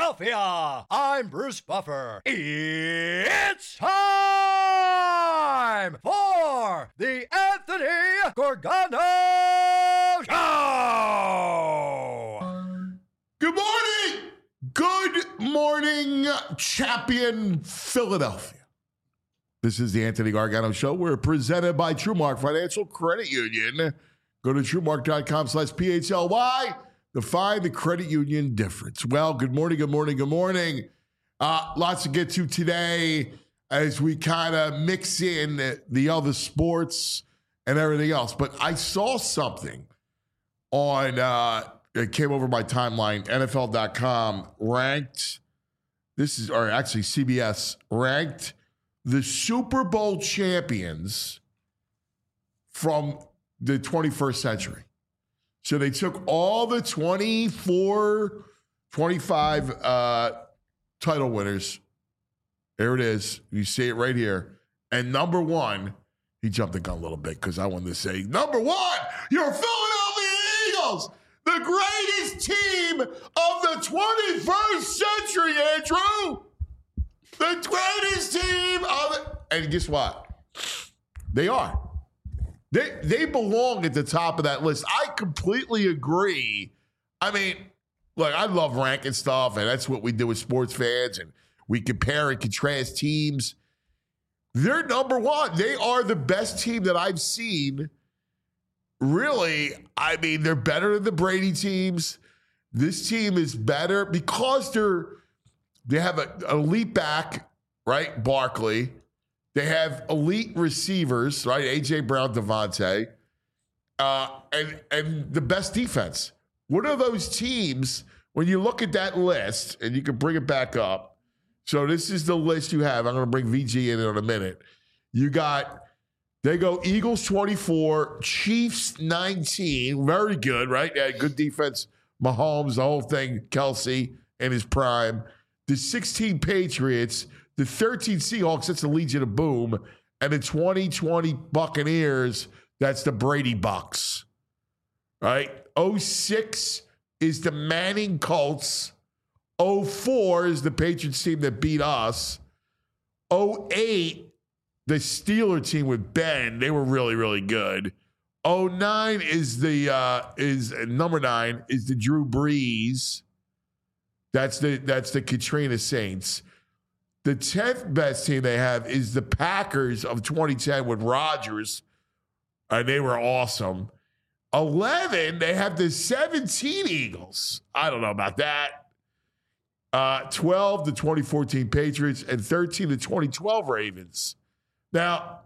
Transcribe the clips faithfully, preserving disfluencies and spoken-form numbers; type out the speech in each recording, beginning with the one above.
Philadelphia. I'm Bruce Buffer. It's time for the Anthony Gorgano Show. Good morning. Good morning, champion Philadelphia. This is the Anthony Gargano Show. We're presented by TrueMark Financial Credit Union. Go to TrueMark.com slash P H L Y to find the credit union difference. Well, good morning, good morning, good morning. Uh, lots to get to today as we kind of mix in the, the other sports and everything else. But I saw something on, uh, it came over my timeline, N F L dot com ranked, this is, or actually C B S ranked the Super Bowl champions from the twenty-first century. So they took all the twenty-four, twenty-five uh, title winners. There it is. You see it right here. And number one, he jumped the gun a little bit because I wanted to say, number one, your Philadelphia Eagles, the greatest team of the twenty-first century, Andrew. The greatest team of it. And guess what? They are. They they belong at the top of that list. I completely agree. I mean, look, I love ranking stuff, and that's what we do with sports fans, and we compare and contrast teams. They're number one. They are the best team that I've seen. Really, I mean, they're better than the Brady teams. This team is better because they're they have an elite back, right? Barkley. They have elite receivers, right? A J Brown, Devontae, uh, and and the best defense. What are those teams when you look at that list, and you can bring it back up? So this is the list you have. I'm going to bring V G in in a minute. You got, they go Eagles twenty-four, Chiefs nineteen. Very good, right? Yeah, good defense. Mahomes, the whole thing. Kelsey in his prime. The sixteen Patriots, the thirteen Seahawks, that's the Legion of Boom, and the twenty twenty Buccaneers, that's the Brady Bucks. Right? oh six is the Manning Colts. oh four is the Patriots team that beat us. oh eight, the Steeler team with Ben. They were really, really good. oh nine is the uh, is number nine is the Drew Brees. That's the that's the Katrina Saints. The tenth best team they have is the Packers of twenty ten with Rodgers, and they were awesome. eleven, they have the seventeen Eagles. I don't know about that. Uh, twelve, the twenty fourteen Patriots, and thirteen, the twenty twelve Ravens. Now,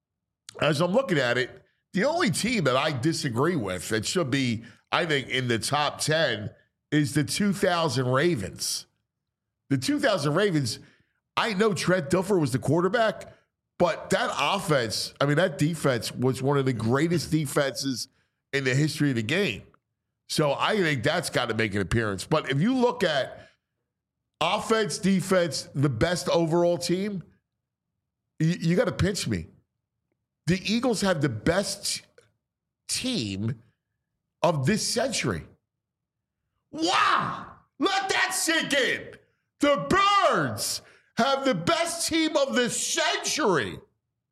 as I'm looking at it, the only team that I disagree with that should be, I think, in the top ten is the two thousand Ravens. The two thousand Ravens, I know Trent Dilfer was the quarterback, but that offense, I mean, that defense was one of the greatest defenses in the history of the game. So I think that's got to make an appearance. But if you look at offense, defense, the best overall team, you, you got to pinch me. The Eagles have the best team of this century. Wow! Let that sink in. The Birds have the best team of the century.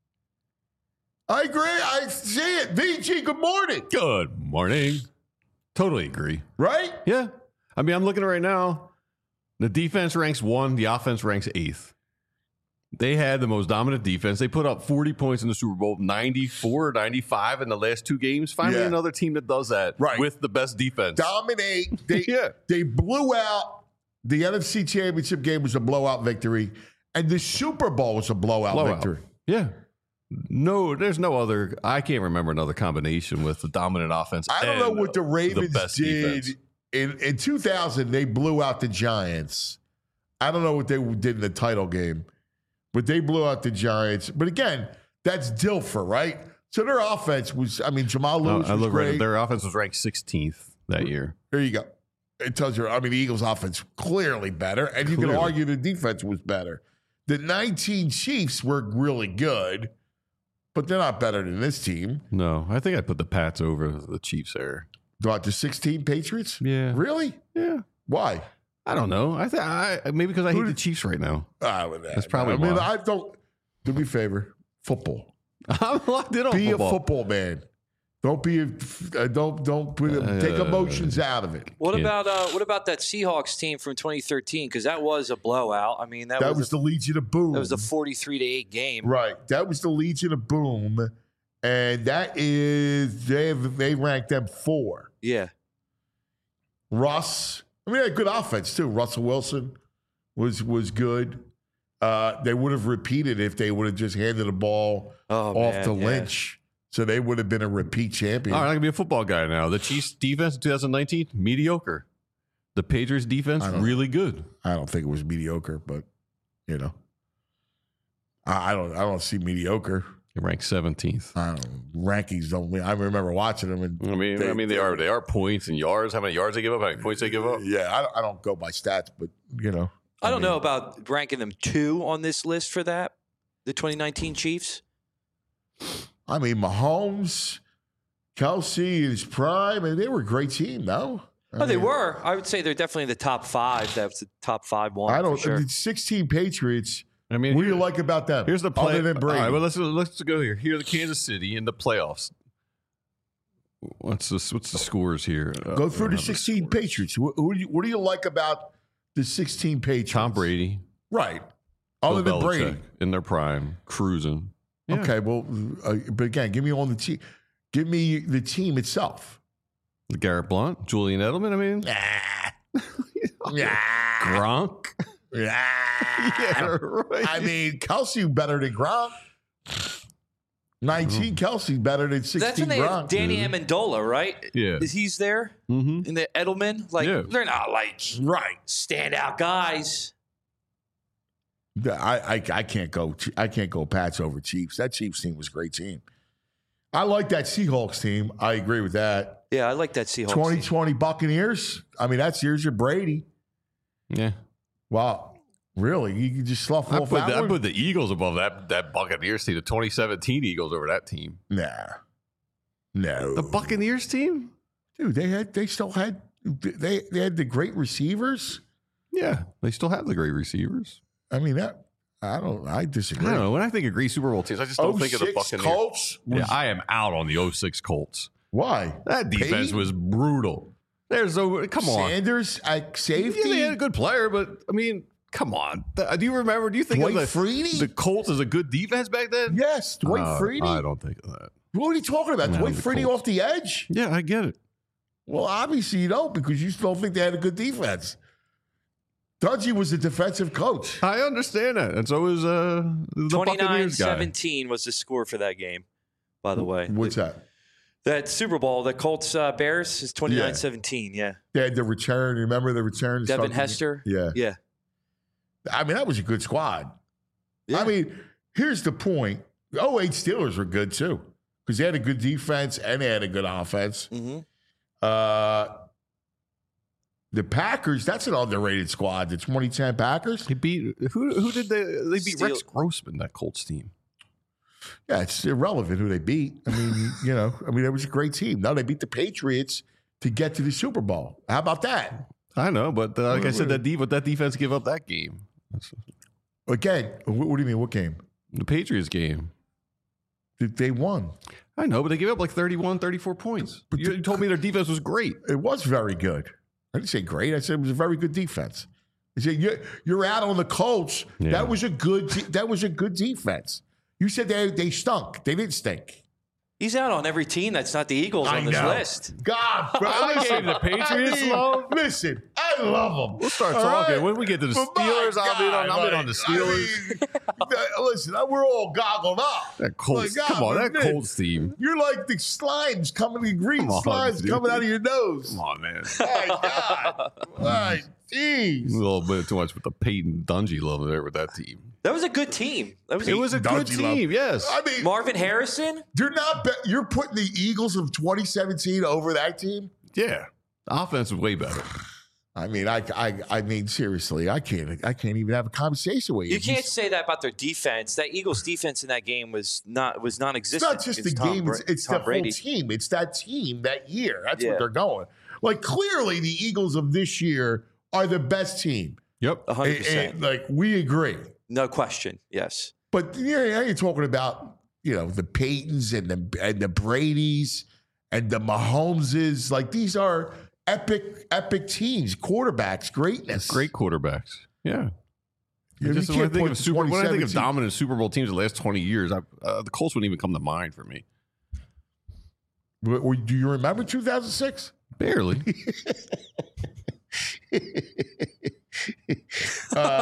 I agree. I see it. V G, good morning. Good morning. Totally agree. Right? Yeah. I mean, I'm looking at it right now. The defense ranks one. The offense ranks eighth. They had the most dominant defense. They put up forty points in the Super Bowl, ninety-four, ninety-five in the last two games. Finally, Yeah. another team that does that Right. with the best defense. Dominate. They, Yeah. they blew out. The N F C Championship game was a blowout victory. And the Super Bowl was a blowout, Blowout. victory. Yeah. No, there's no other. I can't remember another combination with the dominant offense. I don't know and what the Ravens best did. defense. In, in two thousand, they blew out the Giants. I don't know what they did in the title game, but they blew out the Giants. But again, that's Dilfer, right? So their offense was, I mean, Jamal No, Lewis I was look great. right. Their offense was ranked sixteenth that year. There you go. It tells you, I mean, the Eagles' offense clearly better, and you Clearly. can argue the defense was better. The nineteen Chiefs were really good, but they're not better than this team. No, I think I put the Pats over the Chiefs there. What, the sixteen Patriots? Yeah. Really? Yeah. Why? I don't know. I think I maybe because I hate Who the did- Chiefs right now. Ah, with that. That's probably I mean, why. I don't. Do me a favor. Football. I'm locked in on Be football. a football man. Don't be a. Uh, don't don't put Uh, take emotions out of it. What Yeah. about uh, what about that Seahawks team from twenty thirteen? Because that was a blowout. I mean, that, That was, was a, the Legion of Boom. that was a forty-three to eight game. Right. That was the Legion of Boom, and that is they have, they ranked them four. Yeah, Russ. I mean, they had good offense too. Russell Wilson was was good. Uh, they would have repeated if they would have just handed the ball oh, off man, to yeah. Lynch. So they would have been a repeat champion. All right, I'm gonna be a football guy now. The Chiefs defense in twenty nineteen mediocre. The Patriots defense I don't- really good. I don't think it was mediocre, but you know, I, I don't. I don't see mediocre. They ranked seventeenth. I don't, rankings don't. I remember watching them, and I mean, They- I mean, they are they are points and yards. How many yards they give up? How many points they give up? yeah, I don't, I don't go by stats, but you know, I don't mean, know about ranking them two on this list for that. The twenty nineteen Chiefs. I mean, Mahomes, Kelsey, his prime, and they were a great team. No, I Oh, they mean, were. I would say they're definitely in the top five. That's the top five one. I don't. For sure. The sixteen Patriots. I mean, What do you here- like about them? Here's the play. Other than Brady. All right, well, let's let's go here. Here's the Kansas City in the playoffs. What's the what's the scores here? Uh, Go I through don't the have sixteen scores. Patriots. Who, who do you, what do you like about the sixteen Patriots? Tom Brady, Right. Other Bill than Belichick Brady. in their prime, cruising. Yeah. Okay, well, uh, but again, give me on the team. Give me the team itself. Garrett Blunt, Julian Edelman. I mean, Yeah. Gronk. Yeah. Yeah, right. I mean, Kelsey better than Gronk. nineteen Kelsey better than sixteen That's when they Gronk. have Danny dude. Amendola, right? Yeah. Is he's there Mm-hmm. in the Edelman? Like Yeah. they're not like Right. standout guys. I, I I can't go I can't go Pats over Chiefs. That Chiefs team was a great team. I like that Seahawks team. I agree with that. Yeah, I like that Seahawks. twenty team. twenty Buccaneers. I mean, that's years of Brady. Yeah. Wow. Really? You can just slough I off put, that the, I one? put the Eagles above that that Buccaneers team, the twenty seventeen Eagles over that team. Nah. No. The Buccaneers team? Dude, they had they still had they they had the great receivers. Yeah. They still have the great receivers. I mean that I don't I I disagree. don't know. When I think of great Super Bowl teams, I just don't think of the oh six Buccaneers. Colts was, Yeah, I am out on the oh six Colts. why? That defense Peyton? was brutal. There's no come on. Sanders at safety. Yeah, they had a good player, but I mean, come on. Th- Do you remember? Do you think Dwight of the, Freeney? the Colts as a good defense back then? Yes, Dwight Uh, Freeney. I don't think of that. What are you talking about? No, Dwight the Freeney Colts. off the edge? Yeah, I get it. Well, obviously you don't because you still think they had a good defense. Dungy was a defensive coach. I understand that, and so is uh, the twenty-nine Buccaneers guy. seventeen was the score for that game, by the way. What's that? That Super Bowl, the Colts uh, Bears is twenty-nine seventeen. Yeah. They had the return. Remember the return? to Devin start the- Hester. Yeah. Yeah. I mean, that was a good squad. Yeah. I mean, here's the point. The oh eight Steelers were good too because they had a good defense and they had a good offense. Mm-hmm. Uh, the Packers, that's an underrated squad. The twenty ten Packers. He beat who? Who did they? They beat Steel- Rex Grossman, that Colts team. Yeah, it's irrelevant who they beat. I mean, you know, I mean, it was a great team. No, they beat the Patriots to get to the Super Bowl. How about that? I know, but uh, like I Wait, said, wait. that de- but that defense give up that game. That's Again, what, what do you mean? What game? the Patriots game. They- They won. I know, but they gave up like thirty-one, thirty-four points. But you the- told me their defense was great. It was very good. I didn't say great. I said it was a very good defense. I said you're, you're out on the Colts. Yeah. That was a good. de- That was a good defense. You said they they stunk. They didn't stink. He's out on every team that's not the Eagles I on this know. list. God, bro, I listen, gave the Patriots I mean, love. Listen, I love them. We'll start All talking right? when we get to the But my Steelers. I'm in on. I'm in God, on the like, Steelers. I mean, listen, we're all goggled up. that Colts. My God, come on, that man. Colts team. You're like the slimes coming, the green Come on, slimes dude. coming out of your nose. Come on, man. My God. My A jeez. little bit too much with the Peyton Dungy love there with that team. That was a good team. That was It a, was a good Dungy love. team, yes. I mean, Marvin Harrison. you're not. Be- you're putting the Eagles of twenty seventeen over that team. Yeah, the offense was way better. I mean, I, I, I mean, seriously, I can't, I can't even have a conversation with you. You can't say that about their defense. That Eagles defense in that game was not was It's non-existent. not just the against Tom game; Bra- it's, it's Tom the Brady. whole team. It's that team that year. That's Yeah. what they're going. Like clearly, the Eagles of this year are the best team. Yep. one hundred And- percent. and, like, we agree. No question. Yes. But you know, now you're talking about, you know, the Paytons and the and the Bradys and the Mahomeses. Like, these are epic, epic teams, quarterbacks, greatness. Great quarterbacks. Yeah. You know, Just you when I can't think point of to super, when I think of twenty seventeen. dominant Super Bowl teams the last twenty years, I, uh, the Colts wouldn't even come to mind for me. W- w- Do you remember two thousand six? Barely. uh,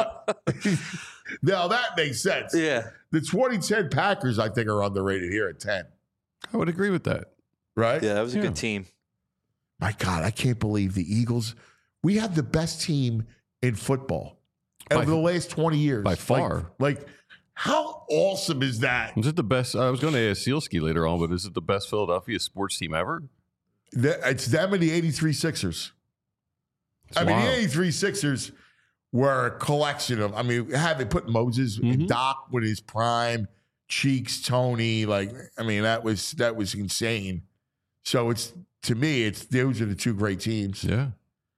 now that makes sense. Yeah. The twenty ten Packers, I think, are underrated here at ten. I would agree with that. Right? Yeah, that was a Yeah. good team. My God, I can't believe the Eagles. We have the best team in football By- over the last twenty years. by Like- far. Like, how awesome is that? Is it the best? I was going to ask Sealski later on, but is it the best Philadelphia sports team ever? The- It's them and the eighty-three Sixers. It's I mean, the wild. eighty-three Sixers were a collection of, I mean, have they put Moses and Mhm. Doc with his prime, Cheeks, Tony, like, I mean, that was that was insane. So it's, to me, it's those are the two great teams. Yeah.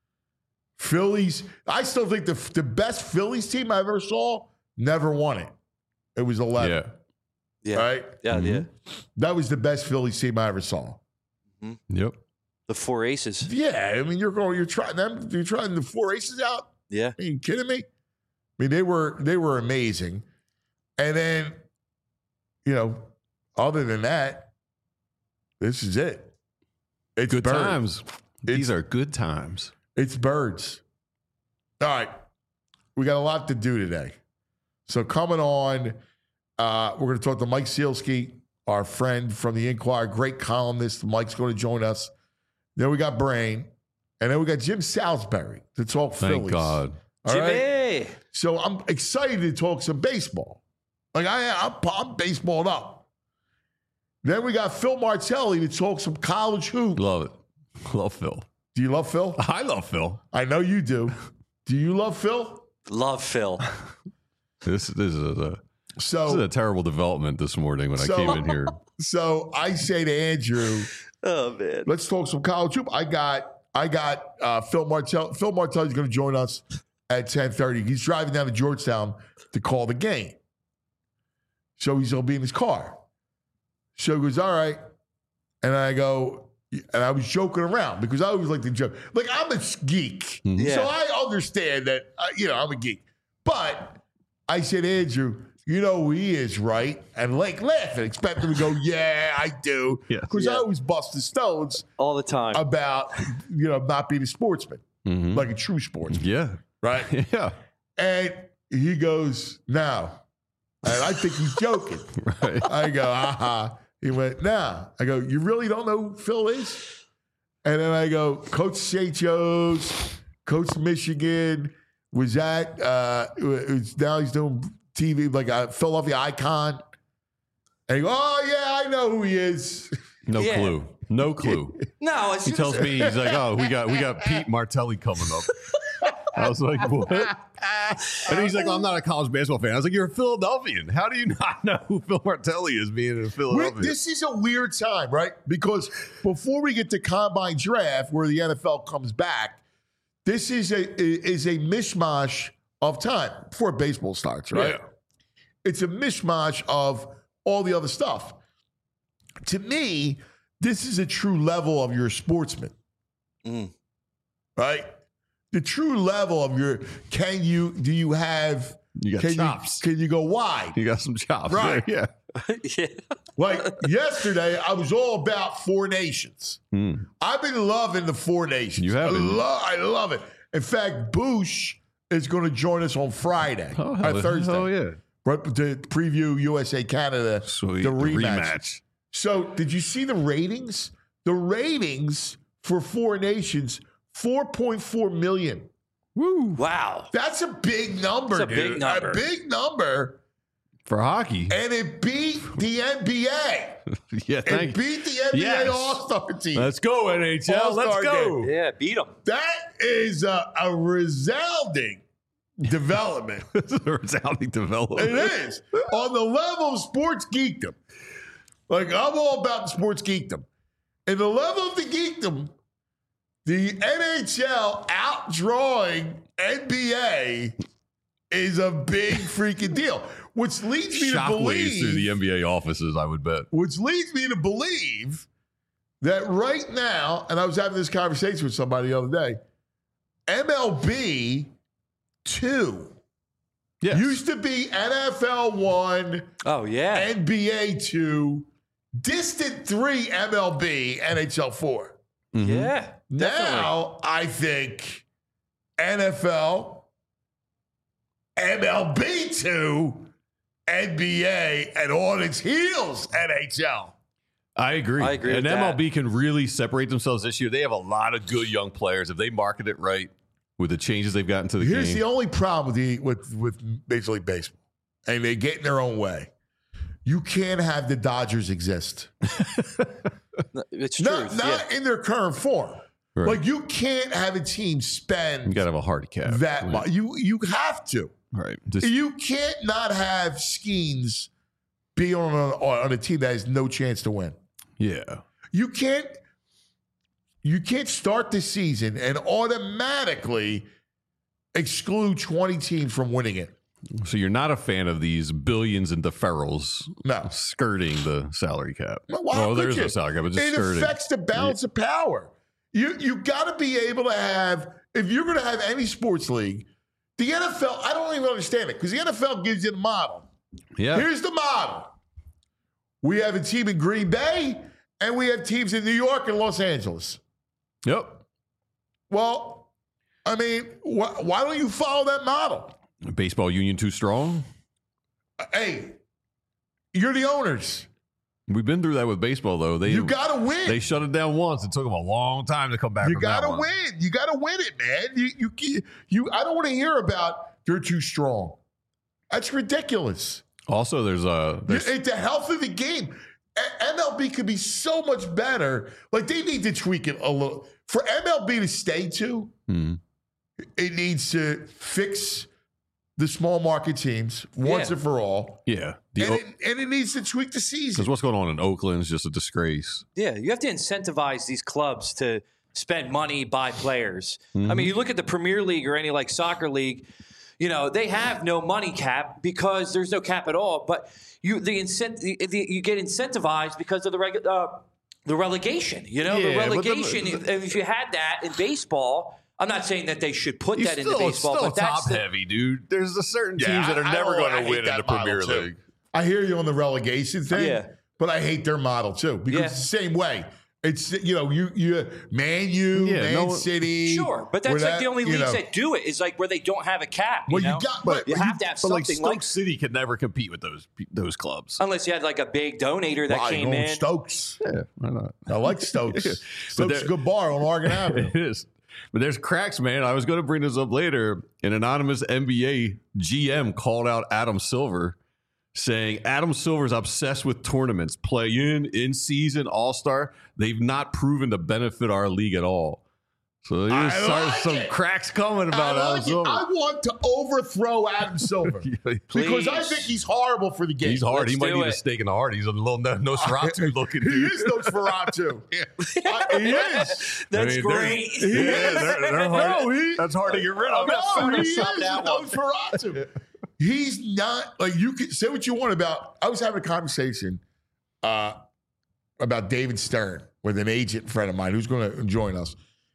Phillies, I still think the the best Phillies team I ever saw never won it. It was eleven, Yeah. Yeah. right? Yeah. Mhm. Yeah. That was the best Phillies team I ever saw. Yep. The four aces. Yeah, I mean, you're going, you're trying them, you're trying the four aces out. Yeah. Are you kidding me? I mean, they were they were amazing. And then, you know, other than that, this is it. It's Good birds. times. These It's- are good times. It's birds. All right. We got a lot to do today. So coming on, uh, we're going to talk to Mike Sealski, our friend from the Inquirer, great columnist. Mike's going to join us. Then we got Brain. And then we got Jim Salisbury to talk Thank Phillies. God. All right? Jimmy. So I'm excited to talk some baseball. Like I, I'm, I'm baseballed up. Then we got Phil Martelli to talk some college hoop. Love it. Love Phil. Do you love Phil? I love Phil. I know you do. Do you love Phil? Love Phil. This, this, is a, this is So, a terrible development this morning when So- I came in here. so I say to Andrew, Oh man. let's talk some college hoop. I got, I got uh, Phil Martell. Phil Martelli's going to join us at ten thirty. He's driving down to Georgetown to call the game. So he's going to be in his car. So he goes, all right. And I go, and I was joking around because I always like to joke. Like, I'm a geek. Mhm. Yeah. So I understand that, uh, you know, I'm a geek. But I said, Andrew, you know who he is, right? And like laughing, expect him to go, yeah, I do. Yeah. Because I Yeah. always bust the stones All the time. about, you know, not being a sportsman, Mhm. like a true sportsman, Yeah. right? Yeah. And he goes, no. And I think he's joking. Right. I go, aha. He went, nah. I go, you really don't know who Phil is? And then I go, Coach Saint Joe's, Coach Michigan, was at, uh, was, now he's doing T V, like a Philadelphia icon. And he go, oh, yeah, I know who he is. No Yeah. clue. No clue. no, as He soon tells as, me, he's like, oh, we got we got Pete Martelli coming up. I was like, what? And he's like, well, I'm not a college basketball fan. I was like, you're a Philadelphian. How do you not know who Phil Martelli is being in We- Philadelphia? this is a weird time, right? Because before we get to combine draft, where the N F L comes back, this is a is a mishmash of time before baseball starts, right? Yeah. It's a mishmash of all the other stuff. To me, this is a true level of your sportsman, Mm. right? The true level of your can you do you have You got can chops. you can you go wide? You got some chops. Right. Yeah. yeah. Like yesterday, I was all about Four Nations. Hmm. I've been loving the Four Nations. You have I, been. lo- I love it. In fact, Boosh is going to join us on Friday, Oh, or hell, Thursday, Oh, yeah. right, to preview U S A Canada, Sweet. the rematch. So, did you see the ratings? The ratings for Four Nations, four point four million. Woo. Wow. That's a big number, That's a dude. big number. A big number. For hockey. And it beat the N B A. Yeah, It thank you. beat the N B A Yes. All-Star team. Let's go, N H L. Let's All-Star go. Yeah, beat them. That is a, a resounding development. This is a resounding development. It is. On the level of sports geekdom. Like, I'm all about sports geekdom. And the level of the geekdom, the N H L outdrawing N B A is a big freaking deal. Which leads me to Shockwaves believe through the N B A offices, I would bet. Which leads me to believe that right now, and I was having this conversation with somebody the other day, M L B two Yes. used to be N F L one, Oh, yeah. N B A two, distant three M L B, N H L four. Mhm. Yeah. Definitely. Now, I think N F L, M L B two, N B A, and on its heels, N H L. I agree. I agree And with M L B that. can really separate themselves this year. They have a lot of good young players. If they market it right with the changes they've gotten to the Here's game. the only problem with the with with Major League Baseball, and they get in their own way. You can't have the Dodgers exist, It's true. not not yeah. in their current form. Right. Like you can't have a team you spend got to have a hard cap. that right. much. You you have to. Right. Just, You can't not have Skeens be on a, on a team that has no chance to win. yeah. You can't you can't start the season and automatically exclude twenty teams from winning it. So you're not a fan of these billions in deferrals No. skirting the salary cap. Well, why well, could there is you? no salary cap, but just It skirting. affects the balance of power. You you got to be able to have, if you're going to have any sports league, the N F L, I don't even understand it because the N F L gives you the model. yeah. Here's the model. We have a team in Green Bay and we have teams in New York and Los Angeles. Yep. Well, I mean, wh- why don't you follow that model? Baseball union too strong. Hey, you're the owners. We've been through that with baseball, though. They You got to win. they shut it down once. It took them a long time to come back. You from got that to one. win. You got to win it, man. You, you, you, you, I don't want to hear about you're too strong. That's ridiculous. Also, there's a there's, It's the health of the game. A- M L B could be so much better. Like they need to tweak it a little. For M L B to stay to, hmm. it needs to fix the small market teams once Yeah. and for all. yeah. The And O- it, and it needs to tweak the season. Because what's going on in Oakland is just a disgrace. Yeah, you have to incentivize these clubs to spend money, buy players. I Mm-hmm. mean, you look at the Premier League or any like soccer league, you know, they have no money cap because there's no cap at all. But you the incent the, the, you get incentivized because of the regu- uh, the relegation. You know, the Yeah, but the- relegation. if, if you had that in baseball, I'm not saying that they should put He's that still, into baseball, still but that's top the, heavy, dude. There's a certain Yeah, teams that are I- I never don't- going I to hate win in that the Premier model, too. League. I hear you on the relegation thing, Yeah. but I hate their model too because Yeah. it's the same way. It's you know you you Man U, Yeah, Man no one- City, sure. But where that's like that, the only you leagues know- that do it is like where they don't have a cap. You Well, you know? got- but- you but have you- to have But something like Stoke like, City could never compete with those those clubs. unless you had like a big donator that Why, came going in. Stokes. Yeah, why not? I like Stokes. But Stokes is a there- good bar on Oregon Avenue. It is. But there's cracks, man. I was going to bring this up later. An anonymous N B A G M called out Adam Silver, saying Adam Silver's obsessed with tournaments, play in, in season, all star. They've not proven to benefit our league at all. So I there's started like some it. cracks coming I, about Adam like it. Silver. I want to overthrow Adam Silver because I Please. think he's horrible for the game. He's hard. Let's he might do need a it. stake in the heart. He's a little no- Nosferatu looking He dude. is Nosferatu. Uh, he is. That's I mean, they're- great. Yeah, they're, they're hard. No, he- That's hard to get rid of. No, he is Photoshop that one. Nosferatu. He's not like you can say what you want about. I was having a conversation uh, about David Stern with an agent friend of mine who's going to join us.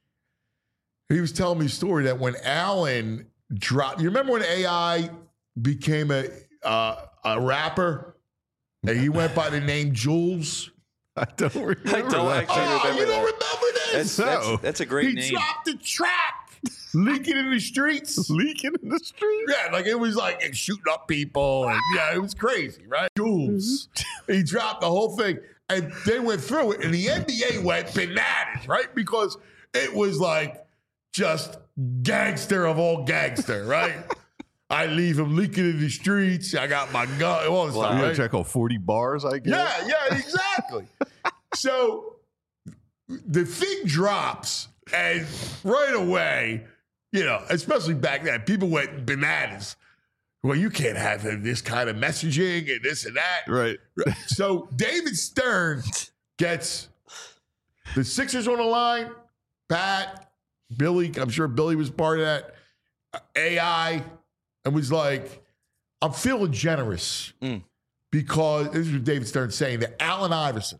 He was telling me a story that when Allen dropped, you remember when A I became a uh, a rapper and he went by the name Jules? I don't remember. I don't that. actually Oh, remember you don't that. remember this? That's, that's, No. that's a great he name. dropped the track, leaking in the streets. Leaking in the street. Yeah, like it was like shooting up people. And, yeah, it was crazy, right? Jules. He dropped the whole thing. And they went through it. And the N B A went bananas, right? Because it was like just gangster of all gangster, right? I leave him leaking in the streets. I got my gun, all this You stuff, got right? to check out forty bars, I guess. Yeah, yeah, exactly. So the thing drops, and right away, you know, especially back then, people went bananas. Well, you can't have this kind of messaging and this and that. Right. So David Stern gets the Sixers on the line. Pat, Billy, I'm sure Billy was part of that. A I, and was like, I'm feeling generous Mm. because this is what David Stern's saying that Allen Iverson,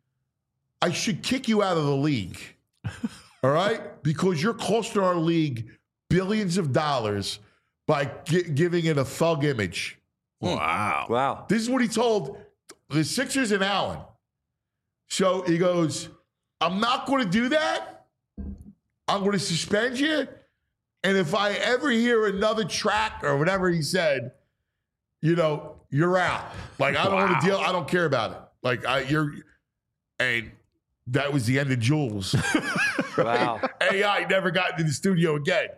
I should kick you out of the league. All right? Because you're costing our league billions of dollars by gi- giving it a thug image. Wow. Wow. This is what he told the Sixers and Allen. So he goes, I'm not going to do that. I'm going to suspend you. And if I ever hear another track or whatever he said, you know, you're out. Like, I don't Wow. want to deal. I don't care about it. Like, I, you're, and that was the end of Jules. Wow. A I never got into the studio again.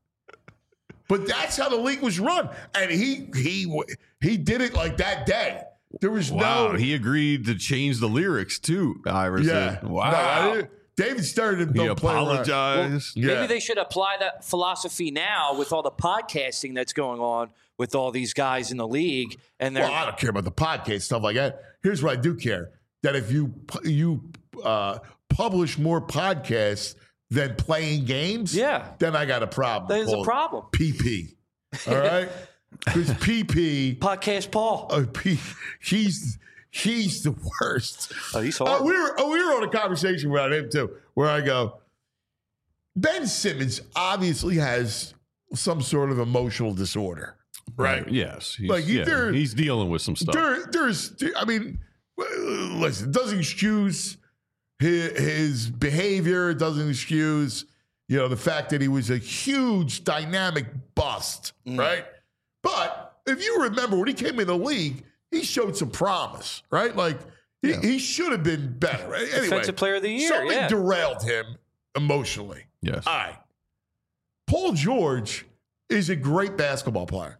But that's how the league was run. And he, he, he did it like that day. There was Wow. no. He agreed to change the lyrics too, Iverson. Yeah. Wow. No, I didn't- David Stern didn't he don't play around. apologized. Yeah. Maybe they should apply that philosophy now with all the podcasting that's going on with all these guys in the league. And they're Well, I don't care about the podcast stuff like that. Here's what I do care: that if you pu- you uh, publish more podcasts than playing games, Yeah. then I got a problem. There's a called problem. P P. All right, because P P, podcast Paul. uh, P, he's he's the worst. Oh, he's Uh, horrible. we were oh, we were on a conversation about him too, where I go, Ben Simmons obviously has some sort of emotional disorder, right? Yes. He's, Like, he- yeah, there- he's dealing with some stuff. There, there's, I mean, listen, it doesn't excuse his, his behavior. It doesn't excuse, you know, the fact that he was a huge dynamic bust, right? But if you remember when he came in the league, he showed some promise, right? Like he, he should have been better. Right? Anyway, Defensive Player of the Year, something yeah. derailed him emotionally. Yes. All right. Paul George is a great basketball player.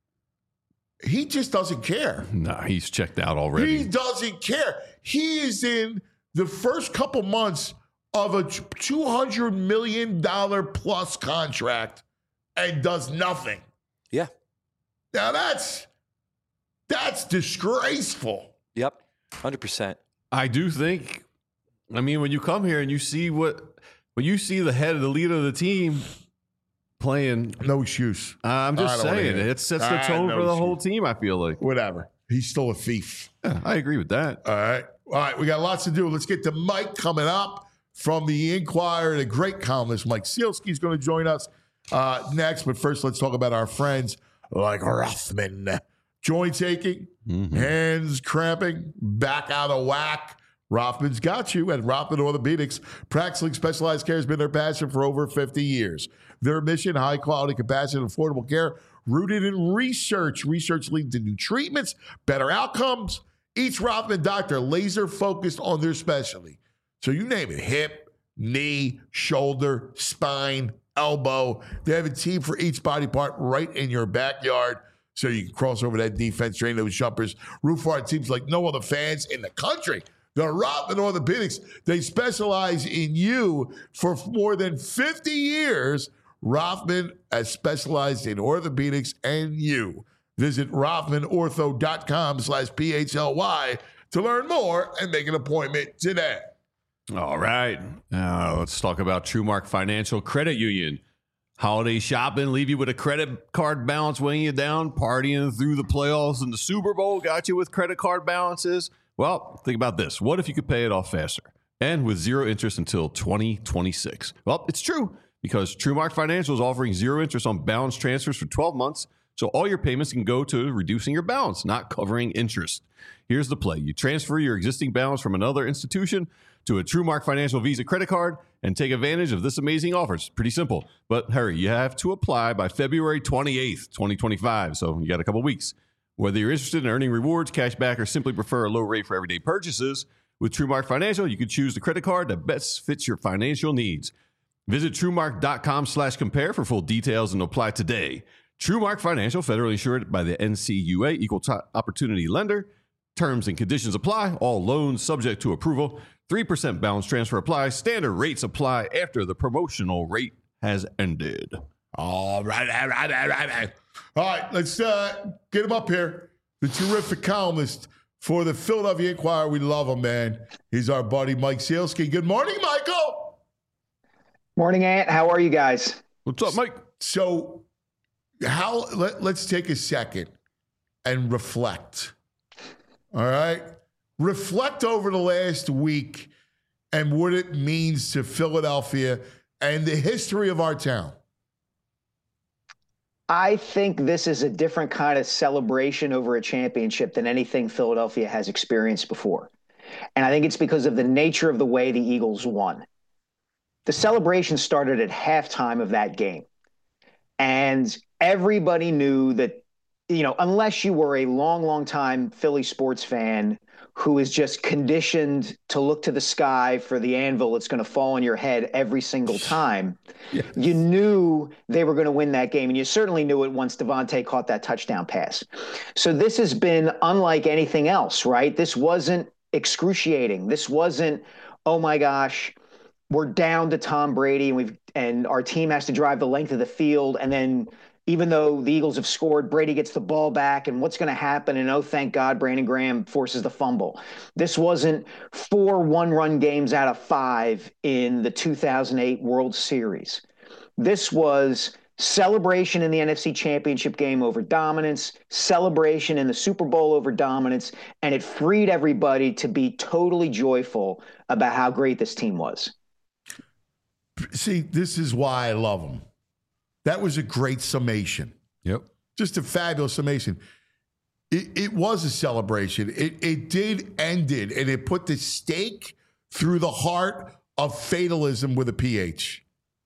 He just doesn't care. Nah, he's checked out He already. doesn't care. He is in the first couple months of a two hundred million dollars plus contract and does nothing. Yeah. Now that's that's disgraceful. Yep. one hundred percent. I do think, I mean, when you come here and you see what, when you see the head of the leader of the team playing, No excuse. I'm I just don't wanna saying, hear it. it sets the Ah, tone no for the excuse. whole team, I feel like. Whatever. He's still a thief. Yeah, I agree with that. All right. All right. We got lots to do. Let's get to Mike coming up from the Inquirer. The great columnist Mike Sealski is going to join us uh, next. But first, let's talk about our friends like Rothman. Joint aching, hands cramping, back out of whack. Rothman's got you at Rothman Orthopedics. Practicing specialized care has been their passion for over fifty years. Their mission, high quality, compassionate, affordable care rooted in research. Research leading to new treatments, better outcomes. Each Rothman doctor laser focused on their specialty. So you name it, hip, knee, shoulder, spine, elbow. They have a team for each body part right in your backyard. So you can cross over that defense, train those jumpers. Root for our teams like no other fans in the country. The Rothman Orthopedics, they specialize in you for more than fifty years. Rothman has specialized in orthopedics and you. Visit rothmanortho.com slash P-H-L-Y to learn more and make an appointment today. All right. Now let's talk about TrueMark Financial Credit Union. Holiday shopping, leave you with a credit card balance weighing you down, partying through the playoffs and the Super Bowl got you with credit card balances. Well, think about this. What if you could pay it off faster and with zero interest until twenty twenty-six? Well, it's true because TrueMark Financial is offering zero interest on balance transfers for twelve months. So all your payments can go to reducing your balance, not covering interest. Here's the play. You transfer your existing balance from another institution to a TrueMark Financial Visa credit card and take advantage of this amazing offer. It's pretty simple, but hurry. You have to apply by February twenty-eighth, twenty twenty-five. So you got a couple weeks. Whether you're interested in earning rewards, cash back, or simply prefer a low rate for everyday purchases, with TrueMark Financial, you can choose the credit card that best fits your financial needs. Visit TrueMark.com slash compare for full details and apply today. TrueMark Financial, federally insured by the N C U A, Equal T- Opportunity Lender. Terms and conditions apply. All loans subject to approval. three percent balance transfer applies. Standard rates apply after the promotional rate has ended. All right, all right, all right, all right. All right, let's uh, get him up here. The terrific columnist for the Philadelphia Inquirer. We love him, man. He's our buddy, Mike Sealski. Good morning, Michael. Morning, Ant. How are you guys? What's up, Mike? So, how? Let, let's take a second and reflect. All right, reflect over the last week and what it means to Philadelphia and the history of our town. I think this is a different kind of celebration over a championship than anything Philadelphia has experienced before. And I think it's because of the nature of the way the Eagles won. The celebration started at halftime of that game. And everybody knew that, you know, unless you were a long, long time Philly sports fan who is just conditioned to look to the sky for the anvil that's going to fall on your head every single time, yes. You knew they were going to win that game. And you certainly knew it once Devontae caught that touchdown pass. So this has been unlike anything else, right? This wasn't excruciating. This wasn't, oh my gosh, we're down to Tom Brady and we've and our team has to drive the length of the field, and then even though the Eagles have scored, Brady gets the ball back, and what's going to happen? And oh, thank God, Brandon Graham forces the fumble. This wasn't four one-run games out of five in the two thousand eight World Series. This was celebration in the N F C Championship game over dominance, celebration in the Super Bowl over dominance, and it freed everybody to be totally joyful about how great this team was. See, this is why I love them. That was a great summation. Yep. Just a fabulous summation. It, it was a celebration. It, it did end it, and it put the stake through the heart of fatalism with a P H.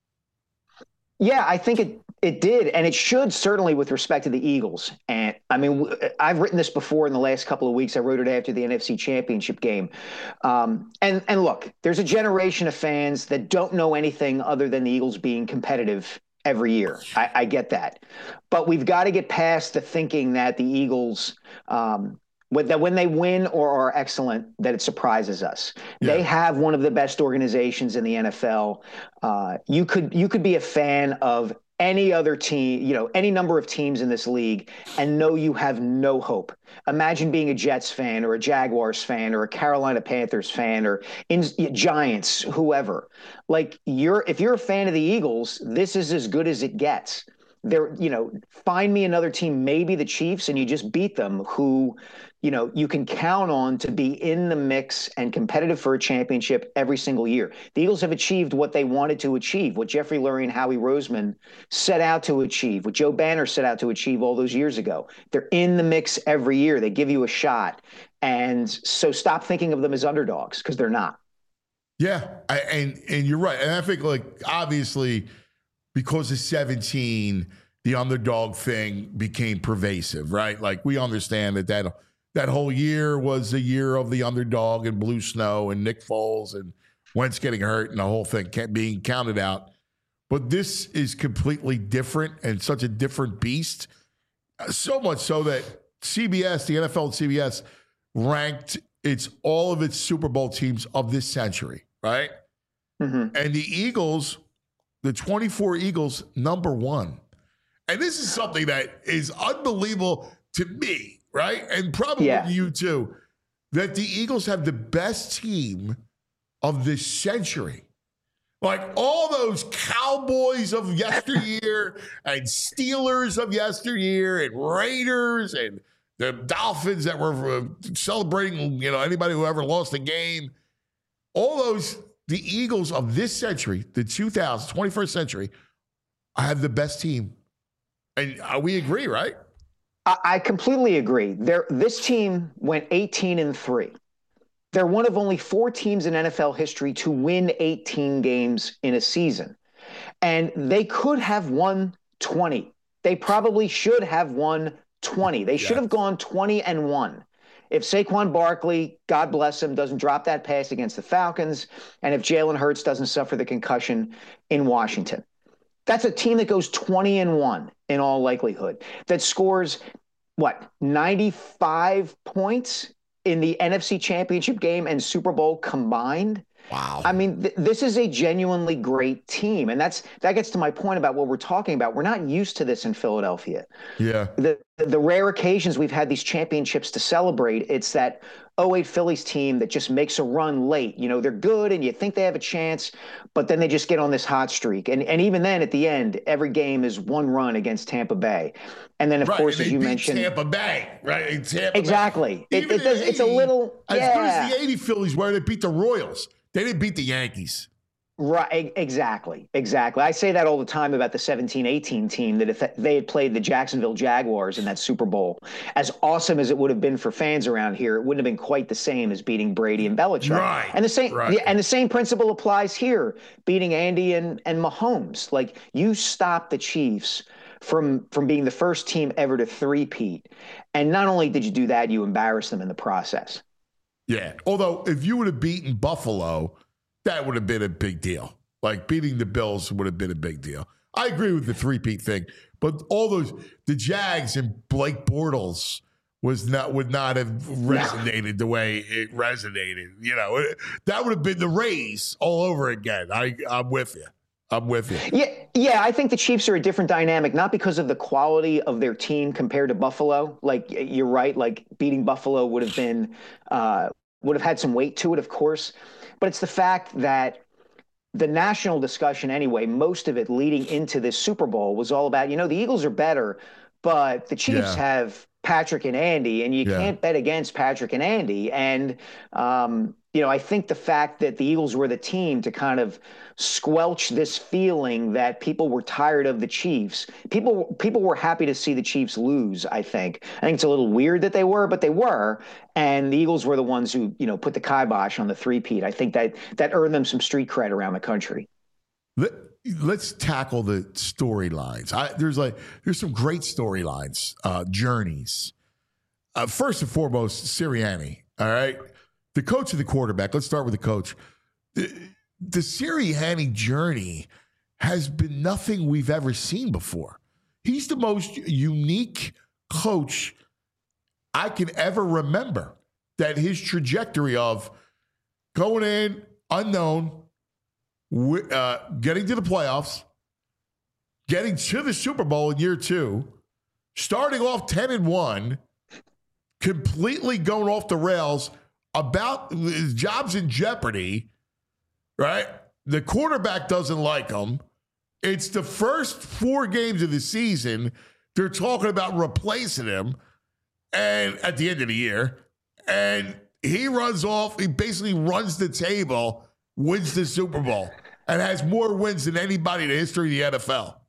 Yeah, I think it it did, and it should certainly with respect to the Eagles. And I mean, I've written this before in the last couple of weeks. I wrote it after the N F C Championship game. Um, and and look, there's a generation of fans that don't know anything other than the Eagles being competitive every year. I, I get that, but we've got to get past the thinking that the Eagles. Um, that when they win or are excellent, that it surprises us. Yeah. They have one of the best organizations in the N F L. Uh, you could you could be a fan of any other team, you know, any number of teams in this league, and know you have no hope. Imagine being a Jets fan or a Jaguars fan or a Carolina Panthers fan or in, Giants, whoever. Like you're if you're a fan of the Eagles, this is as good as it gets. There, you know, find me another team, maybe the Chiefs, and you just beat them, who, you know, you can count on to be in the mix and competitive for a championship every single year. The Eagles have achieved what they wanted to achieve, what Jeffrey Lurie and Howie Roseman set out to achieve, what Joe Banner set out to achieve all those years ago. They're in the mix every year. They give you a shot. And so stop thinking of them as underdogs, because they're not. Yeah, I, and and you're right. And I think, like, obviously, because of seventeen, the underdog thing became pervasive, right? Like, we understand that that, that whole year was the year of the underdog and Blue Snow and Nick Foles and Wentz getting hurt and the whole thing kept being counted out. But this is completely different and such a different beast. So much so that C B S, the N F L and C B S, ranked its all of its Super Bowl teams of this century, right? Mm-hmm. And the Eagles, the twenty-four Eagles, number one. And this is something that is unbelievable to me, right? And probably yeah. you too, that the Eagles have the best team of this century. Like all those Cowboys of yesteryear and Steelers of yesteryear and Raiders and the Dolphins that were celebrating, you know, anybody who ever lost a game. All those, the Eagles of this century, the two thousand, twenty-first century, have the best team. And uh, we agree, right? I, I completely agree. They're, this team went eighteen and three. They're one of only four teams in N F L history to win eighteen games in a season. And they could have won twenty. They probably should have won twenty. They should yeah. have gone twenty and one. If Saquon Barkley, God bless him, doesn't drop that pass against the Falcons, and if Jalen Hurts doesn't suffer the concussion in Washington. That's a team that goes twenty and one in all likelihood, that scores, what, ninety-five points in the N F C Championship game and Super Bowl combined. Wow. I mean, th- this is a genuinely great team. And that's that gets to my point about what we're talking about. We're not used to this in Philadelphia. Yeah. The the rare occasions we've had these championships to celebrate, it's that oh eight Phillies team that just makes a run late. You know, they're good and you think they have a chance, but then they just get on this hot streak. And and even then at the end, every game is one run against Tampa Bay. And then, of right. course, and as they you beat mentioned, Tampa Bay, right? Tampa exactly. Bay. It, it does, it's a little, as yeah. good as the eighty Phillies were, they beat the Royals. They didn't beat the Yankees. Right, exactly, exactly. I say that all the time about the seventeen eighteen team, that if they had played the Jacksonville Jaguars in that Super Bowl, as awesome as it would have been for fans around here, it wouldn't have been quite the same as beating Brady and Belichick. Right, and the same, right. yeah, and the same principle applies here, beating Andy and and Mahomes. Like, you stop the Chiefs from from being the first team ever to three-peat, and not only did you do that, you embarrassed them in the process. Yeah. Although if you would have beaten Buffalo, that would have been a big deal. Like beating the Bills would have been a big deal. I agree with the three-peat thing, but all those the Jags and Blake Bortles was not would not have resonated the way it resonated. You know, it, that would have been the Rays all over again. I I'm with you. I'm with you. Yeah, yeah. I think the Chiefs are a different dynamic, not because of the quality of their team compared to Buffalo. Like, you're right. Like, beating Buffalo would have been uh, would have had some weight to it, of course. But it's the fact that the national discussion anyway, most of it leading into this Super Bowl was all about, you know, the Eagles are better, but the Chiefs Yeah. have Patrick and Andy, and you Yeah. can't bet against Patrick and Andy. And, um, you know, I think the fact that the Eagles were the team to kind of squelch this feeling that people were tired of the Chiefs. People people were happy to see the Chiefs lose, I think. I think it's a little weird that they were, but they were. And the Eagles were the ones who, you know, put the kibosh on the three-peat. I think that that earned them some street cred around the country. Let, let's tackle the storylines. I, there's like there's some great storylines, uh, journeys. Uh, first and foremost, Sirianni. All right, the coach and the quarterback. Let's start with the coach. The, the Sirianni journey has been nothing we've ever seen before. He's the most unique coach I can ever remember. That his trajectory of going in unknown, uh, getting to the playoffs, getting to the Super Bowl in year two, starting off ten and one, completely going off the rails, about his job's in jeopardy, right? The quarterback doesn't like him. It's the first four games of the season. They're talking about replacing him, and at the end of the year, and he runs off. He basically runs the table, wins the Super Bowl, and has more wins than anybody in the history of the N F L.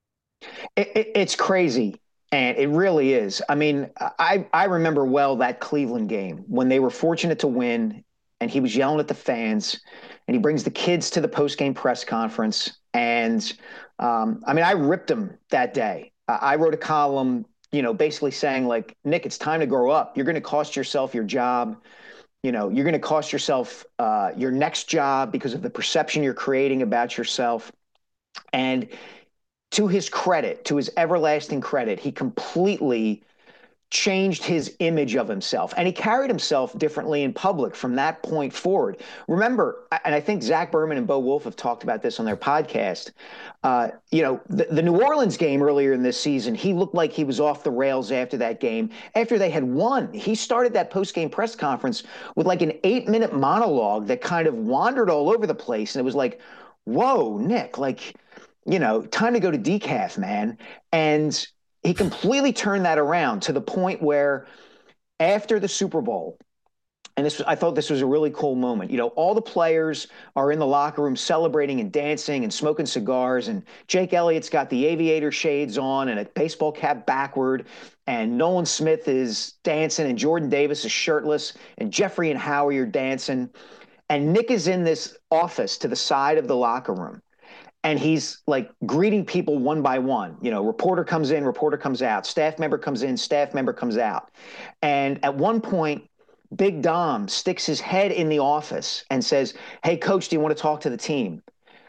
It, it, it's crazy. And it really is. I mean, I, I remember well that Cleveland game when they were fortunate to win, and he was yelling at the fans, and he brings the kids to the post-game press conference. And um, I mean, I ripped him that day. Uh, I wrote a column, you know, basically saying, like, Nick, it's time to grow up. You're going to cost yourself your job. You know, you're going to cost yourself uh, your next job because of the perception you're creating about yourself. And to his credit, to his everlasting credit, he completely changed his image of himself, and he carried himself differently in public from that point forward. Remember, and I think Zach Berman and Bo Wolf have talked about this on their podcast, uh, you know, the, the New Orleans game earlier in this season, he looked like he was off the rails after that game. After they had won, he started that post-game press conference with like an eight-minute monologue that kind of wandered all over the place, and it was like, whoa, Nick, like, you know, time to go to decaf, man. And he completely turned that around to the point where after the Super Bowl, and this I thought this was a really cool moment. You know, all the players are in the locker room celebrating and dancing and smoking cigars, and Jake Elliott's got the aviator shades on and a baseball cap backward, and Nolan Smith is dancing, and Jordan Davis is shirtless, and Jeffrey and Howie are dancing. And Nick is in this office to the side of the locker room. And he's like greeting people one by one. You know, reporter comes in, reporter comes out. Staff member comes in, staff member comes out. And at one point, Big Dom sticks his head in the office and says, hey, coach, do you want to talk to the team?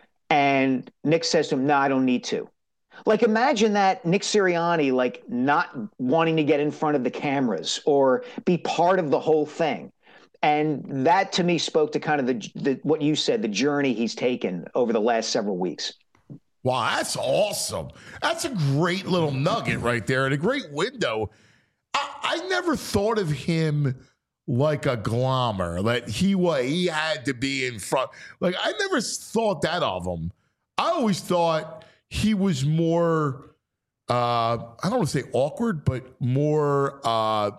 And Nick says to him, no, I don't need to. Like, imagine that Nick Sirianni, like, not wanting to get in front of the cameras or be part of the whole thing. And that to me spoke to kind of the, the what you said, the journey he's taken over the last several weeks. Wow, that's awesome. That's a great little nugget right there and a great window. I, I never thought of him like a glommer, that he was, he had to be in front. Like, I never thought that of him. I always thought he was more, uh, I don't want to say awkward, but more uh,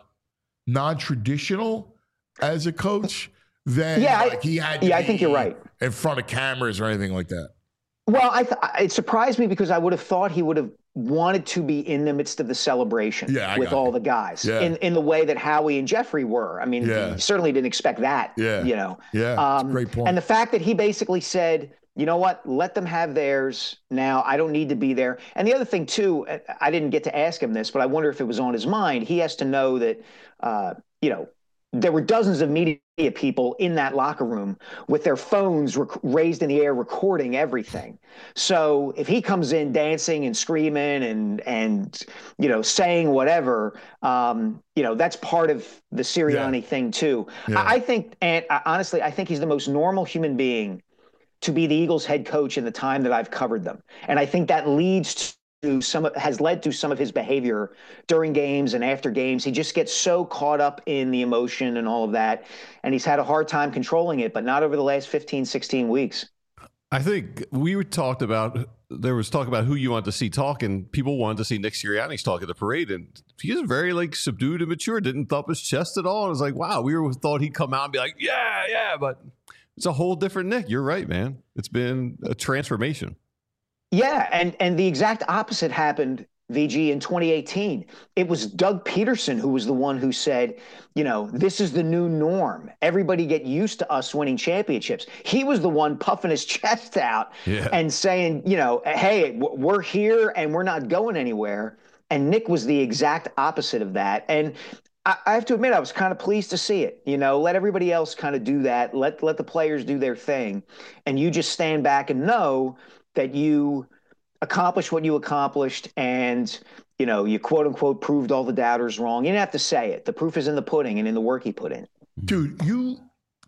non-traditional as a coach than yeah, like I, he had to yeah, be I think you're right. in front of cameras or anything like that. Well, I th- it surprised me because I would have thought he would have wanted to be in the midst of the celebration yeah, with all you. the guys yeah. in, in the way that Howie and Jeffrey were. I mean, yeah. he certainly didn't expect that, yeah. you know. Yeah, um, great point. And the fact that he basically said, you know what, let them have theirs now. I don't need to be there. And the other thing, too, I didn't get to ask him this, but I wonder if it was on his mind. He has to know that, uh, you know, there were dozens of media people in that locker room with their phones rec- raised in the air, recording everything. So if he comes in dancing and screaming and, and you know, saying whatever, um, you know, that's part of the Sirianni yeah. thing, too. Yeah. I, I think, and I, honestly, I think he's the most normal human being to be the Eagles head coach in the time that I've covered them. And I think that leads to To some has led to some of his behavior during games and after games. He just gets so caught up in the emotion and all of that. And he's had a hard time controlling it, but not over the last fifteen, sixteen weeks. I think we talked about, there was talk about who you want to see talk, and people wanted to see Nick Sirianni's talk at the parade. And he was very like subdued and mature, didn't thump his chest at all. And it was like, wow, we were, thought he'd come out and be like, yeah, yeah. But it's a whole different Nick. You're right, man. It's been a transformation. Yeah, and and the exact opposite happened, V G, in twenty eighteen. It was Doug Peterson who was the one who said, you know, this is the new norm. Everybody get used to us winning championships. He was the one puffing his chest out yeah. and saying, you know, hey, we're here and we're not going anywhere. And Nick was the exact opposite of that. And I, I have to admit, I was kind of pleased to see it. You know, let everybody else kind of do that. Let let the players do their thing. And you just stand back and know that you accomplished what you accomplished and, you know, you quote unquote proved all the doubters wrong. You didn't have to say it. The proof is in the pudding and in the work he put in. Dude, you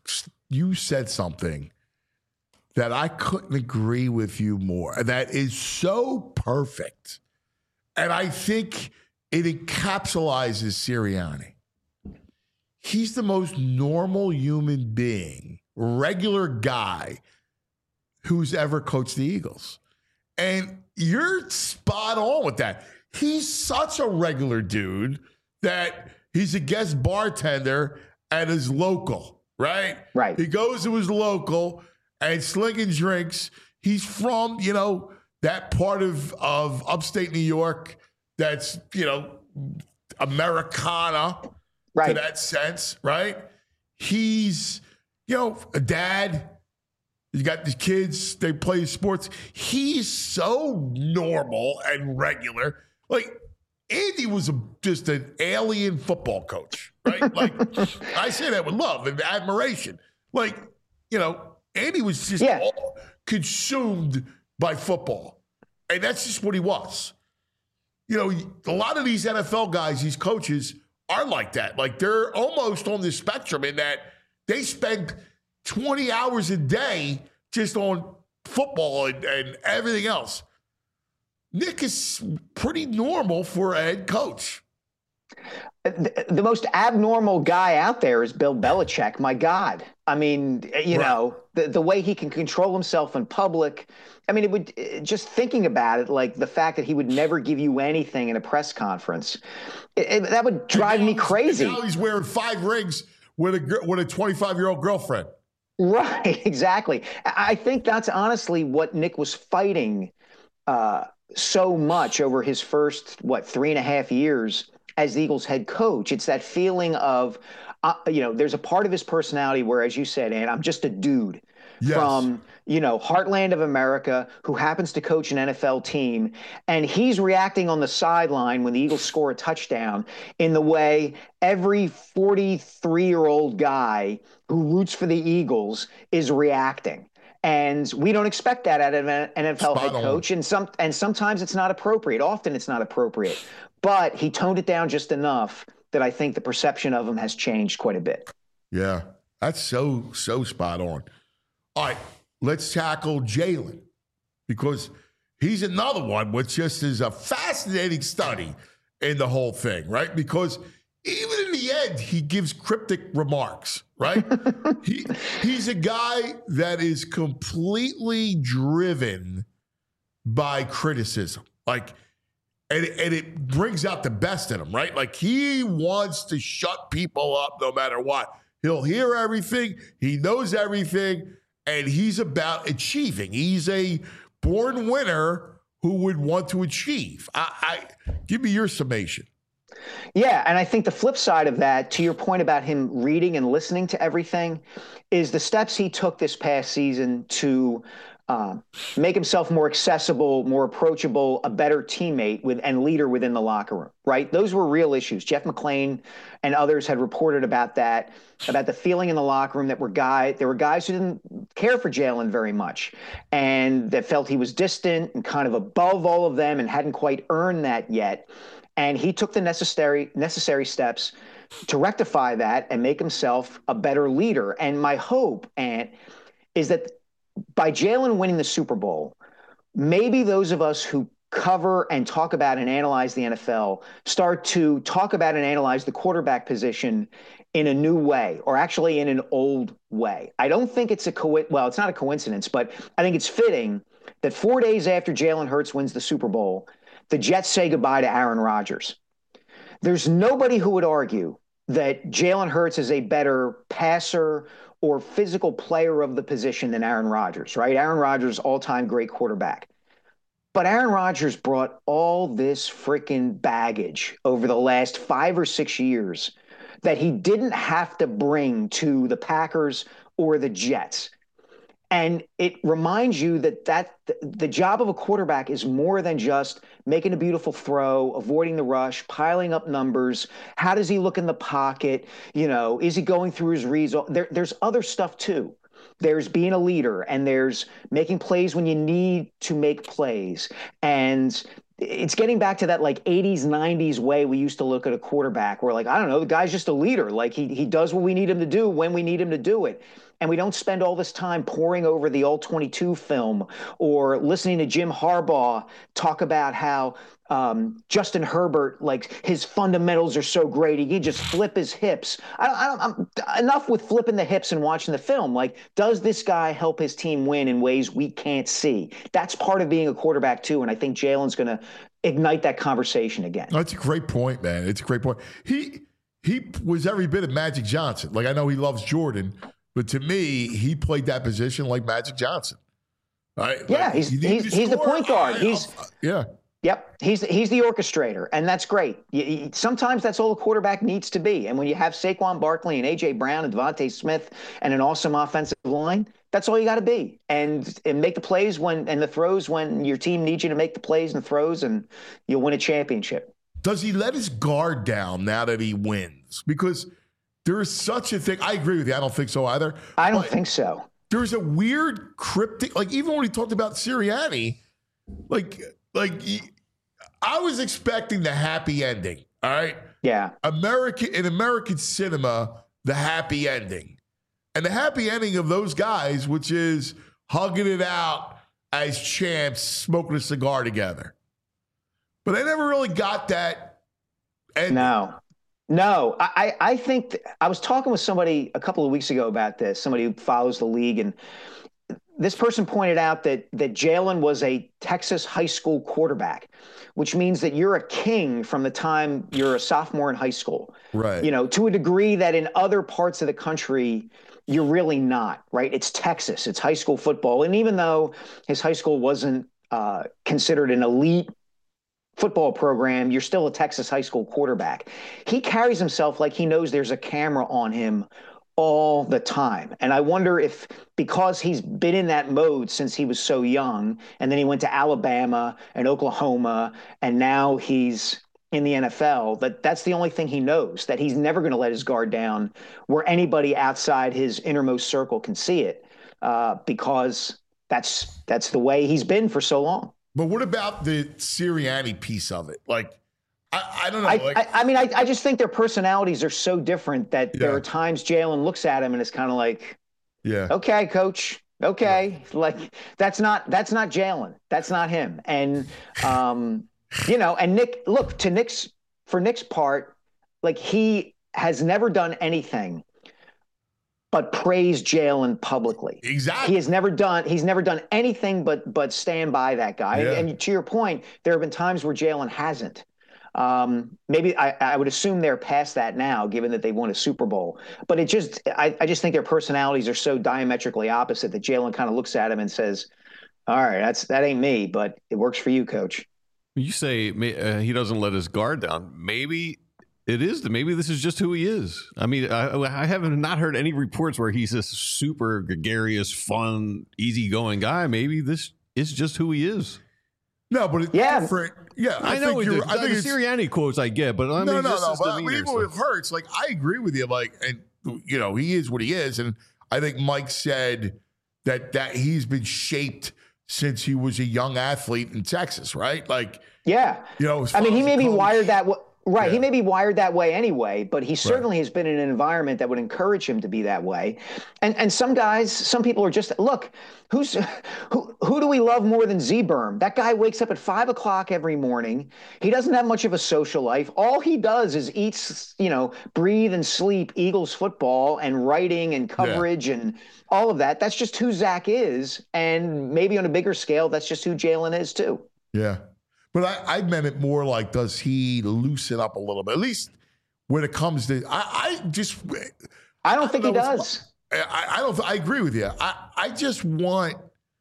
you said something that I couldn't agree with you more. That is so perfect. And I think it encapsulates Sirianni. He's the most normal human being, regular guy who's ever coached the Eagles. And you're spot on with that. He's such a regular dude that he's a guest bartender at his local, right? Right. He goes to his local and slinging drinks. He's from, you know, that part of, of upstate New York that's, you know, Americana right. to that sense, right? He's, you know, a dad. You got the kids, they play sports. He's so normal and regular. Like, Andy was a, just an alien football coach, right? Like, I say that with love and admiration. Like, you know, Andy was just yeah. all consumed by football. And that's just what he was. You know, a lot of these N F L guys, these coaches, are like that. Like, they're almost on the spectrum in that they spend twenty hours a day just on football and, and everything else. Nick is pretty normal for a head coach. The, the most abnormal guy out there is Bill Belichick. My God. I mean, you right. know, the, the way he can control himself in public. I mean, it would just thinking about it, like the fact that he would never give you anything in a press conference, it, it, that would drive me crazy. Now he's wearing five rings with a with a twenty-five-year-old girlfriend. Right, exactly. I think that's honestly what Nick was fighting uh, so much over his first, what, three and a half years as the Eagles head coach. It's that feeling of, uh, you know, there's a part of his personality where, as you said, Ann, I'm just a dude yes. from, you know, heartland of America who happens to coach an N F L team. And he's reacting on the sideline when the Eagles score a touchdown in the way every forty-three-year-old guy who roots for the Eagles is reacting. And we don't expect that out of an N F L Spot head coach. On. And some and sometimes it's not appropriate. Often it's not appropriate. But he toned it down just enough that I think the perception of him has changed quite a bit. Yeah. That's so, so spot on. All right, let's tackle Jalen because he's another one which just is a fascinating study in the whole thing, right? Because even in the end, he gives cryptic remarks, right? he He's a guy that is completely driven by criticism. Like, and, and it brings out the best in him, right? Like, he wants to shut people up no matter what. He'll hear everything. He knows everything. And he's about achieving. He's a born winner who would want to achieve. I, I give me your summation. Yeah, and I think the flip side of that, to your point about him reading and listening to everything, is the steps he took this past season to uh, make himself more accessible, more approachable, a better teammate with and leader within the locker room, right? Those were real issues. Jeff McLean and others had reported about that, about the feeling in the locker room that were guy, there were guys who didn't care for Jalen very much and that felt he was distant and kind of above all of them and hadn't quite earned that yet. And he took the necessary necessary steps to rectify that and make himself a better leader. And my hope, Ant, is that by Jalen winning the Super Bowl, maybe those of us who cover and talk about and analyze the N F L start to talk about and analyze the quarterback position in a new way, or actually in an old way. I don't think it's a co- well, it's not a coincidence, but I think it's fitting that four days after Jalen Hurts wins the Super Bowl, the Jets say goodbye to Aaron Rodgers. There's nobody who would argue that Jalen Hurts is a better passer or physical player of the position than Aaron Rodgers, right? Aaron Rodgers, all-time great quarterback. But Aaron Rodgers brought all this freaking baggage over the last five or six years that he didn't have to bring to the Packers or the Jets. And it reminds you that, that the job of a quarterback is more than just making a beautiful throw, avoiding the rush, piling up numbers. How does he look in the pocket? You know, is he going through his reads? There, there's other stuff too. There's being a leader, and there's making plays when you need to make plays. And it's getting back to that like eighties, nineties way we used to look at a quarterback where, like, I don't know, the guy's just a leader. Like he he does what we need him to do when we need him to do it. And we don't spend all this time poring over the all twenty-two film or listening to Jim Harbaugh talk about how um, Justin Herbert, like his fundamentals are so great. He can just flip his hips. I don't, I don't, I'm, enough with flipping the hips and watching the film. Like, does this guy help his team win in ways we can't see? That's part of being a quarterback too. And I think Jalen's going to ignite that conversation again. That's a great point, man. It's a great point. He, he was every bit of Magic Johnson. Like, I know he loves Jordan, but to me, he played that position like Magic Johnson. Right? Yeah, like, he's he's, he's the point guard. He's yeah. Yep, he's he's the orchestrator, and that's great. You, you, sometimes that's all a quarterback needs to be. And when you have Saquon Barkley and A J Brown and Devontae Smith and an awesome offensive line, that's all you got to be. And and make the plays when and the throws when your team needs you to make the plays and the throws, and you'll win a championship. Does he let his guard down now that he wins? Because there is such a thing. I agree with you. I don't think so either. I don't think so. There's a weird cryptic, like even when he talked about Sirianni, like like I was expecting the happy ending. All right. Yeah. American in American cinema, the happy ending. And the happy ending of those guys, which is hugging it out as champs, smoking a cigar together. But I never really got that ending. No. No, I, I think th- I was talking with somebody a couple of weeks ago about this, somebody who follows the league, and this person pointed out that that Jalen was a Texas high school quarterback, which means that you're a king from the time you're a sophomore in high school. Right. You know, to a degree that in other parts of the country, you're really not, right? It's Texas. It's high school football. And even though his high school wasn't uh, considered an elite football program, you're still a Texas high school quarterback. He carries himself like he knows there's a camera on him all the time. And I wonder if because he's been in that mode since he was so young, and then he went to Alabama and Oklahoma, and now he's in the N F L, that that's the only thing he knows, that he's never going to let his guard down where anybody outside his innermost circle can see it, uh, because that's that's the way he's been for so long. But what about the Sirianni piece of it? Like, I, I don't know. I, like, I, I mean, I, I just think their personalities are so different that there Yeah. are times Jalen looks at him and it's kind of like, yeah. okay, coach. Okay. Like that's not, that's not Jalen. That's not him. And, um, you know, and Nick, look, to Nick's, for Nick's part, like he has never done anything but praise Jalen publicly. Exactly. He has never done, he's never done anything but, but stand by that guy. Yeah. And to your point, there have been times where Jalen hasn't. Um, maybe I, I would assume they're past that now, given that they won a Super Bowl. But it just, I, I just think their personalities are so diametrically opposite that Jalen kind of looks at him and says, "All right, that's that ain't me, but it works for you, coach." You say uh, he doesn't let his guard down. Maybe it is. Maybe this is just who he is. I mean, I, I haven't not heard any reports where he's this super gregarious, fun, easygoing guy. Maybe this is just who he is. No, but it's Yeah. different. Yeah, I, I, know think it you're. is. I think the it's, Sirianni quotes I get, but I mean, no, no, just no. his But demeanor, even so. with Hurts, like I agree with you. Like, and you know, he is what he is, and I think Mike said that that he's been shaped since he was a young athlete in Texas, right? Like, Yeah. you know, as I mean, far he as may a be coach- wired that way. Right. Yeah. He may be wired that way anyway, but he certainly has been in an environment that would encourage him to be that way. And and some guys, some people are just, look, who's who who do we love more than Z-Berm? That guy wakes up at five o'clock every morning. He doesn't have much of a social life. All he does is eat, you know, breathe and sleep Eagles football and writing and coverage and all of that. That's just who Zach is. And maybe on a bigger scale, that's just who Jalen is too. Yeah. But I, I meant it more like, does he loosen up a little bit? At least when it comes to, I, I just, I don't think know he what's- does. I, I don't, I agree with you. I, I just want,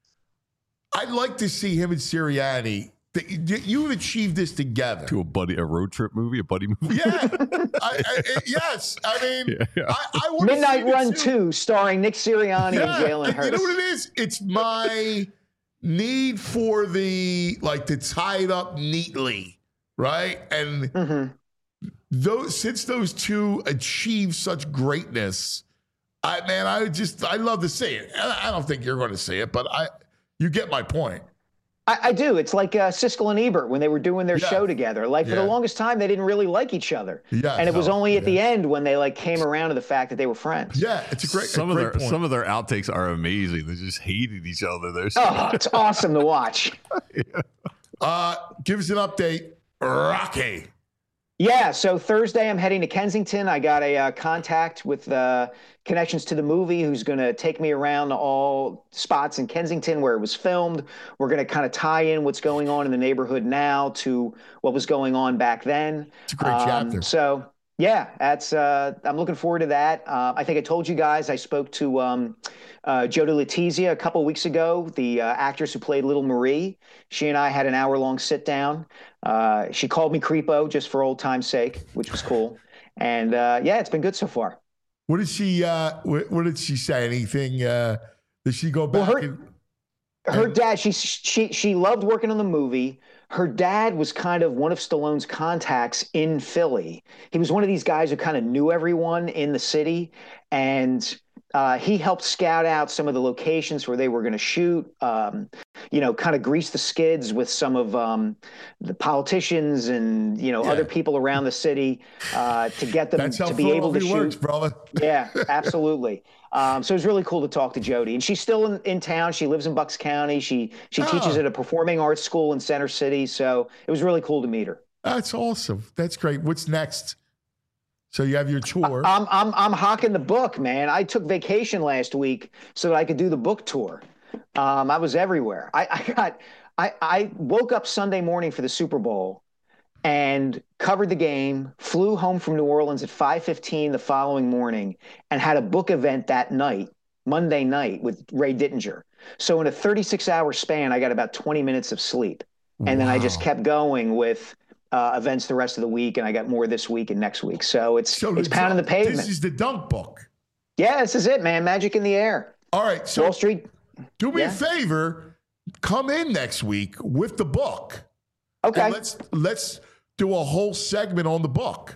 I'd like to see him and Sirianni. that You've achieved this together. to a buddy, a road trip movie, a buddy movie. Yeah. I, I, yes. I mean, Yeah, yeah. I, I want Midnight to Run two, starring Nick Sirianni Yeah, and Jalen and Hurts. you know what it is? It's my need for the, like, to tie it up neatly, right? And Mm-hmm. those, since those two achieve such greatness, I man, I would just, I love to see it. I I don't think you're going to see it, but I, you get my point. I, I do. It's like uh, Siskel and Ebert when they were doing their Yeah. show together. Like for Yeah. the longest time, they didn't really like each other. Yeah, and it was no, only at yeah. the end when they like came around to the fact that they were friends. Yeah, it's a great, some a of great their point. some of their outtakes are amazing. They just hated each other. They're so Oh, it's awesome to watch. uh, give us an update, Rocky. Yeah, so Thursday I'm heading to Kensington. I got a uh, contact with uh, connections to the movie who's going to take me around to all spots in Kensington where it was filmed. We're going to kind of tie in what's going on in the neighborhood now to what was going on back then. It's a great Um, chapter. So yeah, that's uh, I'm looking forward to that. Uh, I think I told you guys I spoke to um, uh, Jodie Letizia a couple weeks ago, the uh, actress who played Little Marie. She and I had an hour long sit down. Uh, she called me creepo just for old time's sake, which was cool. And uh, yeah, it's been good so far. What did she, uh, what, what did she say? Anything, uh, did she go Well, back? her- and, Her And- dad, she she she loved working on the movie. Her dad was kind of one of Stallone's contacts in Philly. He was one of these guys who kind of knew everyone in the city, and uh, he helped scout out some of the locations where they were going to shoot. Um, you know, kind of grease the skids with some of um, the politicians and you know Yeah. other people around the city uh, to get them That's how to be able to Philadelphia shoot. works, brother. Yeah, absolutely. Um, so it was really cool to talk to Jodie, and she's still in, in town. She lives in Bucks County. She she teaches Oh. at a performing arts school in Center City. So it was really cool to meet her. That's awesome. That's great. What's next? So you have your tour. I'm I'm I'm hawking the book, man. I took vacation last week so that I could do the book tour. Um, I was everywhere. I, I got I I woke up Sunday morning for the Super Bowl and covered the game, flew home from New Orleans at five fifteen the following morning, and had a book event that night, Monday night, with Ray Dittinger. So in a thirty-six hour span, I got about twenty minutes of sleep. And then I just Wow. kept going with uh, events the rest of the week, and I got more this week and next week. So it's So it's the pounding the dunk- pavement. This is the dunk book. Yeah, this is it, man. Magic in the air. All right. So Wall Street. do me yeah. a favor. Come in next week with the book. Okay. And let's let's do a whole segment on the book.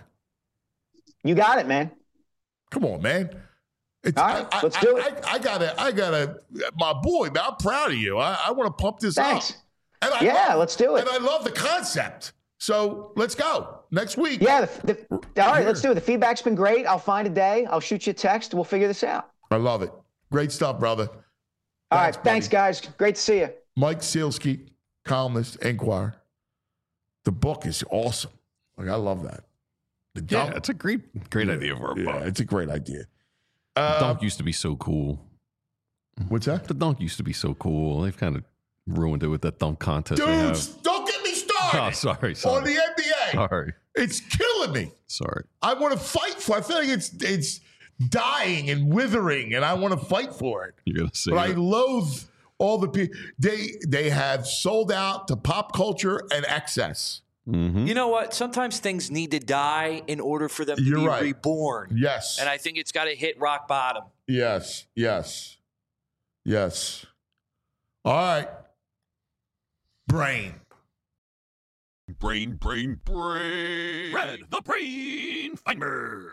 You got it, man. Come on, man. It's, All right, I, let's I, do I, it. I, I gotta, I gotta, my boy, man. I'm proud of you. I, I want to pump this Thanks. up. And I Yeah, love- let's do it. And I love the concept. So let's go next week. Yeah. The, the, all right, let's do it. The feedback's been great. I'll find a day. I'll shoot you a text. We'll figure this out. I love it. Great stuff, brother. All Thanks, right. Thanks, buddy. guys. Great to see you. Mike Sealski, columnist, Enquirer. The book is awesome. Like, I love that. The Yeah, dunk, it's a great, great idea for a yeah, book. it's a great idea. The Uh, dunk used to be so cool. what's that? The dunk used to be so cool. They've kind of ruined it with that dunk contest they have. Dudes, don't get me started. Oh, sorry, On sorry. the N B A. Sorry, It's killing me. sorry. I want to fight for it. I feel like it's it's dying and withering, and I want to fight for it. You're gonna say But I it. loathe all the people. They they have sold out to pop culture and excess. Mhm. You know what? Sometimes things need to die in order for them to You're be right. reborn. Yes. And I think it's got to hit rock bottom. Yes. Yes. Yes. All right. Brain. Brain, brain, brain. Red, the brain finder.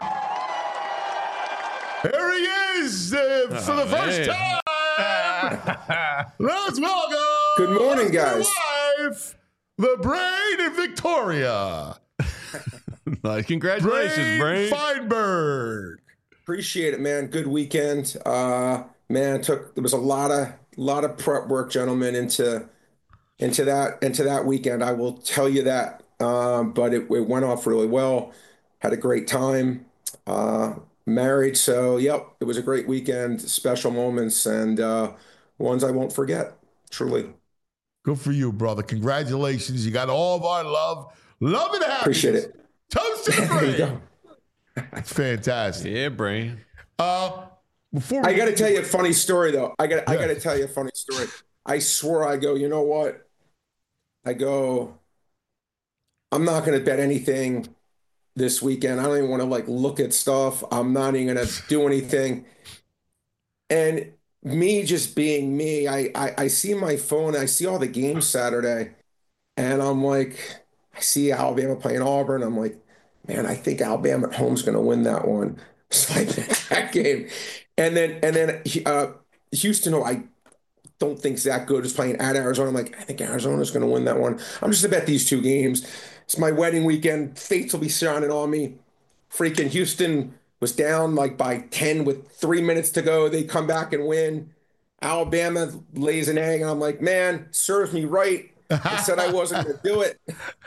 There he is uh, for the Oh, first man. time. Let's welcome. Good morning, my guys. wife, the brain in Victoria. Nice. Congratulations, Brain. Feinberg. Appreciate it, man. Good weekend. Uh, man, took there was a lot of lot of prep work, gentlemen, into into that into that weekend. I will tell you that. Um, but it, it went off really well. Had a great time. Uh, married, so yep, it was a great weekend. Special moments and uh, ones I won't forget. Truly Good for you, brother. Congratulations. You got all of our love. Love and happiness. appreciate it. Toast to the There you brain. go. It's fantastic. Yeah, Brain. Uh, before I we- got to tell you a funny story, though. I got I Yeah. got to tell you a funny story. I swore I go. You know what? I go. I'm not going to bet anything this weekend. I don't even want to like look at stuff. I'm not even going to do anything. And me just being me, I, I I see my phone. I see all the games Saturday, and I'm like, I see Alabama playing Auburn. I'm like, man, I think Alabama at home's going to win that one. So I bet that game, and then and then uh, Houston, who I don't think's that good, is playing at Arizona. I'm like, I think Arizona's going to win that one. I'm just to bet these two games. It's my wedding weekend. Fates will be shining on me. Freaking Houston was down like by ten with three minutes to go. They come back and win. Alabama lays an egg, and I'm like, man, serves me right. I said I wasn't going to do it.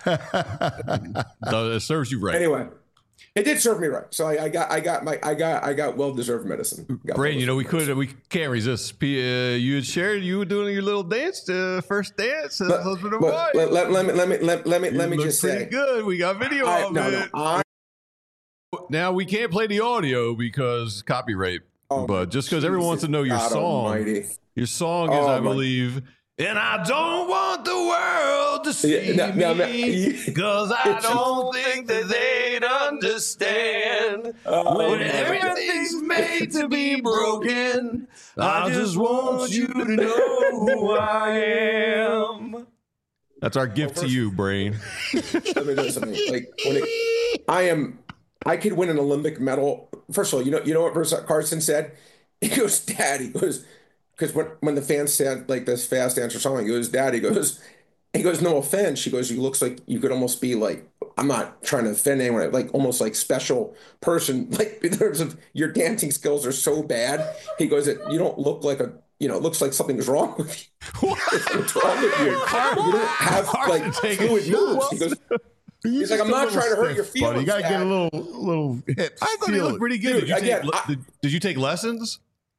No, it serves you right. Anyway, it did serve me right. So I, I got, I got my, I got, I got well-deserved medicine. Got Brain, you know, we well-deserved could, we can't resist. P- Uh, you had shared you were doing your little dance, uh, first dance, as medicine. husband and But wife. let, let, let me, let me, let, let me, You let me look just pretty say, good. We got video I, of no, no, it. I, Now we can't play the audio because copyright. Oh, but just because everyone wants to know your God song, almighty. your song is, Oh, I my- believe, and I don't want the world to see Yeah, no, no, no. me because I don't think that they'd understand Oh, when my everything's made to be broken. I just want you to know who I am. That's our gift to you, Brain. Let me do something. Like when it, I am, I could win an Olympic medal. First of all, you know, you know what Bruce Carson said? He goes, "Dad," he goes, because when when the fans said like this fast answer song, he goes, "Dad," he goes, he goes, "No offense," she goes, "You looks like you could almost be like, I'm not trying to offend anyone, like almost like special person, like in terms of your dancing skills are so bad." He goes, "That you don't look like a." You know, it looks like something's wrong with you. What's wrong with you? You don't have like take a fluid moves. He goes, He's He's like, just I'm a not little trying to hurt your stiff, buddy. You feelings, got to get a Dad. little, little hips. I thought he Feel looked it. pretty good. Dude, did, you again, take, le- I- did, did you take lessons?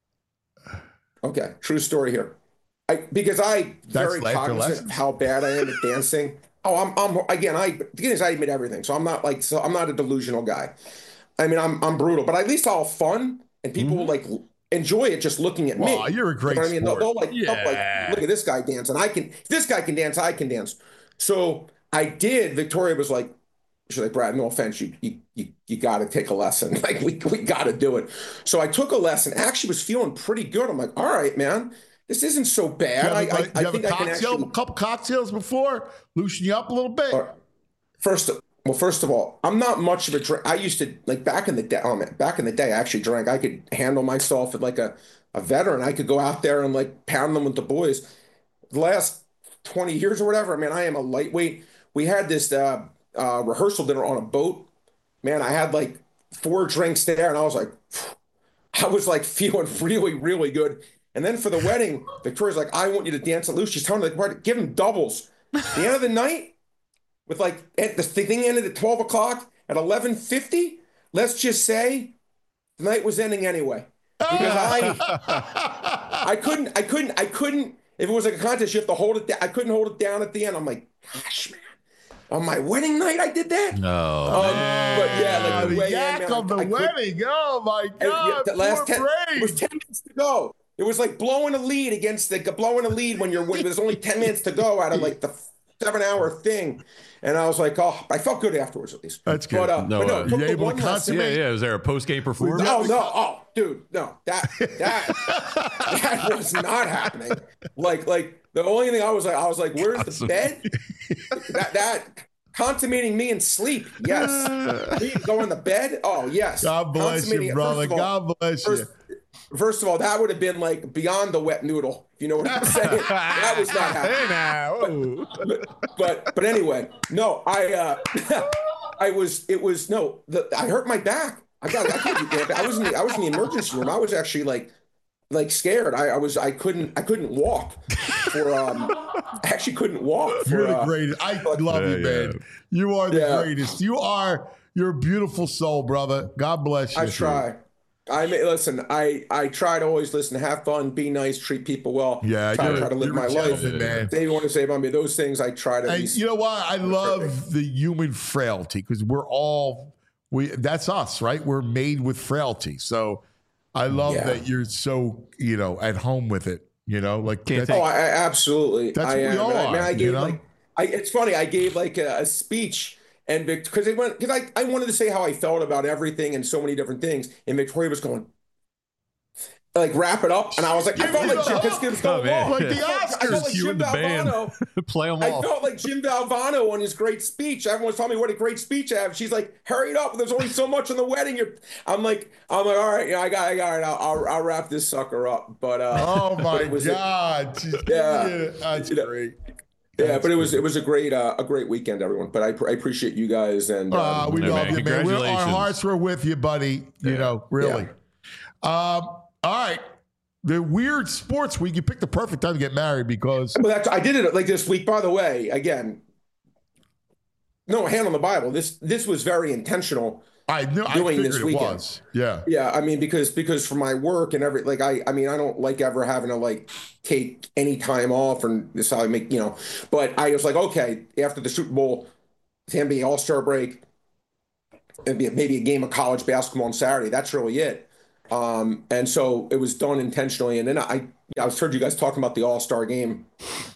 okay, true story here. I because I very That's after cognizant lessons. of how bad I am at dancing. Oh, I'm I'm again. I the thing is, I admit everything, so I'm not like so I'm not a delusional guy. I mean, I'm I'm brutal, but at least I'll have fun and people will like enjoy it just looking at Well, me. you're a great You know what I mean? They'll, sport. they'll like, they'll Yeah. like, look at this guy dance, and I can. If this guy can dance, I can dance. So I did. Victoria was like, she's like, "Brad, no offense, you you you, you got to take a lesson. Like we we got to do it." So I took a lesson. Actually, was feeling pretty good. I'm like, "All right, man, this isn't so bad." You have, I a, I, you I have think a I can cocktail, actually. a couple cocktails before, loosen you up a little bit. Uh, First, well, first of all, I'm not much of a drink. I used to like back in the day. Oh man, back in the day, I actually drank. I could handle myself at like a, a veteran. I could go out there and like pound them with the boys. The last twenty years or whatever, I mean, I am a lightweight. We had this uh, uh, rehearsal dinner on a boat. Man, I had like four drinks there, and I was like, I was like feeling really, really good. And then for the wedding, Victoria's like, I want you to dance it loose. She's telling me, like, give him doubles. The end of the night, with like, the thing ended at twelve o'clock, at eleven fifty, let's just say the night was ending anyway. Because I, I couldn't, I couldn't, I couldn't, if it was like a contest, you have to hold it down. I couldn't hold it down at the end. I'm like, gosh, man. On my wedding night, I did that. No, um, but yeah, like the, the way yak in, man, of the I, I wedding. Oh my and, God! yeah, the last ten, brain. it was ten minutes to go. It was like blowing a lead against the blowing a lead when you're when there's only ten minutes to go out of like the seven hour thing. And I was like, oh, I felt good afterwards at least. That's good. But, uh, No, but no, uh, it took you the able to one lesson- consummate? yeah, yeah. Was there a post game performance? No, no, oh, dude, no, that that that was not happening. Like, like the only thing I was like, I was like, where's the bed? That that consummating me in sleep, yes. Me going to bed, oh yes. God bless you, brother. All, God bless first, you. First of all, that would have been like beyond the wet noodle. If you know what I'm saying? That was not happening. Hey now. But, but but anyway, no, I uh, I was it was no, the, I hurt my back. I got I couldn't do that. I was in the, I was in the emergency room. I was actually like like scared. I, I was I couldn't I couldn't walk for um I actually couldn't walk. For, You're the uh, greatest. I love Yeah, you, man. yeah. You are the Yeah. greatest. You are. You're a beautiful soul, brother. God bless you. I try. I mean, listen. I I try to always listen, have fun, be nice, treat people well. Yeah, try, you're, try to live you're my a life. gentleman, man. They want to say about me those things. I try to. at And least- you know what? I love the human frailty because we're all we. That's us, right? We're made with frailty. So I love Yeah. that you're so you know at home with it. You know, like Can't that's- Oh, I, I absolutely. That's I what we am. all And I, are, man, I you gave know? like, I. It's funny. I gave like a, a speech, and because they went, because I, I wanted to say how I felt about everything and so many different things, and Victoria was going, like wrap it up, and I was like, I felt like Jim, because it was Oh, going man. long. Like the I felt Oscars, like you Jim and the band. Valvano. Play them I off. felt like Jim Valvano on his great speech. Everyone's telling me what a great speech I have. She's like, "Hurry it up! There's only so much on the wedding." You're, I'm like, I'm like, all right, yeah, I got, I got it. I'll, I'll, I'll wrap this sucker up. But uh, Oh but my it was a- God! She's- Yeah. that's You know, great. yeah, That's but it was it was a great uh, a great weekend, everyone. But I, pr- I appreciate you guys and um, Uh, we Yeah, love man. you, man. We're, our Congratulations. hearts were with you, buddy. You know, really. Um, all right. The weird sports week. You picked the perfect time to get married because But that's, I did it like this week. By the way, again, no hand on the Bible. This this was very intentional. I knew I Doing figured this it weekend. was. Yeah. Yeah, I mean because because for my work and every like I I mean I don't like ever having to like take any time off and this is how I make you know. But I was like, okay, after the Super Bowl, the N B A All Star break, it'd be maybe a game of college basketball on Saturday. That's really it. Um, and so it was done intentionally. And then I I was heard you guys talking about the All Star game.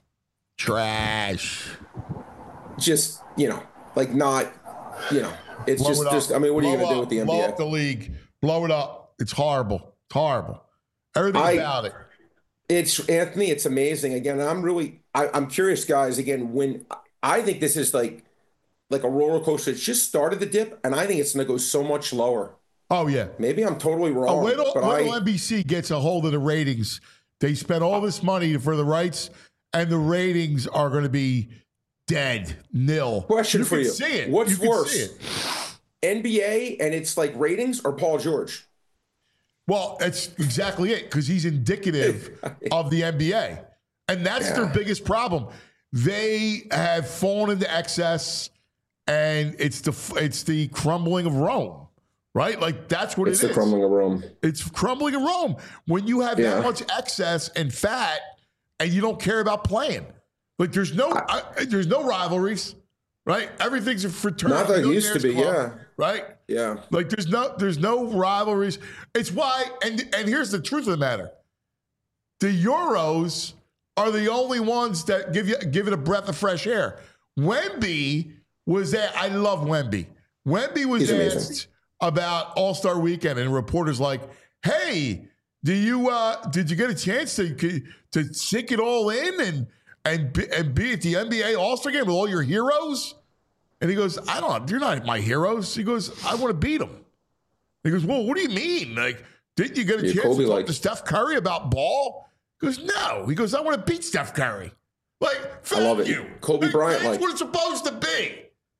Trash. Just you know like not you know it's Blow just it up. just I mean what are you Blow gonna do up. with the N B Blow A? up the league. Blow it up. It's horrible. It's horrible. Everything I- about it. It's Anthony. It's amazing. Again, I'm really. I, I'm curious, guys. Again, when I think this is like, like a roller coaster. It's just started the dip, and I think it's going to go so much lower. Oh yeah. Maybe I'm totally wrong. Oh, wait till, but wait till I, N B C gets a hold of the ratings. They spent all this money for the rights, and the ratings are going to be dead, nil. Question you for can you. See it. What's you can worse? see it. N B A and it's like ratings or Paul George? Well, that's exactly it because he's indicative of the N B A, and that's Yeah. their biggest problem. They have fallen into excess, and it's the it's the crumbling of Rome, right? Like that's what It's it the is. crumbling of Rome. It's crumbling in Rome. When you have Yeah. that much excess and fat, and you don't care about playing, like there's no I, there's no rivalries, right? Everything's a fraternity. Not like it no used to dance be, club, yeah. right. Yeah. Like there's no there's no rivalries. It's why, and and here's the truth of the matter: the Euros are the only ones that give you give it a breath of fresh air. Wemby was there. I love Wemby. Wemby was He's amazing. asked about All Star Weekend, and reporters like, "Hey, do you uh, did you get a chance to to sink it all in and and be, and be at the N B A All Star game with all your heroes?" And he goes, I don't, you're not my heroes. He goes, I want to beat them. He goes, well, what do you mean? Like, didn't you get a Yeah, chance Kobe to talk likes- to Steph Curry about ball? He goes, no. He goes, I want to beat Steph Curry. Like, thank love it. you. Kobe Like, Bryant That's likes- what it's supposed to be.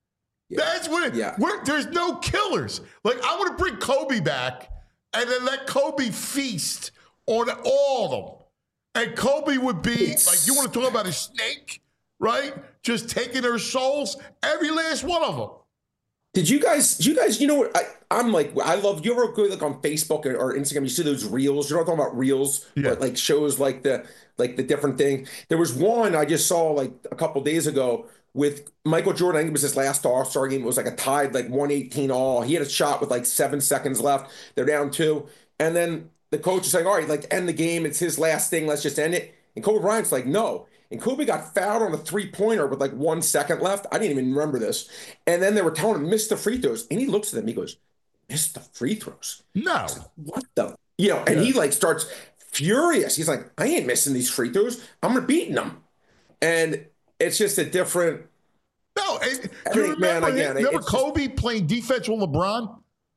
Yeah. That's what it, Yeah. we're, there's no killers. Like, I want to bring Kobe back and then let Kobe feast on all of them. And Kobe would be, It's- like, you want to talk about a snake, right? Just taking their souls, every last one of them. Did you guys, did you guys, you know what, I, I'm like, I love, you ever go like on Facebook or, or Instagram, you see those reels, you know what I'm talking about, reels, Yeah. but like shows like the, like the different thing. There was one I just saw like a couple days ago with Michael Jordan. I think it was his last All-Star game. It was like a tied, like one eighteen all. He had a shot with like seven seconds left. They're down two. And then the coach is like, all right, like end the game. It's his last thing. Let's just end it. And Kobe Bryant's like, no. And Kobe got fouled on a three-pointer with like one second left. I didn't even remember this. And then they were telling him, miss the free throws. And he looks at them. He goes, miss the free throws? No. What the? You know, and Yeah. he like starts furious. He's like, I ain't missing these free throws. I'm going to beat them. And it's just a different. No. And, I do you think, man, remember, again, him, remember it's just- Kobe playing defense with LeBron?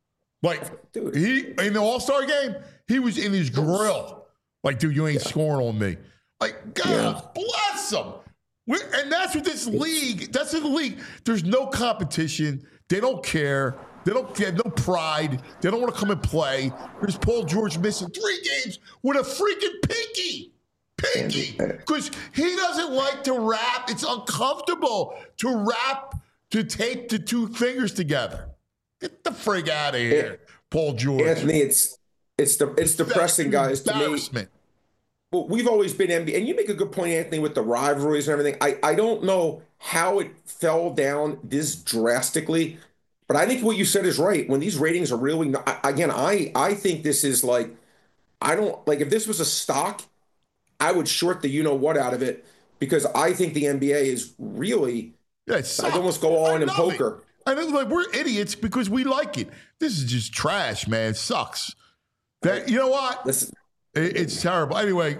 Like, Dude. he in the All-Star game, he was in his grill. Like, dude, you ain't scoring on me. Like, God Yeah. bless him. We're, and that's what this league, that's in the league. There's no competition. They don't care. They don't they have no pride. They don't want to come and play. There's Paul George missing three games with a freaking pinky. Pinky. Because he doesn't like to rap. It's uncomfortable to rap, to tape the two fingers together. Get the frig out of here, Paul George. Anthony, it's it's the it's depressing, guys. To me, Embarrassment. well, we've always been N B A, and you make a good point, Anthony, with the rivalries and everything. I I don't know how it fell down this drastically, but I think what you said is right. When these ratings are really not, I- again, I I think this is like, I don't like if this was a stock, I would short the you know what out of it because I think the N B A is really. Yeah, it I'd sucks. almost go all I in in love poker. It. I know, like we're idiots because we like it. This is just trash, man. It sucks. That you know what? Listen, It, it's terrible. Anyway,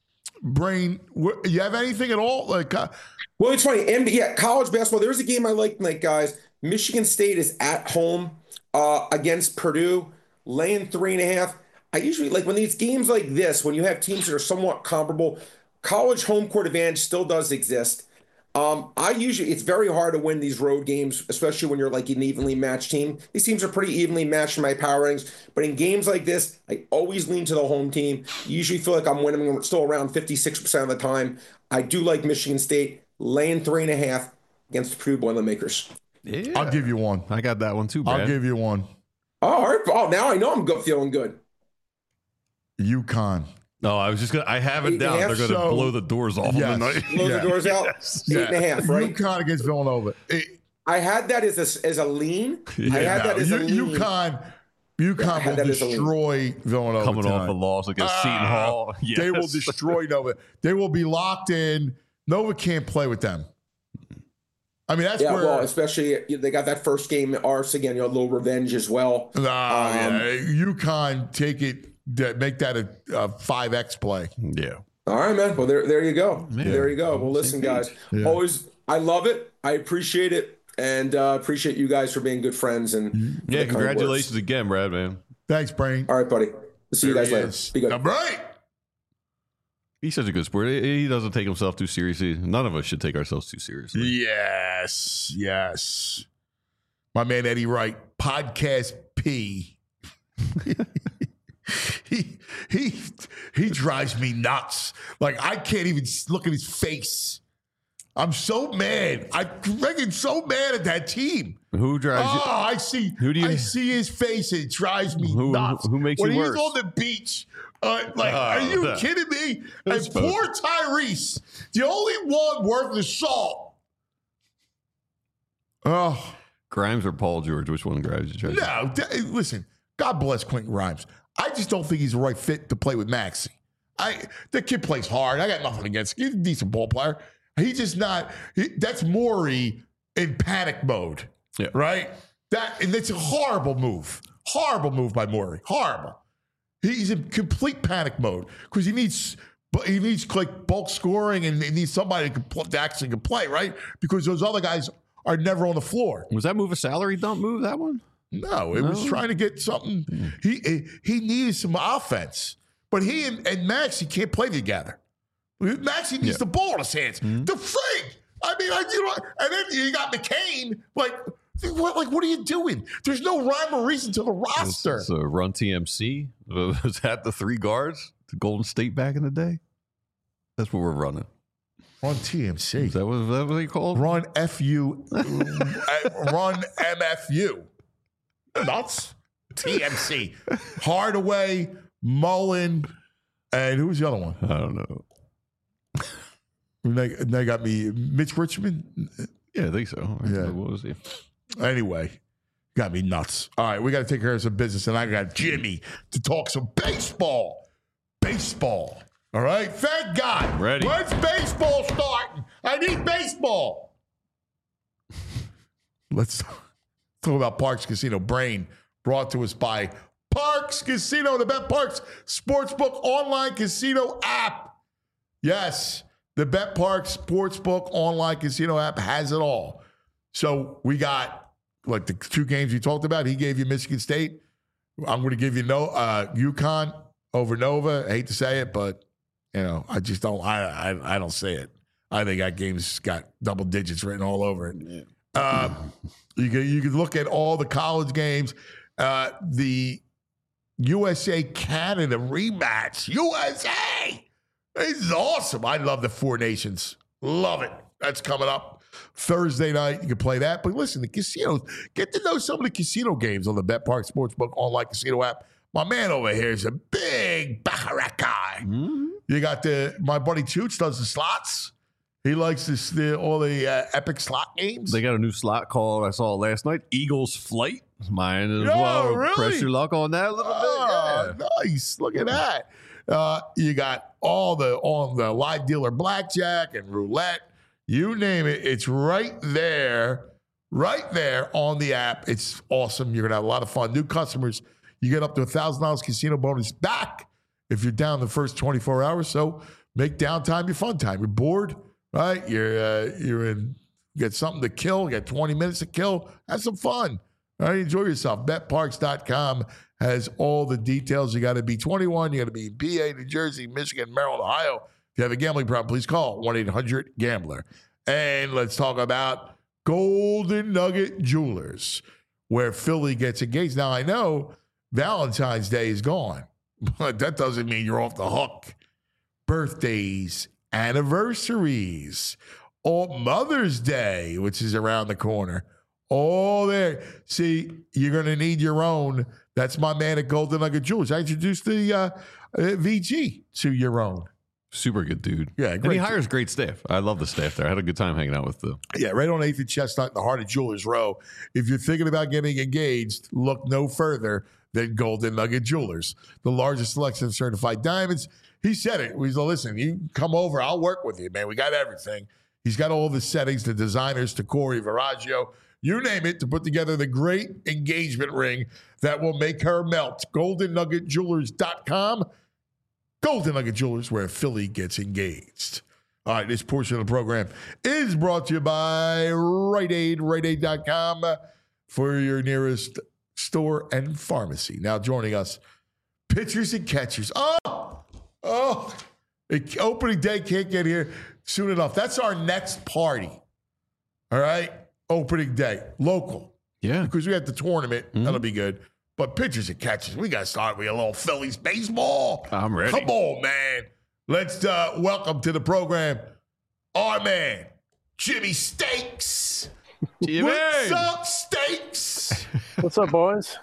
Brain, wh- you have anything at all? Like, uh, well, it's funny. N B A, yeah, college basketball. There's a game I like tonight, guys. Michigan State is at home uh, against Purdue, laying three and a half. I usually like when these games like this, when you have teams that are somewhat comparable, college home court advantage still does exist. Um, I usually, it's very hard to win these road games, especially when you're like an evenly matched team. These teams are pretty evenly matched in my power ratings, but in games like this, I always lean to the home team. Usually feel like I'm winning still around fifty-six percent of the time. I do like Michigan State laying three and a half against the Purdue Boilermakers. Yeah. I'll give you one. I got that one too, Brad. I'll give you one. Oh, all right. Oh, now I know I'm go- feeling good. UConn. No, I was just gonna. I have it Eight and a down. half, They're gonna so- blow the doors off Yes. them tonight. Blow Yeah. the doors out. Eight and a half, right? UConn against Villanova. It, I had that as a, as a lean. I Yeah, had that as a U- lean. UConn, Yeah, I UConn had will that as a lean. destroy Villanova. Coming off a tonight. loss against Ah, Seton Hall. Yes. They will destroy Nova. They will be locked in. Nova can't play with them. I mean, that's Yeah, where. well, especially you know, they got that first game at Arse again, you know, a little revenge as well. Nah, Um, yeah, UConn take it, that- make that a, a five X play. Yeah. All right, man. Well, there, there you go. Yeah. There you go. Well, listen, guys. Yeah. Always, I love it. I appreciate it, and uh, appreciate you guys for being good friends. And Mm-hmm. for Yeah. the kind words. Congratulations again, Brad, man. Thanks, Brain. All right, buddy. We'll see you There guys he later. is. Be good. All right. He's such a good sport. He doesn't take himself too seriously. None of us should take ourselves too seriously. Yes, yes. My man Eddie Wright, Podcast P. he he he drives me nuts. Like I can't even look at his face. I'm so mad. I'm freaking so mad at that team. Who drives Oh, you? I see. Who do you- I see his face. It drives me Who- nuts. who makes when you he's worse? on the beach? Uh, like, Oh, are you that- kidding me? Who's And poor Tyrese, the only one worth the salt. Oh Grimes or Paul George? Which one drives you? Tracy? no! th- Listen, God bless Quentin Grimes. I just don't think he's the right fit to play with Maxey. I the kid plays hard. I got nothing against him. He's a decent ball player. He's just not. He, that's Morey in panic mode. Yeah. Right. That and it's a horrible move. Horrible move by Morey. Horrible. He's in complete panic mode because he needs, but he needs like bulk scoring and he needs somebody who can pl- that actually can play, right? Because those other guys are never on the floor. Was that move a salary dump move? That one? No, it was No? trying to get something. He he, he needed some offense, but he and, and Maxey can't play together. Maxey needs Yeah. the ball in his hands. Mm-hmm. The frig. I mean, I, you know, and then you got McCain. Like, What, like, what are you doing? There's no rhyme or reason to the roster. So run T M C. Was that the three guards? The Golden State back in the day? That's what we're running. Run T M C. Is that what, is that what they called? Run F U. Run M F U. Nuts. T M C. Hardaway, Mullen, and who was the other one? I don't know. They, they got me Mitch Richmond. Yeah, I think so. Yeah. What was he? Anyway, got me nuts. All right, we got to take care of some business, and I got Jimmy to talk some baseball. Baseball. All right? Thank God. Ready. When's baseball starting? I need baseball. Let's talk about Parks Casino Brain, brought to us by Parks Casino, the Bet Parks Sportsbook online casino app. Yes, the Bet Parks Sportsbook online casino app has it all. So we got like the two games you talked about. He gave you Michigan State. I'm going to give you no uh, UConn over Nova. I hate to say it, but you know I just don't. I I, I don't say it. I think that game's got double digits written all over it. Yeah. Uh, you can you can look at all the college games. Uh, the U S A Canada rematch. U S A. This is awesome. I love the Four Nations. Love it. That's coming up Thursday night. You can play that. But listen, the casinos, get to know some of the casino games on the Bet Park Sportsbook online casino app. My man over here is a big baccarat guy. Mm-hmm. You got the, my buddy Toots does the slots. He likes this, the, all the uh, epic slot games. They got a new slot called, I saw it last night, Eagles Flight. Mine as oh, well. Really? Press your luck on that a little oh, bit. Yeah. Nice. Look at that. Uh, you got all the on the live dealer blackjack and roulette. You name it. It's right there, right there on the app. It's awesome. You're going to have a lot of fun. New customers, you get up to one thousand dollars casino bonus back if you're down the first twenty-four hours. So make downtime your fun time. You're bored, right? You're uh, you're in, you get something to kill. You got twenty minutes to kill. Have some fun. All right, enjoy yourself. Bet Parks dot com has all the details. You got to be twenty-one. You got to be in P A, New Jersey, Michigan, Maryland, Ohio. If you have a gambling problem, please call one eight hundred gambler. And let's talk about Golden Nugget Jewelers, where Philly gets engaged. Now, I know Valentine's Day is gone, but that doesn't mean you're off the hook. Birthdays, anniversaries, or Mother's Day, which is around the corner. All there. See, you're going to need your own. That's my man at Golden Nugget Jewelers. I introduced the uh, uh, V G to your own. Super good dude. Yeah, and great he hires great staff. I love the staff there. I had a good time hanging out with them. Yeah, right on eighth and Chestnut in the heart of Jewelers Row. If you're thinking about getting engaged, look no further than Golden Nugget Jewelers, the largest selection of certified diamonds. He said it. He's like, listen, you come over, I'll work with you, man. We got everything. He's got all the settings, the designers, to Corey Viraggio, you name it, to put together the great engagement ring that will make her melt. golden nugget jewelers dot com. Golden Nugget Jewelers, where Philly gets engaged. All right, this portion of the program is brought to you by Rite Aid, rite aid dot com for your nearest store and pharmacy. Now joining us, pitchers and catchers. Oh, oh, it, opening day can't get here soon enough. That's our next party. All right, opening day, local. Yeah. Because we have the tournament. Mm-hmm. That'll be good. But pitchers and catchers, we got to start with a little Phillies baseball. I'm ready. Come on, man. Let's uh, welcome to the program our man, Jimmy Stakes. Jimmy. What's up, Stakes? What's up, boys?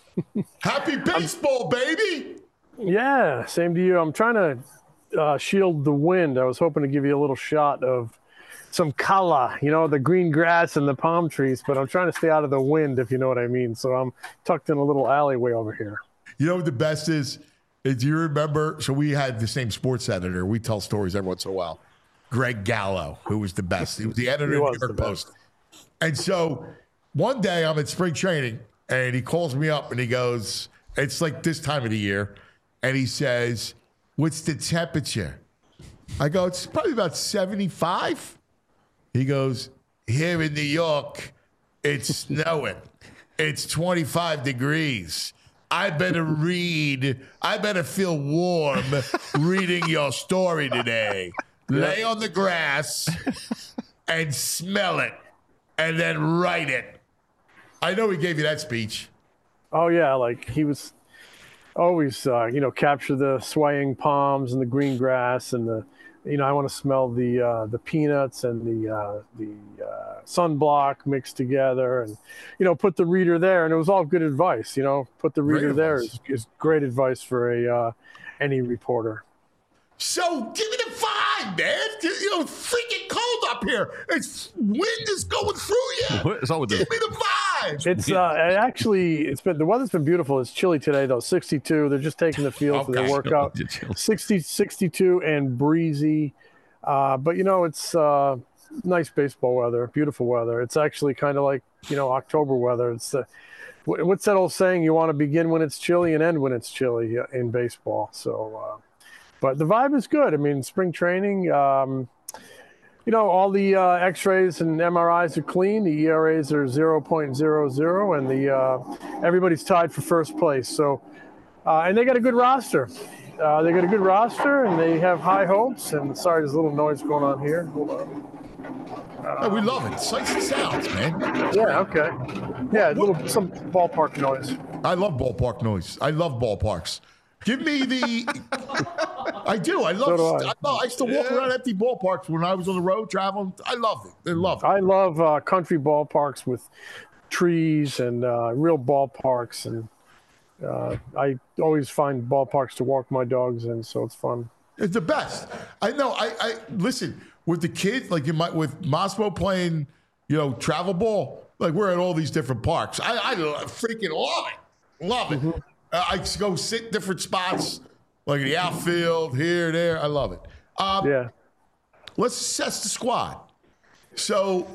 Happy baseball, baby. Yeah, same to you. I'm trying to uh, shield the wind. I was hoping to give you a little shot of some kala, you know, the green grass and the palm trees, but I'm trying to stay out of the wind, if you know what I mean. So I'm tucked in a little alleyway over here. You know what the best is? is do you remember? So we had the same sports editor. We tell stories every once in a while. Greg Gallo, who was the best. He was the editor of the New York Post. And so one day I'm at spring training, and he calls me up, and he goes, it's like this time of the year, and he says, what's the temperature? I go, it's probably about seventy-five. He goes, here in New York, it's snowing. It's twenty-five degrees. I better read. I better feel warm reading your story today. Lay on the grass and smell it and then write it. I know he gave you that speech. Oh yeah, like he was always, uh, you know, capture the swaying palms and the green grass and the, you know, I want to smell the uh, the peanuts and the uh, the uh, sunblock mixed together, and you know, put the reader there, and it was all good advice. You know, put the reader there is, is great advice for a uh, any reporter. So give me the vibe, man. You know, it's freaking cold up here. It's wind is going through you. What is all with Give this? me the vibe. It's uh, it actually it's been the weather's been beautiful. It's chilly today though, sixty-two. They're just taking the field for Okay. their workout. sixty, sixty-two and breezy. Uh, but you know, it's uh, nice baseball weather, beautiful weather. It's actually kind of like, you know, October weather. It's the what's that old saying? You want to begin when it's chilly and end when it's chilly in baseball. So. Uh, But the vibe is good. I mean, spring training, um, you know, all the uh, X-rays and M R Is are clean. The E R As are zero point zero zero, and the uh, everybody's tied for first place. So, uh, and they got a good roster. Uh, they got a good roster, and they have high hopes. And sorry, there's a little noise going on here. Hold on. Oh, we love it. Sights and sounds, man. Yeah. Okay. Yeah, a little some ballpark noise. I love ballpark noise. I love ballparks. Give me the. I do. I love. So do I. I, love, I used to walk around empty ballparks when I was on the road traveling. I loved it. I loved it. I love uh, country ballparks with trees and uh, real ballparks, and uh, I always find ballparks to walk my dogs in, so it's fun. It's the best. I know. I, I listen with the kids, like you might with Mosmo playing, you know, travel ball. Like we're at all these different parks. I, I freaking love it. Love it. Mm-hmm. Uh, I go sit different spots, like in the outfield, here, there. I love it. Um, Yeah. Let's assess the squad. So,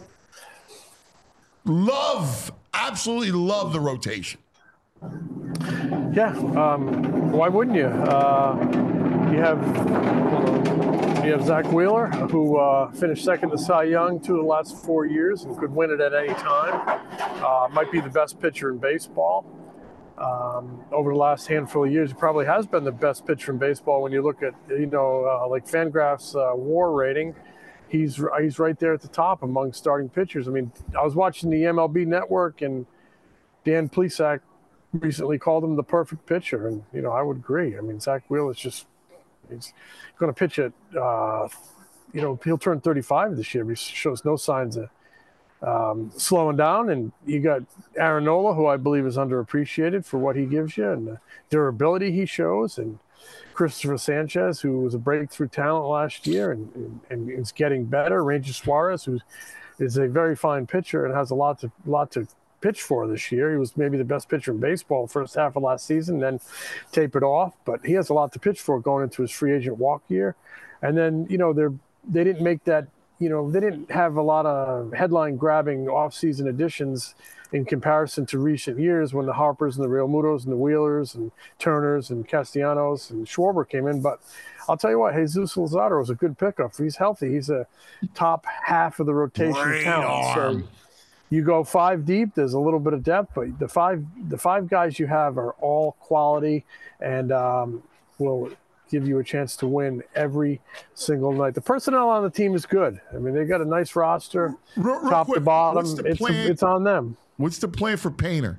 love, absolutely love the rotation. Yeah. Um, why wouldn't you? Uh, you have you have Zach Wheeler, who uh, finished second to Cy Young two of the last four years and could win it at any time. Uh, might be the best pitcher in baseball. Um, over the last handful of years, he probably has been the best pitcher in baseball. When you look at, you know, uh, like Fangraph's uh, WAR rating, he's he's right there at the top among starting pitchers. I mean, I was watching the M L B Network, and Dan Plesac recently called him the perfect pitcher, and you know, I would agree. I mean, Zach Wheeler is just he's going to pitch at, uh, you know, he'll turn thirty-five this year. He shows no signs of Um, slowing down, and you got Aaron Nola, who I believe is underappreciated for what he gives you and the durability he shows, and Christopher Sanchez, who was a breakthrough talent last year and, and, and is getting better. Ranger Suarez, who is a very fine pitcher and has a lot to lot to pitch for this year. He was maybe the best pitcher in baseball first half of last season, then tapered off, but he has a lot to pitch for going into his free agent walk year. And then, you know, they're they didn't make that. You know, they didn't have a lot of headline-grabbing off-season additions in comparison to recent years when the Harpers and the Real Mutos and the Wheelers and Turners and Castellanos and Schwarber came in. But I'll tell you what, Jesus Luzardo is a good pickup. If he's healthy, he's a top half of the rotation Great talent. arm. So you go five deep, there's a little bit of depth, but the five the five guys you have are all quality and um, will – give you a chance to win every single night. The personnel on the team is good. I mean, they got a nice roster, Real, real top quick, to bottom. what's the It's, plan? it's on them. What's the plan for Painter?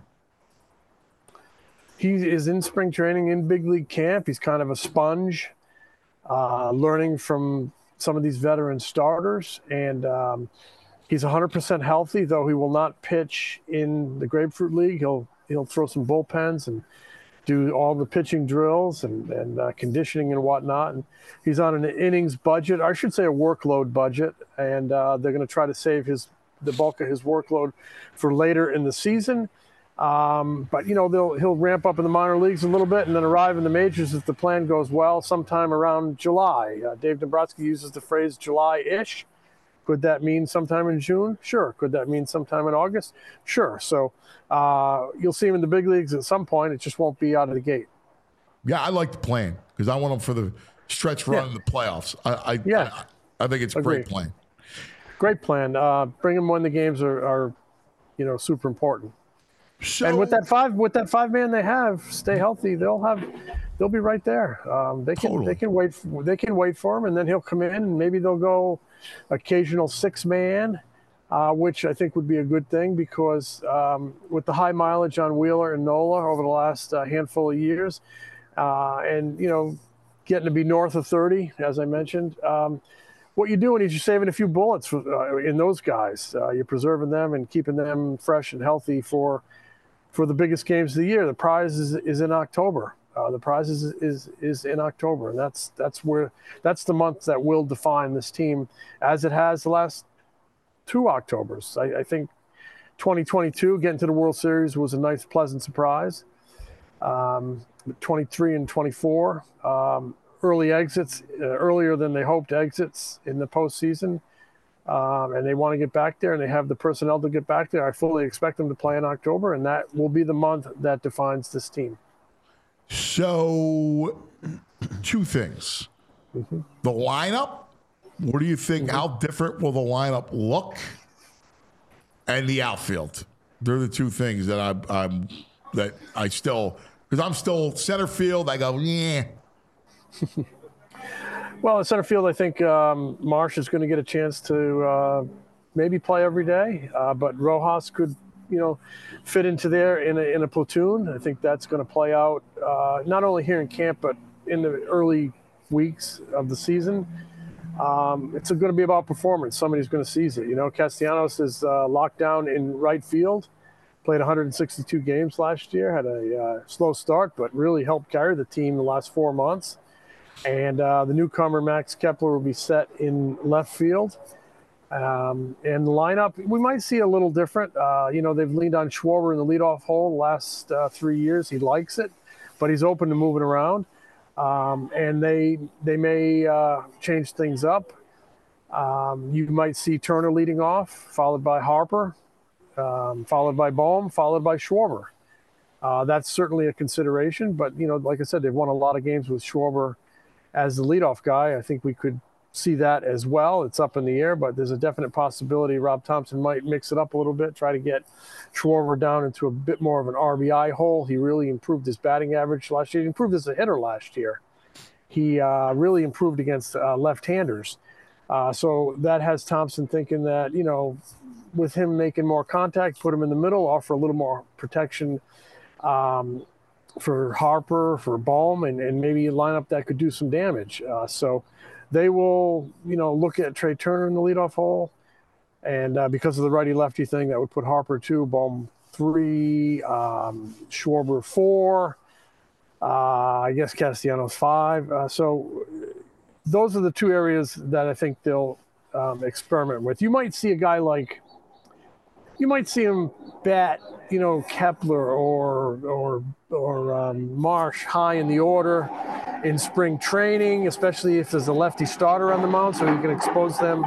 He is in spring training in big league camp. He's kind of a sponge, uh, learning from some of these veteran starters. And um, he's one hundred percent healthy, though he will not pitch in the Grapefruit League. He'll he'll throw some bullpens and do all the pitching drills and, and uh, conditioning and whatnot. And he's on an innings budget, I should say a workload budget, and uh, they're going to try to save his the bulk of his workload for later in the season. Um, but, you know, they'll he'll ramp up in the minor leagues a little bit and then arrive in the majors if the plan goes well sometime around July. Uh, Dave Dombrowski uses the phrase July-ish. Could that mean sometime in June? Sure. Could that mean sometime in August? Sure. So uh, you'll see him in the big leagues at some point. It just won't be out of the gate. Yeah, I like the plan because I want him for the stretch run Yeah. in the playoffs. I, I Yeah. I, I think it's a great Agreed. plan. Great plan. Uh, bring him when the games are, are, you know, super important. So, And with that five, with that five man they have, stay healthy. They'll have, they'll be right there. Um, they can, Totally. they can wait, for, they can wait for him, and then he'll come in, and maybe they'll go occasional six man. uh, which I think would be a good thing because um, with the high mileage on Wheeler and Nola over the last uh, handful of years, uh, and, you know, getting to be north of thirty, as I mentioned, um, what you're doing is you're saving a few bullets for, uh, in those guys. Uh, you're preserving them and keeping them fresh and healthy for for the biggest games of the year. The prize is, is in October. Uh, the prize is, is is in October, and that's that's where that's the month that will define this team, as it has the last two Octobers. I, I think twenty twenty-two getting to the World Series was a nice, pleasant surprise. Um, twenty-three and twenty-four. Um, early exits, uh, earlier than they hoped exits in the postseason. Um, and they want to get back there, and they have the personnel to get back there. I fully expect them to play in October, and that will be the month that defines this team. So, two things. Mm-hmm. The lineup, what do you think? Mm-hmm. How different will the lineup look? And the outfield. They're the two things that I, I'm that I still, because I'm still center field. I go, yeah. Well, in center field, I think um, Marsh is going to get a chance to uh, maybe play every day, uh, but Rojas could, you know, fit into there in a, in a platoon. I think that's going to play out uh, not only here in camp, but in the early weeks of the season. Um, it's going to be about performance. Somebody's going to seize it. You know, Castellanos is uh, locked down in right field, played one hundred sixty-two games last year, had a uh, slow start, but really helped carry the team the last four months. And uh, the newcomer, Max Kepler, will be set in left field. Um, and the lineup, we might see a little different. Uh, you know, they've leaned on Schwarber in the leadoff hole the last uh, three years. He likes it, but he's open to moving around. Um, and they they may uh, change things up. Um, you might see Turner leading off, followed by Harper, um, followed by Bohm, followed by Schwarber. Uh, that's certainly a consideration. But, you know, like I said, they've won a lot of games with Schwarber as the leadoff guy. I think we could see that as well. It's up in the air, but there's a definite possibility Rob Thompson might mix it up a little bit, try to get Schwarber down into a bit more of an R B I hole. He really improved his batting average last year. He improved as a hitter last year. He uh, really improved against uh, left-handers. Uh, so that has Thompson thinking that, you know, with him making more contact, put him in the middle, offer a little more protection um, for Harper, for Bohm, and, and maybe a lineup that could do some damage. Uh, so they will, you know, look at Trey Turner in the leadoff hole. And uh, because of the righty-lefty thing, that would put Harper two, Bohm three, um, Schwarber four, uh, I guess Castellanos five. Uh, so those are the two areas that I think they'll um, experiment with. You might see a guy like, you might see him bat, you know, Kepler or or or um, Marsh high in the order in spring training, especially if there's a lefty starter on the mound, so you can expose them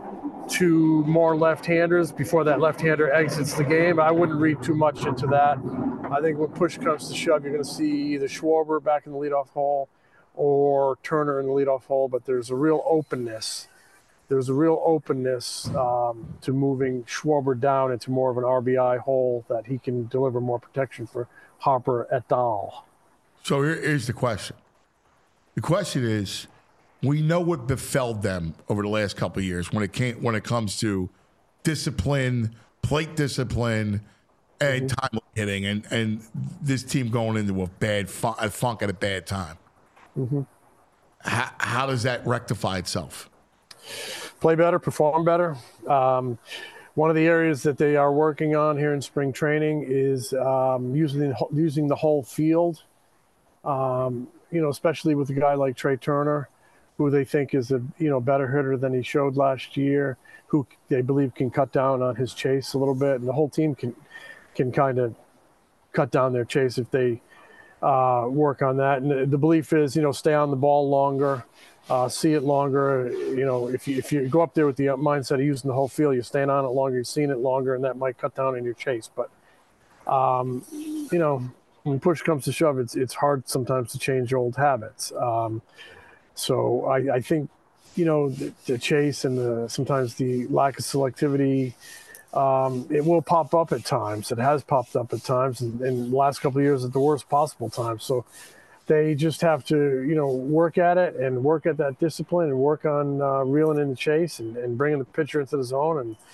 to more left-handers before that left-hander exits the game. I wouldn't read too much into that. I think when push comes to shove, you're going to see either Schwarber back in the leadoff hole or Turner in the leadoff hole, but there's a real openness. There's a real openness um, to moving Schwarber down into more of an R B I hole that he can deliver more protection for Harper et al. So here, here's the question. The question is, we know what befell them over the last couple of years when it came when it comes to discipline, plate discipline, and mm-hmm. time hitting, and, and this team going into a bad fun, a funk at a bad time. Mm-hmm. How, how does that rectify itself? Play better, perform better. Um, one of the areas that they are working on here in spring training is um, using using the whole field. Um, you know, especially with a guy like Trey Turner, who they think is a you know better hitter than he showed last year, who they believe can cut down on his chase a little bit, and the whole team can can kind of cut down their chase if they uh, work on that. And the, the belief is, you know, stay on the ball longer. Uh, see it longer. You know, if you if you go up there with the mindset of using the whole field, you're staying on it longer, you're seeing it longer, and that might cut down on your chase. But, um, you know, when push comes to shove, it's it's hard sometimes to change old habits. Um, so I, I think, you know, the, the chase and the sometimes the lack of selectivity, um, it will pop up at times. It has popped up at times, and in the last couple of years at the worst possible times. So they just have to, you know, work at it and work at that discipline and work on uh, reeling in the chase and, and bringing the pitcher into the zone and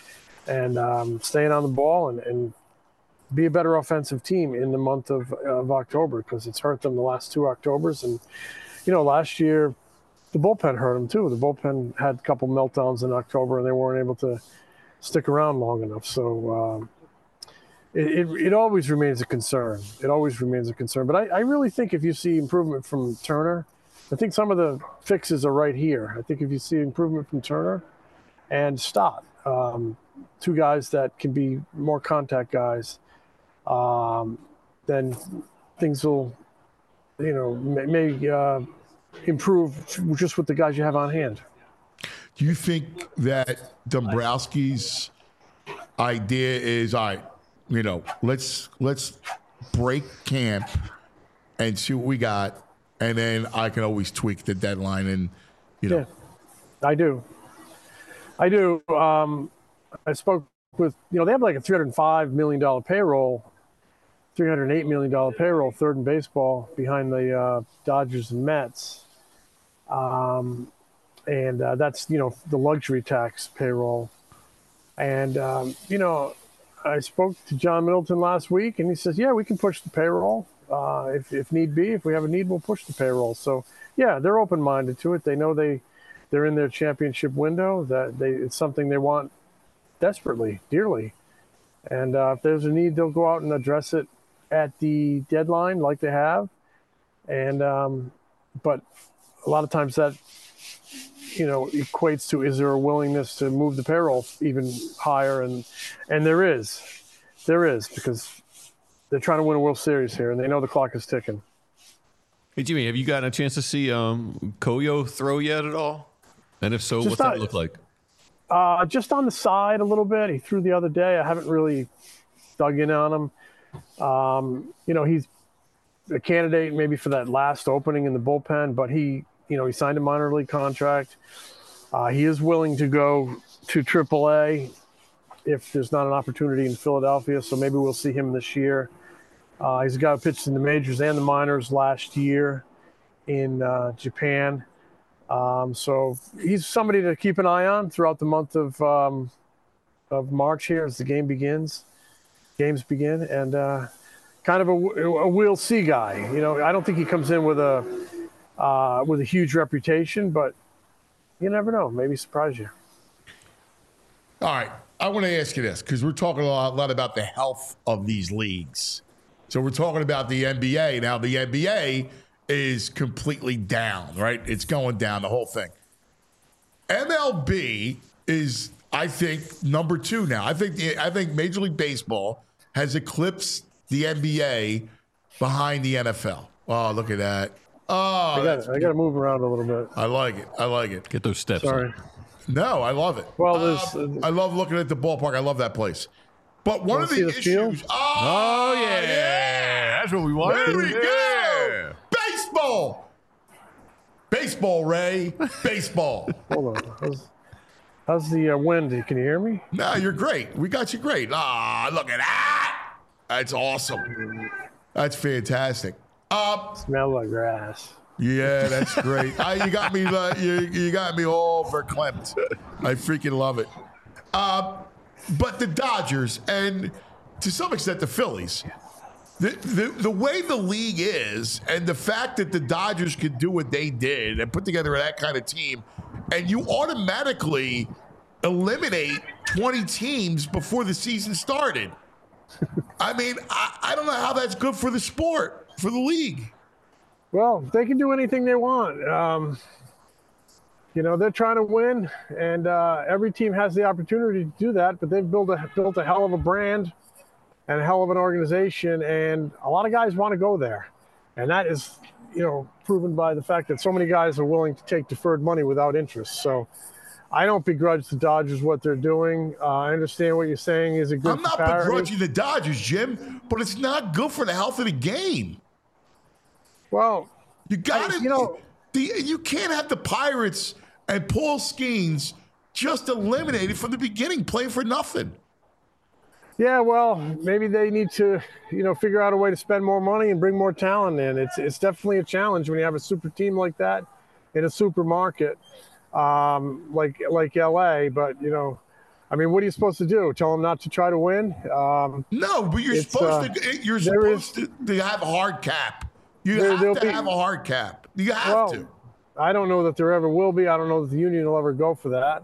and um, staying on the ball and, and be a better offensive team in the month of, of October, because it's hurt them the last two Octobers. And, you know, last year the bullpen hurt them too. The bullpen had a couple meltdowns in October and they weren't able to stick around long enough. So um, it, it, it always remains a concern. It always remains a concern. But I, I really think if you see improvement from Turner, I think some of the fixes are right here. I think if you see improvement from Turner and Stott, um, two guys that can be more contact guys, um, then things will, you know, may, may uh, improve just with the guys you have on hand. Do you think that Dombrowski's idea is, all right, you know, let's let's break camp and see what we got, and then I can always tweak the deadline, and you know. Yeah, I do. I do. Um, I spoke with, you know, they have like a three hundred five million dollars payroll, three hundred eight million dollars payroll, third in baseball behind the uh, Dodgers and Mets. Um, and uh, that's, you know, the luxury tax payroll. And, um, you know, I spoke to John Middleton last week, and he says, yeah, we can push the payroll. Uh, if, if need be, if we have a need, we'll push the payroll. So, yeah, they're open-minded to it. They know they, they're in their championship window, that they it's something they want desperately, dearly. And uh, if there's a need, they'll go out and address it at the deadline like they have. And um, but a lot of times that, you know, equates to, is there a willingness to move the payroll even higher? And and there is. There is, because they're trying to win a World Series here, and they know the clock is ticking. Hey, Jimmy, have you gotten a chance to see um, Koyo throw yet at all? And if so, Just what's not- that look like? Uh, just on the side a little bit. He threw the other day. I haven't really dug in on him. Um, you know, he's a candidate maybe for that last opening in the bullpen, but he, you know, he signed a minor league contract. Uh, he is willing to go to triple A if there's not an opportunity in Philadelphia, so maybe we'll see him this year. Uh, he's a guy who pitched in the majors and the minors last year in uh, Japan. Um, so he's somebody to keep an eye on throughout the month of um, of March here as the game begins, games begin, and uh, kind of a, a we'll see guy. You know, I don't think he comes in with a uh, with a huge reputation, but you never know. Maybe surprise you. All right, I want to ask you this, because we're talking a lot, a lot about the health of these leagues. So we're talking about the N B A. Now, the N B A is completely down, right? It's going down, the whole thing. M L B is, I think, number two now. I think the, I think Major League Baseball has eclipsed the N B A behind the N F L. Oh, look at that. Oh, I got I got to move around a little bit. I like it. I like it. Get those steps. Sorry. in. No, I love it. Well, there's. Um, I love looking at the ballpark. I love that place. But one Wanna of the see the issues. field? Oh, Oh, yeah. That's what we want. There we Yeah. go. Baseball. Baseball, Ray. Baseball. Hold on. How's, how's the uh, wind? Can you hear me? No, you're great. We got you great. Ah, look at that. That's awesome. That's fantastic. Uh, Smell like grass. yeah, that's great. Ah, you got me. Uh, you, you got me all verklempt. I freaking love it. Uh, but the Dodgers and to some extent the Phillies, the, the the way the league is, and the fact that the Dodgers could do what they did and put together that kind of team, and you automatically eliminate twenty teams before the season started. I mean, I, I don't know how that's good for the sport, for the league. Well, they can do anything they want. Um, you know, they're trying to win, and uh, every team has the opportunity to do that. But they've built a built a hell of a brand and a hell of an organization, and a lot of guys want to go there, and that is, you know, proven by the fact that so many guys are willing to take deferred money without interest. So, I don't begrudge the Dodgers what they're doing. Uh, I understand what you're saying is a good. I'm not comparison. begrudging the Dodgers, Jim, but it's not good for the health of the game. Well, You got I- to, you know- the, you can't have the Pirates and Paul Skeens just eliminated from the beginning, playing for nothing. Yeah, well, maybe they need to, you know, figure out a way to spend more money and bring more talent in. It's it's definitely a challenge when you have a super team like that in a super market, um, like like L A. But you know, I mean, what are you supposed to do? Tell them not to try to win? Um, no, but you're it's, supposed uh, to. You're there supposed to, to have a hard cap. You There- there'll have to be- have a hard cap. You have well, to. I don't know that there ever will be. I don't know that the union will ever go for that.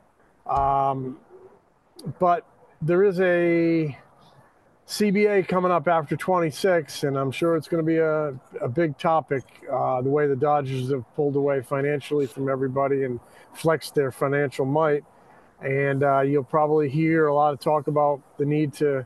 Um, but there is a C B A coming up after twenty-six, and I'm sure it's going to be a, a big topic, uh, the way the Dodgers have pulled away financially from everybody and flexed their financial might. And uh, you'll probably hear a lot of talk about the need to,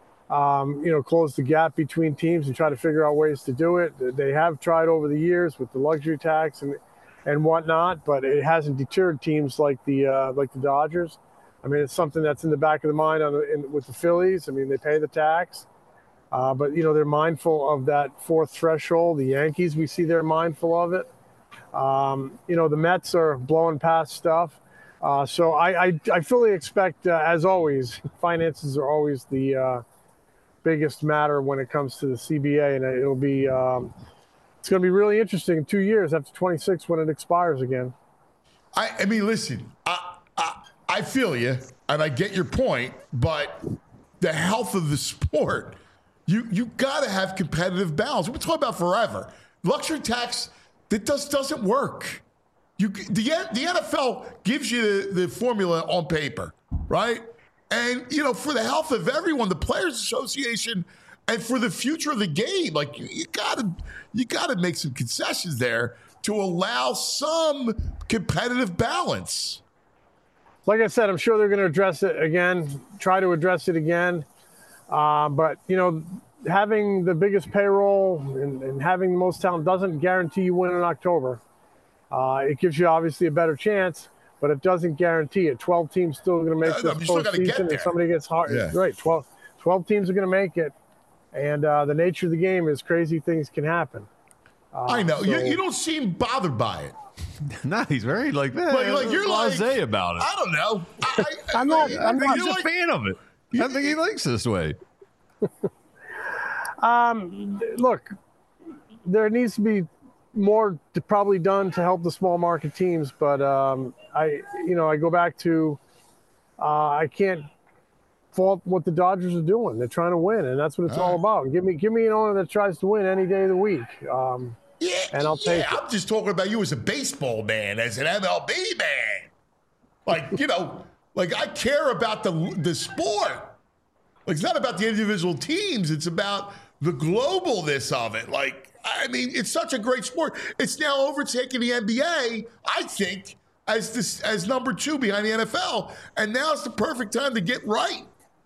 um, you know, close the gap between teams and try to figure out ways to do it. They have tried over the years with the luxury tax and and whatnot, but it hasn't deterred teams like the uh, like the Dodgers. I mean, it's something that's in the back of the mind on the, in, with the Phillies. I mean, they pay the tax, uh, but you know they're mindful of that fourth threshold. The Yankees, we see they're mindful of it. Um, you know, the Mets are blowing past stuff. Uh, so I, I, I fully expect, uh, as always, finances are always the uh, biggest matter when it comes to the C B A, and it'll be um, it's going to be really interesting in two years after twenty-six when it expires again. I, I mean, listen, I, I I feel you, and I get your point, but the health of the sport, you you got to have competitive balance. We're talking about forever. Luxury tax, that just doesn't work. You, the, the N F L gives you the, the formula on paper, right? And, you know, for the health of everyone, the Players Association, and for the future of the game, like, you, you gotta you gotta make some concessions there to allow some competitive balance. Like I said, I'm sure they're going to address it again, try to address it again. Uh, but, you know, having the biggest payroll and, and having the most talent doesn't guarantee you win in October. Uh, it gives you obviously a better chance, but it doesn't guarantee it. twelve teams still going to make No, no, this you still gotta get postseason, there. and somebody gets hard. Yeah. Right, twelve, twelve teams are going to make it, and uh, the nature of the game is crazy things can happen. Uh, I know. so- you, you don't seem bothered by it. No, he's very like that. Like, like you're blasé like, about it. I don't know. I, I, I'm not- I- I'm I- not- He's you're a like- fan of it. I think he likes this way. Um, look, there needs to be more to probably done to help the small market teams, but um, I, you know, I go back to uh, I can't fault what the Dodgers are doing. They're trying to win, and that's what it's all about. Give me, give me an owner that tries to win any day of the week. Um, Yeah, and I'll yeah, take it. I'm just talking about you as a baseball man, as an M L B man. Like, you know, like I care about the the sport. Like, it's not about the individual teams. It's about the globalness of it. Like, I mean, it's such a great sport. It's now overtaking the N B A, I think, as this as number two behind the N F L. And now it's the perfect time to get right.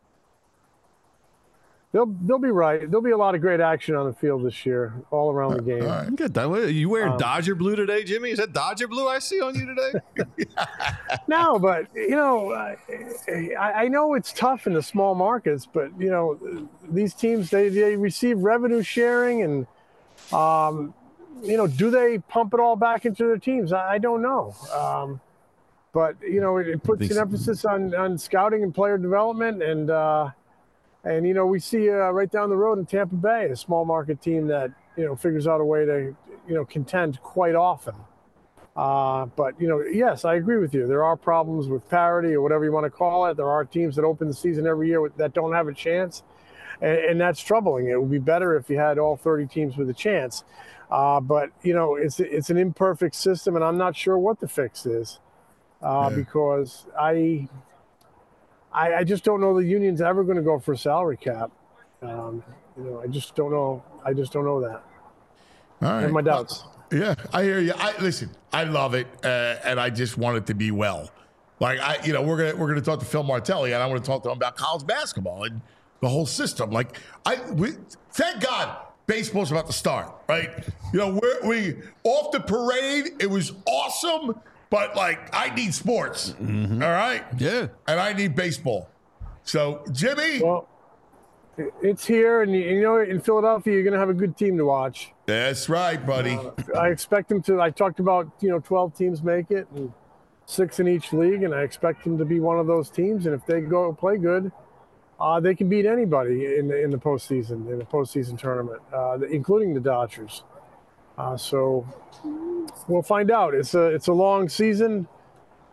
They'll they'll be right. There'll be a lot of great action on the field this year, all around the game. All right. You got that. What, you wearing Um, Dodger blue today, Jimmy? Is that Dodger blue I see on you today? No, but you know, I, I know it's tough in the small markets, but you know, these teams they, they receive revenue sharing, and um, you know, do they pump it all back into their teams? I, I don't know. Um, but you know, it, it puts think an so. emphasis on on scouting and player development, and uh, and you know, we see uh, right down the road in Tampa Bay, a small market team that you know figures out a way to you know contend quite often. Uh, but, you know, yes, I agree with you. There are problems with parity or whatever you want to call it. There are teams that open the season every year with, that don't have a chance, and, and that's troubling. It would be better if you had all thirty teams with a chance. Uh, but, you know, it's it's an imperfect system, and I'm not sure what the fix is uh, Yeah. because I, I I just don't know the union's ever going to go for a salary cap. Um, you know, I just don't know. I just don't know that. All I right. have my doubts. Yeah, I hear you. I listen. I love it, uh, and I just want it to be well. Like I, you know, we're gonna we're gonna talk to Phil Martelli, and I want to talk to him about college basketball and the whole system. Like I, we, thank God, baseball's about to start. Right? You know, we're, we off the parade. It was awesome, but like I need sports. All right, Yeah. and I need baseball. So Jimmy, Well, it's here, and you you know, in Philadelphia, you're going to have a good team to watch. that's right, buddy. I expect them to. I talked about you know twelve teams make it, and six in each league, and I expect them to be one of those teams. And if they go play good, uh, they can beat anybody in the in the postseason, in the postseason tournament, uh, including the Dodgers. Uh, so we'll find out. It's a it's a long season.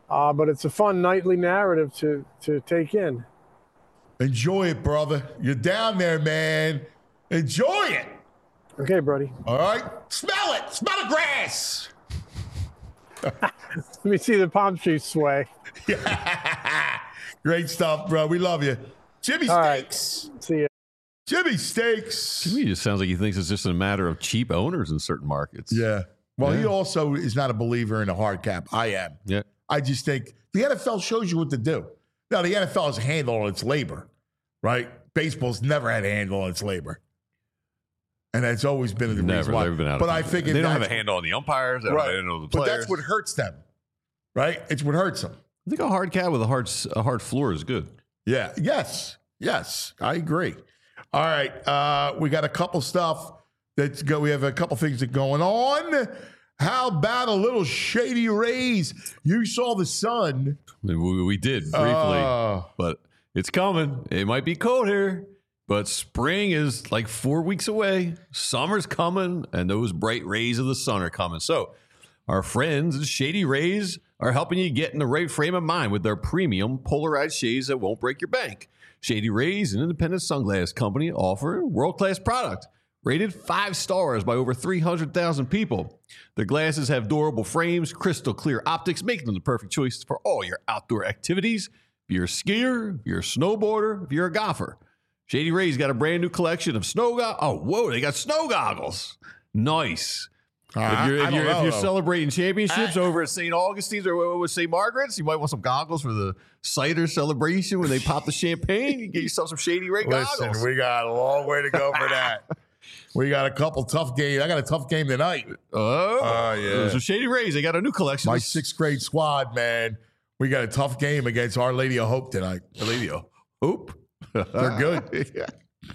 uh, but it's a fun nightly narrative to to take in. Enjoy it, brother. You're down there, man. Enjoy it. Okay, buddy. All right. Smell it. Smell the grass. Let me see the palm trees sway. Great stuff, bro. We love you. Jimmy All Steaks. right. See ya. Jimmy Steaks. To me, it just sounds like he thinks it's just a matter of cheap owners in certain markets. Yeah. Well, Yeah. he also is not a believer in a hard cap. I am. Yeah. I just think the N F L shows you what to do. Now, the N F L has a handle on its labor, right? Baseball's never had a handle on its labor. And that's always been the Never. reason why. They've been out but of I think they don't have a handle on the umpires. They don't have a handle on the But players. that's what hurts them, right? It's what hurts them. I think a hard cap with a hard a hard floor is good. Yeah. Yes. Yes. I agree. All right. Uh, we got a couple stuff that's go. We have a couple things that going on. How about a little Shady Rays? You saw the sun. We, we did briefly, Uh, but it's coming. It might be cold here, but spring is like four weeks away. Summer's coming, and those bright rays of the sun are coming. So our friends at Shady Rays are helping you get in the right frame of mind with their premium polarized shades that won't break your bank. Shady Rays, an independent sunglass company, offer world-class product, rated five stars by over three hundred thousand people. Their glasses have durable frames, crystal clear optics, making them the perfect choice for all your outdoor activities. If you're a skier, if you're a snowboarder, if you're a golfer. Shady Rays got a brand new collection of snow goggles. Oh, whoa, they got snow goggles. Nice. Uh, if you're, I if don't you're, know, if you're though. celebrating championships over at Saint Augustine's or with Saint Margaret's, you might want some goggles for the cider celebration when they pop the champagne. You get yourself some Shady Ray Listen, goggles. we got a long way to go for that. We got a couple tough games. I got a tough game tonight. Oh, Oh, yeah. So Shady Rays, they got a new collection. My of sixth grade squad, man. We got a tough game against Our Lady of Hope tonight. Our Lady of Hope. They're good. Yeah.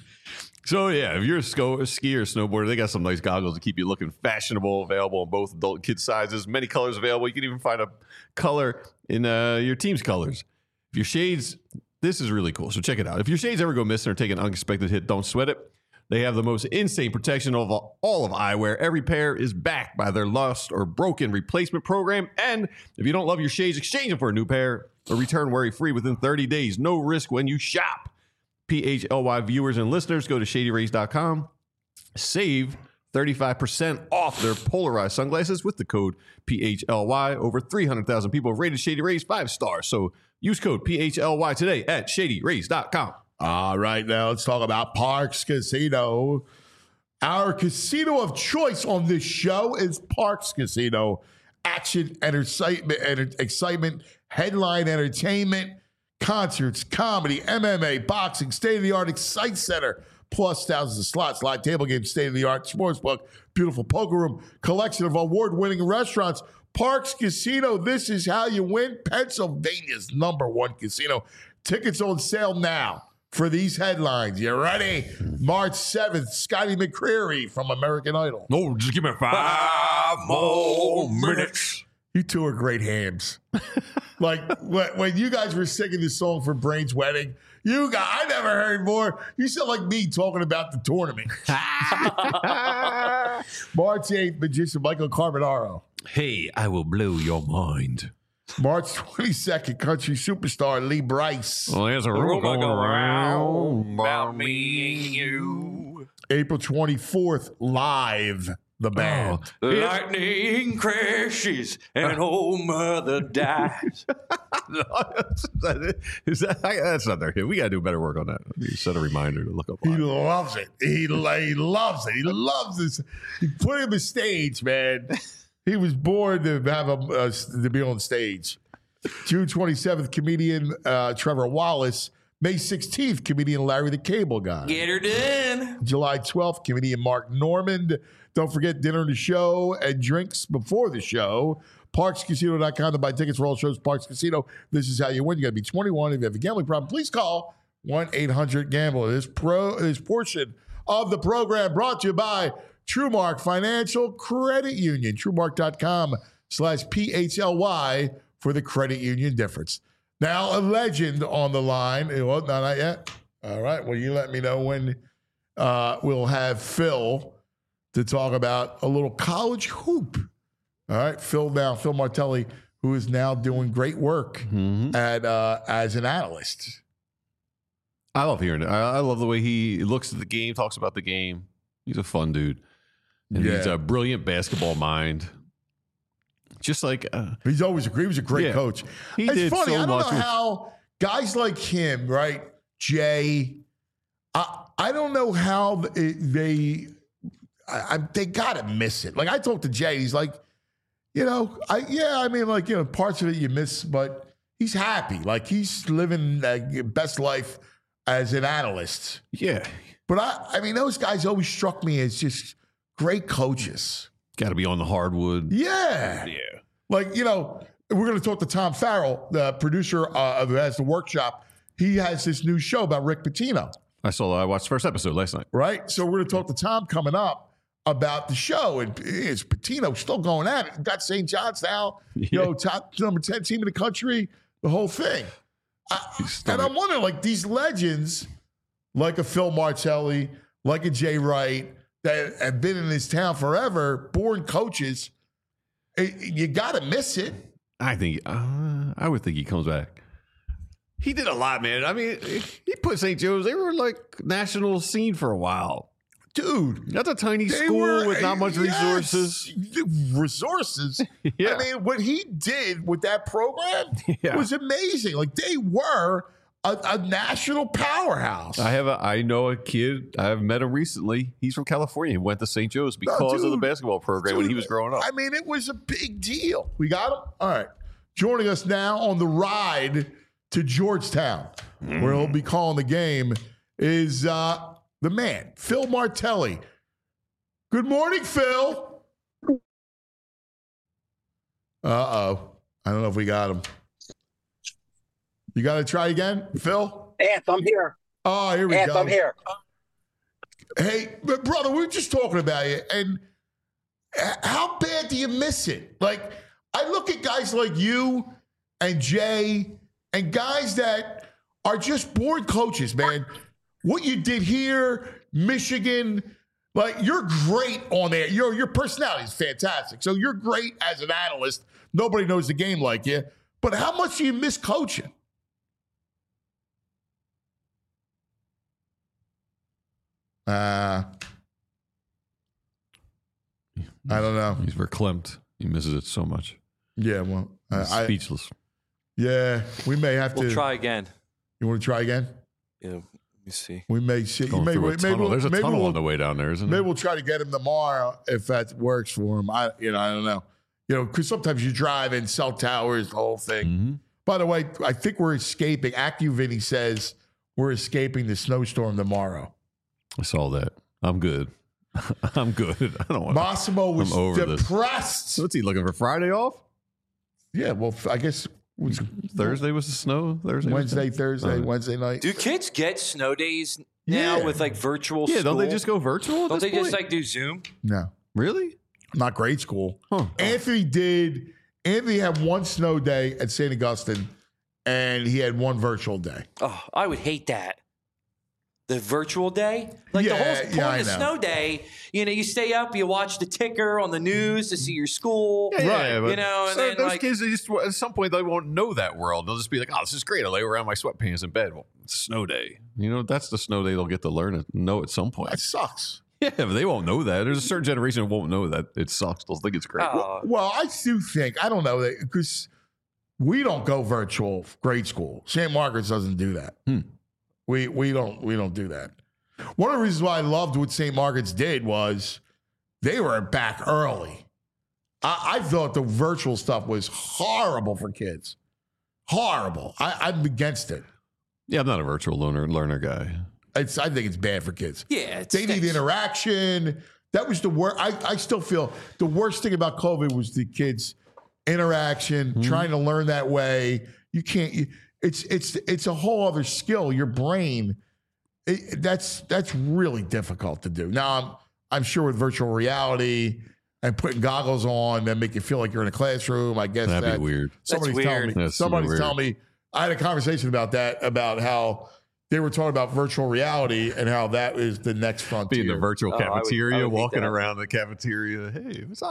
So, yeah, if you're a, sco- a skier or snowboarder, they got some nice goggles to keep you looking fashionable, available in both adult and kid sizes. Many colors available. You can even find a color in uh, your team's colors. If your shades, this is really cool. So check it out. If your shades ever go missing or take an unexpected hit, don't sweat it. They have the most insane protection of all of eyewear. Every pair is backed by their lost or broken replacement program. And if you don't love your shades, exchange them for a new pair or return worry-free within thirty days. No risk when you shop. P H L Y viewers and listeners, go to shady rays dot com. Save thirty-five percent off their polarized sunglasses with the code P H L Y. Over three hundred thousand people have rated Shady Rays five stars. So use code P H L Y today at shady rays dot com. All right, now let's talk about Parks Casino. Our casino of choice on this show is Parks Casino. Action and excitement, and excitement, headline entertainment, concerts, comedy, M M A, boxing, state-of-the-art Excite Center, plus thousands of slots, live table games, state-of-the-art sportsbook, beautiful poker room, collection of award-winning restaurants. Parks Casino, this is how you win. Pennsylvania's number one casino. Tickets on sale now for these headlines. You ready? March seventh, Scotty McCreery from American Idol. No, just give me five more minutes. You two are great hams. Like when, when you guys were singing this song for Brain's wedding, you got I never heard more. You sound like me talking about the tournament. March eighth, magician Michael Carbonaro. Hey, I will blow your mind. March twenty-second, country superstar Lee Brice. Well, there's a rumor going around about me and you. April twenty-fourth, Live, the band. Oh, Lightning crashes and an old mother dies. Is that, that's not their hit. We got to do better work on that. You set a reminder to look up. He Live. loves it. He, he loves it. He loves this. He put him on stage, man. He was born to have a uh, to be on stage. June twenty-seventh, comedian uh, Trevor Wallace. May sixteenth, comedian Larry the Cable Guy. Get her done. July twelfth, comedian Mark Normand. Don't forget dinner and the show and drinks before the show. Parks Casino dot com to buy tickets for all shows. Parks Casino. This is how you win. You got to be twenty-one. If you have a gambling problem, please call one eight hundred gambler. This pro this portion of the program brought to you by TrueMark Financial Credit Union. TrueMark dot com slash P H L Y for the credit union difference. Now, a legend on the line. Well, no, not yet. All right. Well, you let me know when uh, we'll have Phil to talk about a little college hoop. All right. Phil now, Phil Martelli, who is now doing great work Mm-hmm. at uh, as an analyst. I love hearing it. I, I love the way he looks at the game, talks about the game. He's a fun dude. And Yeah. he's a brilliant basketball mind. Just like uh, He's always a he was a great Yeah. coach. He it's did funny. so I don't much know with- how guys like him, right? Jay, I I don't know how th- they I, I, they gotta miss it. Like I talked to Jay, he's like, you know, I yeah, I mean, like you know, parts of it you miss, but he's happy. Like he's living the best life as an analyst. yeah, But I, I mean, those guys always struck me as just great coaches. got to be on the hardwood. Yeah. Yeah. Like, you know, we're going to talk to Tom Farrell, the producer uh, who has the workshop. He has this new show about Rick Pitino, I saw. I watched the first episode last night. right? So we're going to talk to Tom coming up about the show. And is Pitino still going at it? Got Saint John's now, you Yeah. know, top number ten team in the country, the whole thing. I, and I'm wondering, like, these legends, like a Phil Martelli, like a Jay Wright, that have been in this town forever, born coaches, it, you got to miss it. I think. Uh, I would think he comes back. He did a lot, man. I mean, he put Saint Joe's. They were like national scene for a while. Dude, That's a tiny they school were- with not much yes, resources. Resources. Yeah. I mean, what he did with that program Yeah. was amazing. Like they were a, a national powerhouse. I have a. I know a kid. I've met him recently. He's from California. He went to Saint Joe's because of the dude. basketball program when he Dude, was growing up. I mean, it was a big deal. We got him. All right. Joining us now on the ride to Georgetown, where he'll be calling the game, is uh, the man, Phil Martelli. Good morning, Phil. Uh-oh. I don't know if we got him. You got to try again, Phil? Anth, I'm here. Oh, here we Anth, go. I'm here. Hey, but brother, we were just talking about you, and h- how bad do you miss it? Like, I look at guys like you and Jay and guys that are just bored coaches, man. What you did here, Michigan, like you're great on there. Your your personality is fantastic. So you're great as an analyst. Nobody knows the game like you. But how much do you miss coaching? Uh, I don't know. He's verklempt. He misses it so much. Yeah, well, He's I, I, speechless. yeah, we may have We'll to. try again. You want to try again? Yeah, let me see. We may see. Going Maybe, through a maybe, tunnel. we'll, There's a maybe tunnel we'll, on the way down there, isn't maybe there? we'll try to get him tomorrow if that works for him. I, you know, I don't know. You know, because sometimes you drive in cell towers, the whole thing. Mhm. By the way, I think we're escaping. AccuVinny says we're escaping the snowstorm tomorrow. I saw that. I'm good. I'm good. I don't want. Massimo was I'm over this. depressed. What's he looking for? Friday off? Yeah, well, I guess it was Thursday was the snow. Thursday. was Wednesday, the- Thursday, Uh, Wednesday night. Do kids get snow days now Yeah. with like virtual Yeah. Don't they school? just go virtual? At Don't this they just point? like do Zoom? No, really? not grade school. Huh. Anthony did. Anthony had one snow day at Saint Augustine, and he had one virtual day. Oh, I would hate that. The virtual day? Like the Yeah, whole point yeah, I of know. snow day, you know, you stay up, you watch the ticker on the news to see your school. Yeah, but you know, and so then those like, kids, they just at some point they won't know that world. They'll just be like, "Oh, this is great. I lay around my sweatpants in bed." Well, it's snow day. You know, that's the snow day they'll get to learn it, know at some point. That sucks. Yeah, but they won't know that. There's a certain generation that won't know that it sucks. They'll think it's great. oh, Well, I do think I don't know that because we don't go virtual grade school. Saint Margaret's doesn't do that. Hmm. We we don't we don't do that. One of the reasons why I loved what Saint Margaret's did was they were back early. I, I thought the virtual stuff was horrible for kids. Horrible. I, I'm against it. Yeah, I'm not a virtual learner learner guy. It's I think it's bad for kids. yeah, it's They need interaction. That was the worst. I, I still feel the worst thing about COVID was the kids' interaction, Mm-hmm. trying to learn that way. You can't. You, it's it's it's a whole other skill. Your brain. It, that's that's really difficult to do. Now I'm I'm sure with virtual reality and putting goggles on that make you feel like you're in a classroom. I guess That'd that, be weird. Somebody's That's telling weird. me. That's super somebody's weird. telling me. I had a conversation about that about how. They were talking about virtual reality and how that is the next Be frontier. in the virtual Oh, I would- I cafeteria, would hate walking that. around the cafeteria. Hey, what's up?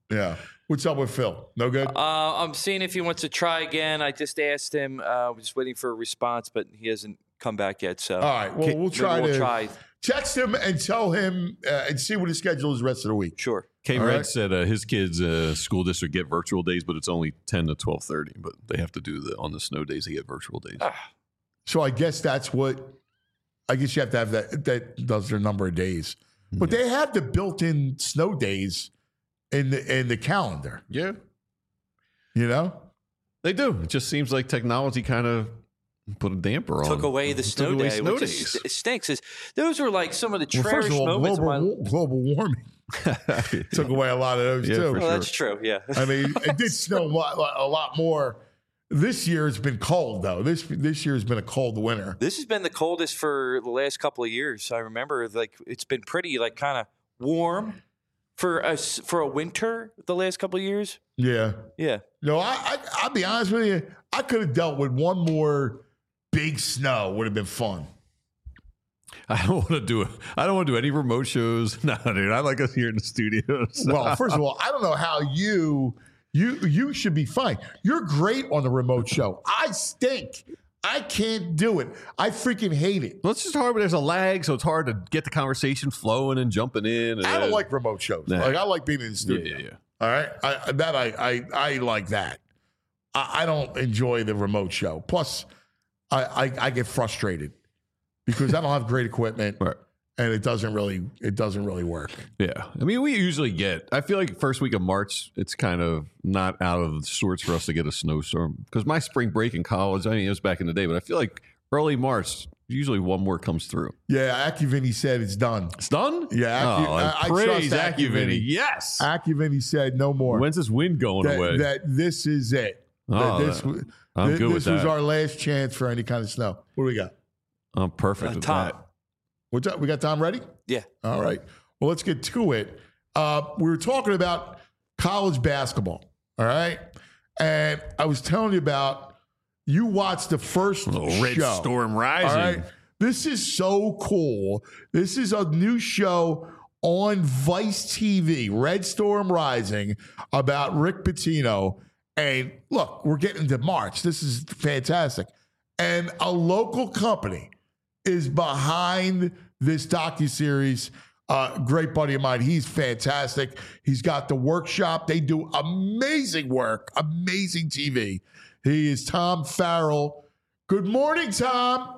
Yeah. What's up with Phil? No good? Uh, I'm seeing if he wants to try again. I just asked him. Uh, we're just waiting for a response, but he hasn't come back yet. So, all right. Well, we'll try we'll to try. text him and tell him uh, and see what his schedule is the rest of the week. Sure. K. All Red right. said uh, his kids' uh, school district get virtual days, but it's only ten to twelve thirty. But they have to do the on the snow days. They get virtual days. Ah. So I guess that's what. I guess you have to have that. That does their number of days, but Yeah. they have the built-in snow days in the in the calendar. Yeah, You know. they do. It just seems like technology kind of put a damper on. Took away the Took snow away day, snow which days. is, it stinks. Is those were like some of the Well, first cherished of all, moments global, of my. global warming took away a lot of those Yeah, too. for Well, sure. that's true. Yeah. I mean, it did snow a lot, a lot more. This year it's been cold though. This this year has been a cold winter. This has been the coldest for the last couple of years. I remember, like, it's been pretty, like, kind of warm for a s- for a winter the last couple of years. Yeah. Yeah. No, I, I I'll be honest with you. I could have dealt with one more big snow. Would have been fun. I don't want to do it. I don't want to do any remote shows. No, dude. I like us here in the studios. Well, first of all, I don't know how you you you should be fine. You're great on the remote show. I stink. I can't do it. I freaking hate it. Well, it's just hard when there's a lag, so it's hard to get the conversation flowing and jumping in. And I don't then- like remote shows. Nah. Like I like being in the Yeah, studio. yeah, yeah. All right, I, that I, I I like that. I, I don't enjoy the remote show. Plus, I, I I get frustrated because I don't have great equipment, Right. and it doesn't really it doesn't really work. Yeah. I mean, we usually get, I feel like first week of March, it's kind of not out of sorts for us to get a snowstorm because my spring break in college, I mean, it was back in the day, but I feel like early March, usually one more comes through. Yeah, AccuVinny said it's done. It's done? Yeah, Accu- oh, I- I praise trust AccuVinny. AccuVinny. Yes. AccuVinny said no more. When's this wind going that, away? that this is it. Oh, that this that- w- I'm thi- good with this was that. our last chance for any kind of snow. What do we got? I'm perfect Uh, with Tom. that. What's up? We got Tom ready? Yeah. All right. Well, let's get to it. Uh, we were talking about college basketball. All right. And I was telling you about you watched the first Little Red show. Storm Rising. All right. This is so cool. This is a new show on Vice T V, Red Storm Rising, about Rick Pitino. And look, we're getting into March. This is fantastic. And a local company is behind this docuseries. Uh, great buddy of mine. He's fantastic. He's got the workshop. They do amazing work, amazing T V. He is Tom Farrell. Good morning, Tom.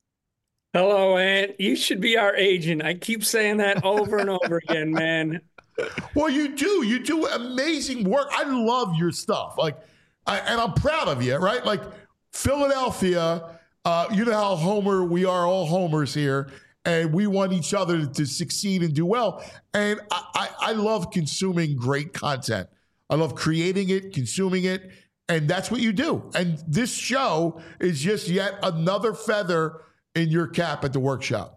Hello, Ant. You should be our agent. I keep saying that over and over again, man. Well, you do. You do amazing work. I love your stuff. Like, I, and I'm proud of you, right? Like, Philadelphia, uh, you know how Homer, we are all Homers here, and we want each other to succeed and do well. And I, I, I love consuming great content. I love creating it, consuming it, and that's what you do. And this show is just yet another feather in your cap at the workshop.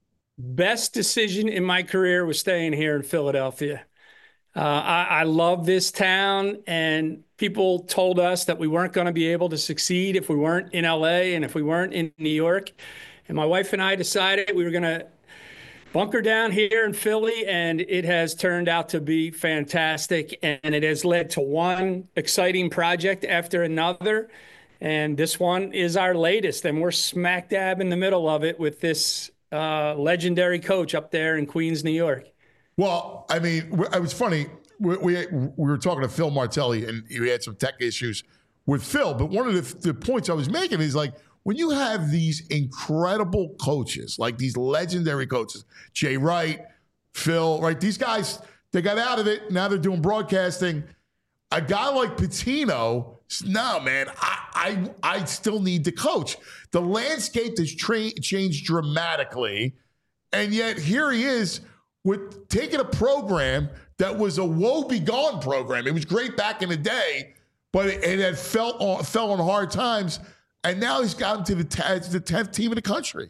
Best decision in my career was staying here in Philadelphia. Uh, I, I love this town, and people told us that we weren't going to be able to succeed if we weren't in L A and if we weren't in New York. And my wife and I decided we were going to bunker down here in Philly, and it has turned out to be fantastic. And it has led to one exciting project after another. And this one is our latest, and we're smack dab in the middle of it with this uh, legendary coach up there in Queens, New York. Well, I mean, it was funny. We, we, we were talking to Phil Martelli, and we had some tech issues with Phil. But one of the, the points I was making is like, when you have these incredible coaches, like these legendary coaches, Jay Wright, Phil, right? These guys, they got out of it. Now they're doing broadcasting. A guy like Pitino, no, man, I, I, I still need to coach. The landscape has tra- changed dramatically. And yet here he is with taking a program that was a woe-begone program. It was great back in the day, but it, it had felt on, fell on hard times. And now he's gotten to the, t- the tenth team in the country.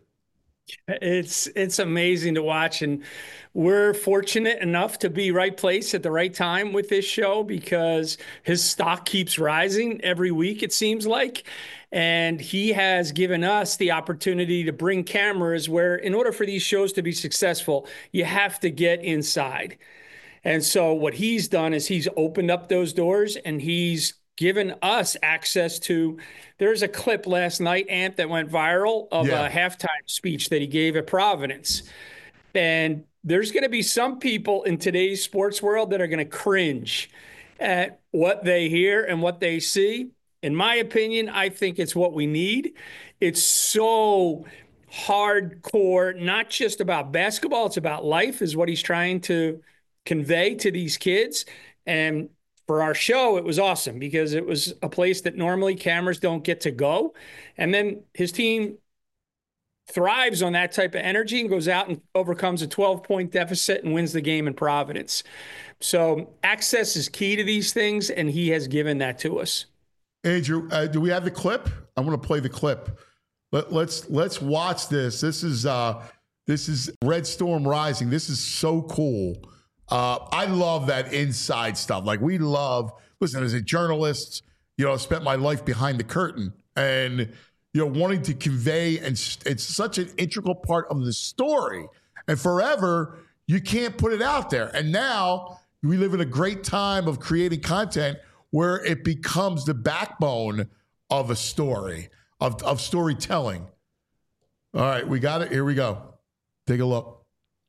It's it's amazing to watch, and we're fortunate enough to be right place at the right time with this show because his stock keeps rising every week, it seems like. And he has given us the opportunity to bring cameras where, in order for these shows to be successful, you have to get inside. And so what he's done is he's opened up those doors and he's given us access to, there's a clip last night, Ant, that went viral of Yeah. a halftime speech that he gave at Providence. And there's going to be some people in today's sports world that are going to cringe at what they hear and what they see. In my opinion, I think it's what we need. It's so hardcore, not just about basketball, it's about life, is what he's trying to convey to these kids. And for our show, it was awesome because it was a place that normally cameras don't get to go. And then his team thrives on that type of energy and goes out and overcomes a twelve-point deficit and wins the game in Providence. So access is key to these things, and he has given that to us. Andrew, uh, do we have the clip? I'm going to play the clip. Let, let's let's watch this. This is uh, this is Red Storm Rising. This is so cool. Uh, I love that inside stuff. Like we love. Listen, as a journalist, you know, I spent my life behind the curtain, and you know, wanting to convey, and it's such an integral part of the story. And forever, you can't put it out there. And now we live in a great time of creating content where it becomes the backbone of a story, of, of storytelling. All right, we got it. Here we go. Take a look.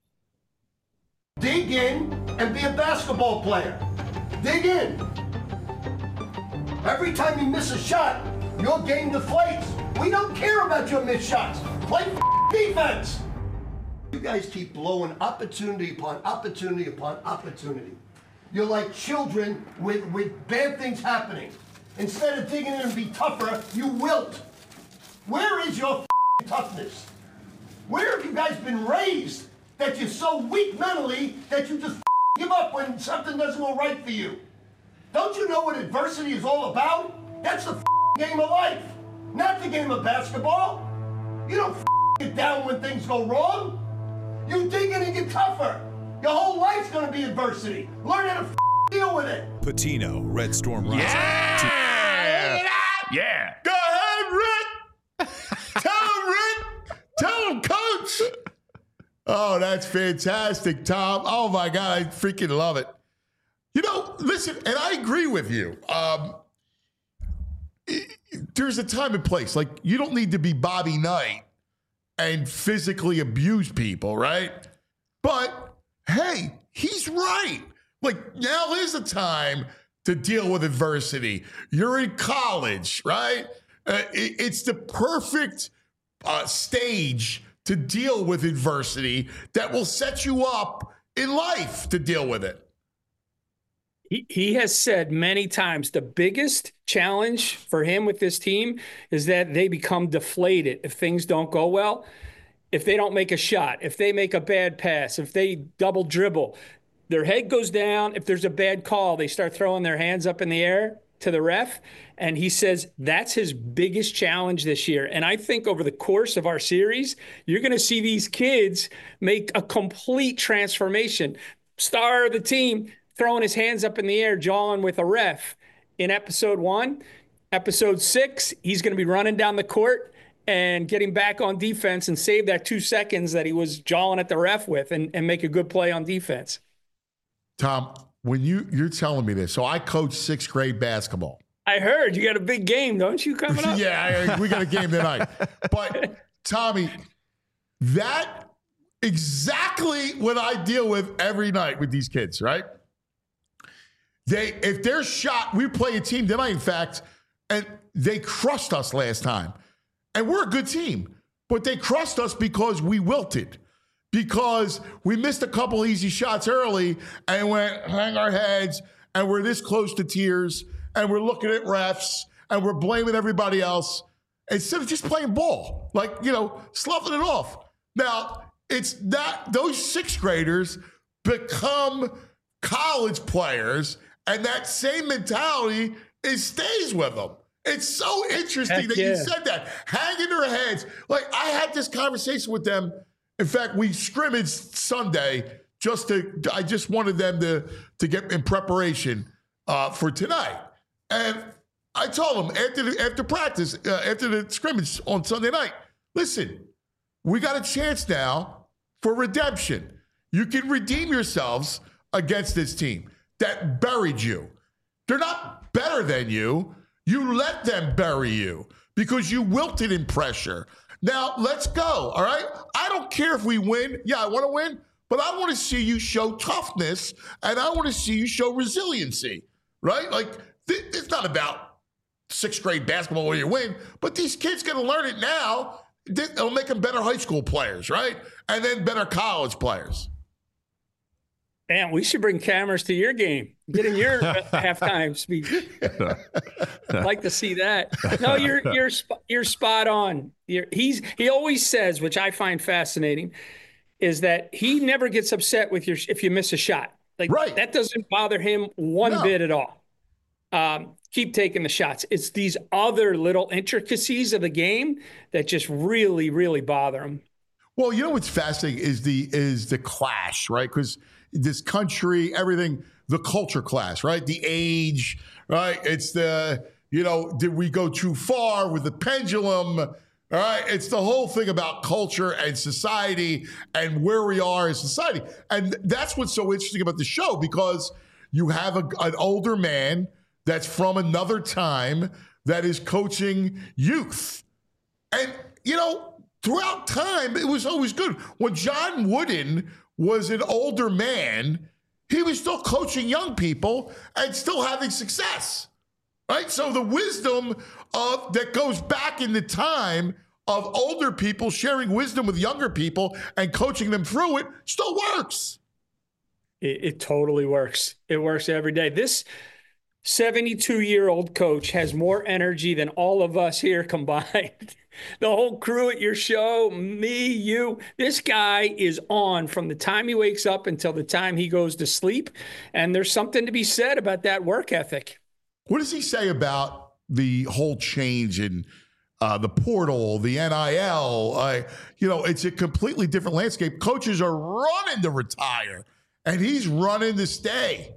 Dig in and be a basketball player. Dig in. Every time you miss a shot, your game deflates. We don't care about your missed shots. Play defense. You guys keep blowing opportunity upon opportunity upon opportunity. You're like children with, with bad things happening. Instead of digging in and be tougher, you wilt. Where is your toughness? Where have you guys been raised that you're so weak mentally that you just give up when something doesn't go right for you? Don't you know what adversity is all about? That's the game of life, not the game of basketball. You don't get down when things go wrong. You dig in and get tougher. Your whole life's gonna be adversity. Learn how to deal with it. Patino, Red Storm Rising. Yeah! Yeah. Go ahead, Rick! Tell him, Rick! Tell him, Coach! Oh, that's fantastic, Tom. Oh, my God, I freaking love it. You know, listen, and I agree with you. Um, there's a time and place. Like, you don't need to be Bobby Knight and physically abuse people, right? But, hey, he's right. Like, now is the time to deal with adversity. You're in college, right? Uh, it, it's the perfect uh, stage to deal with adversity that will set you up in life to deal with it. He, he has said many times the biggest challenge for him with this team is that they become deflated if things don't go well. If they don't make a shot, if they make a bad pass, if they double dribble, their head goes down. If there's a bad call, they start throwing their hands up in the air to the ref. And he says that's his biggest challenge this year. And I think over the course of our series, you're going to see these kids make a complete transformation. Star of the team throwing his hands up in the air, jawing with a ref in episode one. Episode six, he's going to be running down the court and getting back on defense and save that two seconds that he was jawing at the ref with and, and make a good play on defense. Tom, when you, you're telling me this, so I coach sixth grade basketball. I heard you got a big game, don't you, coming up? Yeah, I, we got a game tonight. But, Tommy, that exactly what I deal with every night with these kids, right? They, if they're shot, we play a team tonight, in fact, and they crushed us last time. And we're a good team, but they crushed us because we wilted, because we missed a couple easy shots early and went hang our heads, and we're this close to tears, and we're looking at refs, and we're blaming everybody else instead of just playing ball, like, you know, sloughing it off. Now, it's not, those sixth graders become college players, and that same mentality is stays with them. It's so interesting Heck that yeah. you said that. Hanging their heads. Like, I had this conversation with them. In fact, we scrimmaged Sunday just to, I just wanted them to, to get in preparation uh, for tonight. And I told them after, the, after practice, uh, after the scrimmage on Sunday night, listen, we got a chance now for redemption. You can redeem yourselves against this team that buried you. They're not better than you. You let them bury you because you wilted in pressure. Now, let's go, all right? I don't care if we win. Yeah, I want to win, but I want to see you show toughness, and I want to see you show resiliency, right? Like, th- it's not about sixth grade basketball where you win, but these kids going to learn it now. It'll make them better high school players, right? And then better college players. Man, we should bring cameras to your game. Get in your uh, halftime speech. I'd like to see that. No, you're you're you're spot on. You're, he's he always says, which I find fascinating, is that he never gets upset with your if you miss a shot. Like right. That doesn't bother him one no. bit at all. Um, keep taking the shots. It's these other little intricacies of the game that just really, really bother him. Well, you know what's fascinating is the is the clash, right? Because this country, everything, the culture clash, right? The age, right? It's the, you know, did we go too far with the pendulum? All right. It's the whole thing about culture and society and where we are as society. And that's what's so interesting about the show, because you have a, an older man that's from another time that is coaching youth. And, you know, throughout time, it was always good. When John Wooden was an older man, he was still coaching young people and still having success, right? So the wisdom of that goes back in the time of older people sharing wisdom with younger people and coaching them through it still works. It, it totally works. It works every day. This seventy-two-year-old coach has more energy than all of us here combined. The whole crew at your show, me, you, this guy is on from the time he wakes up until the time he goes to sleep. And there's something to be said about that work ethic. What does he say about the whole change in uh, the portal, the N I L? Uh, you know, it's a completely different landscape. Coaches are running to retire, and he's running to stay.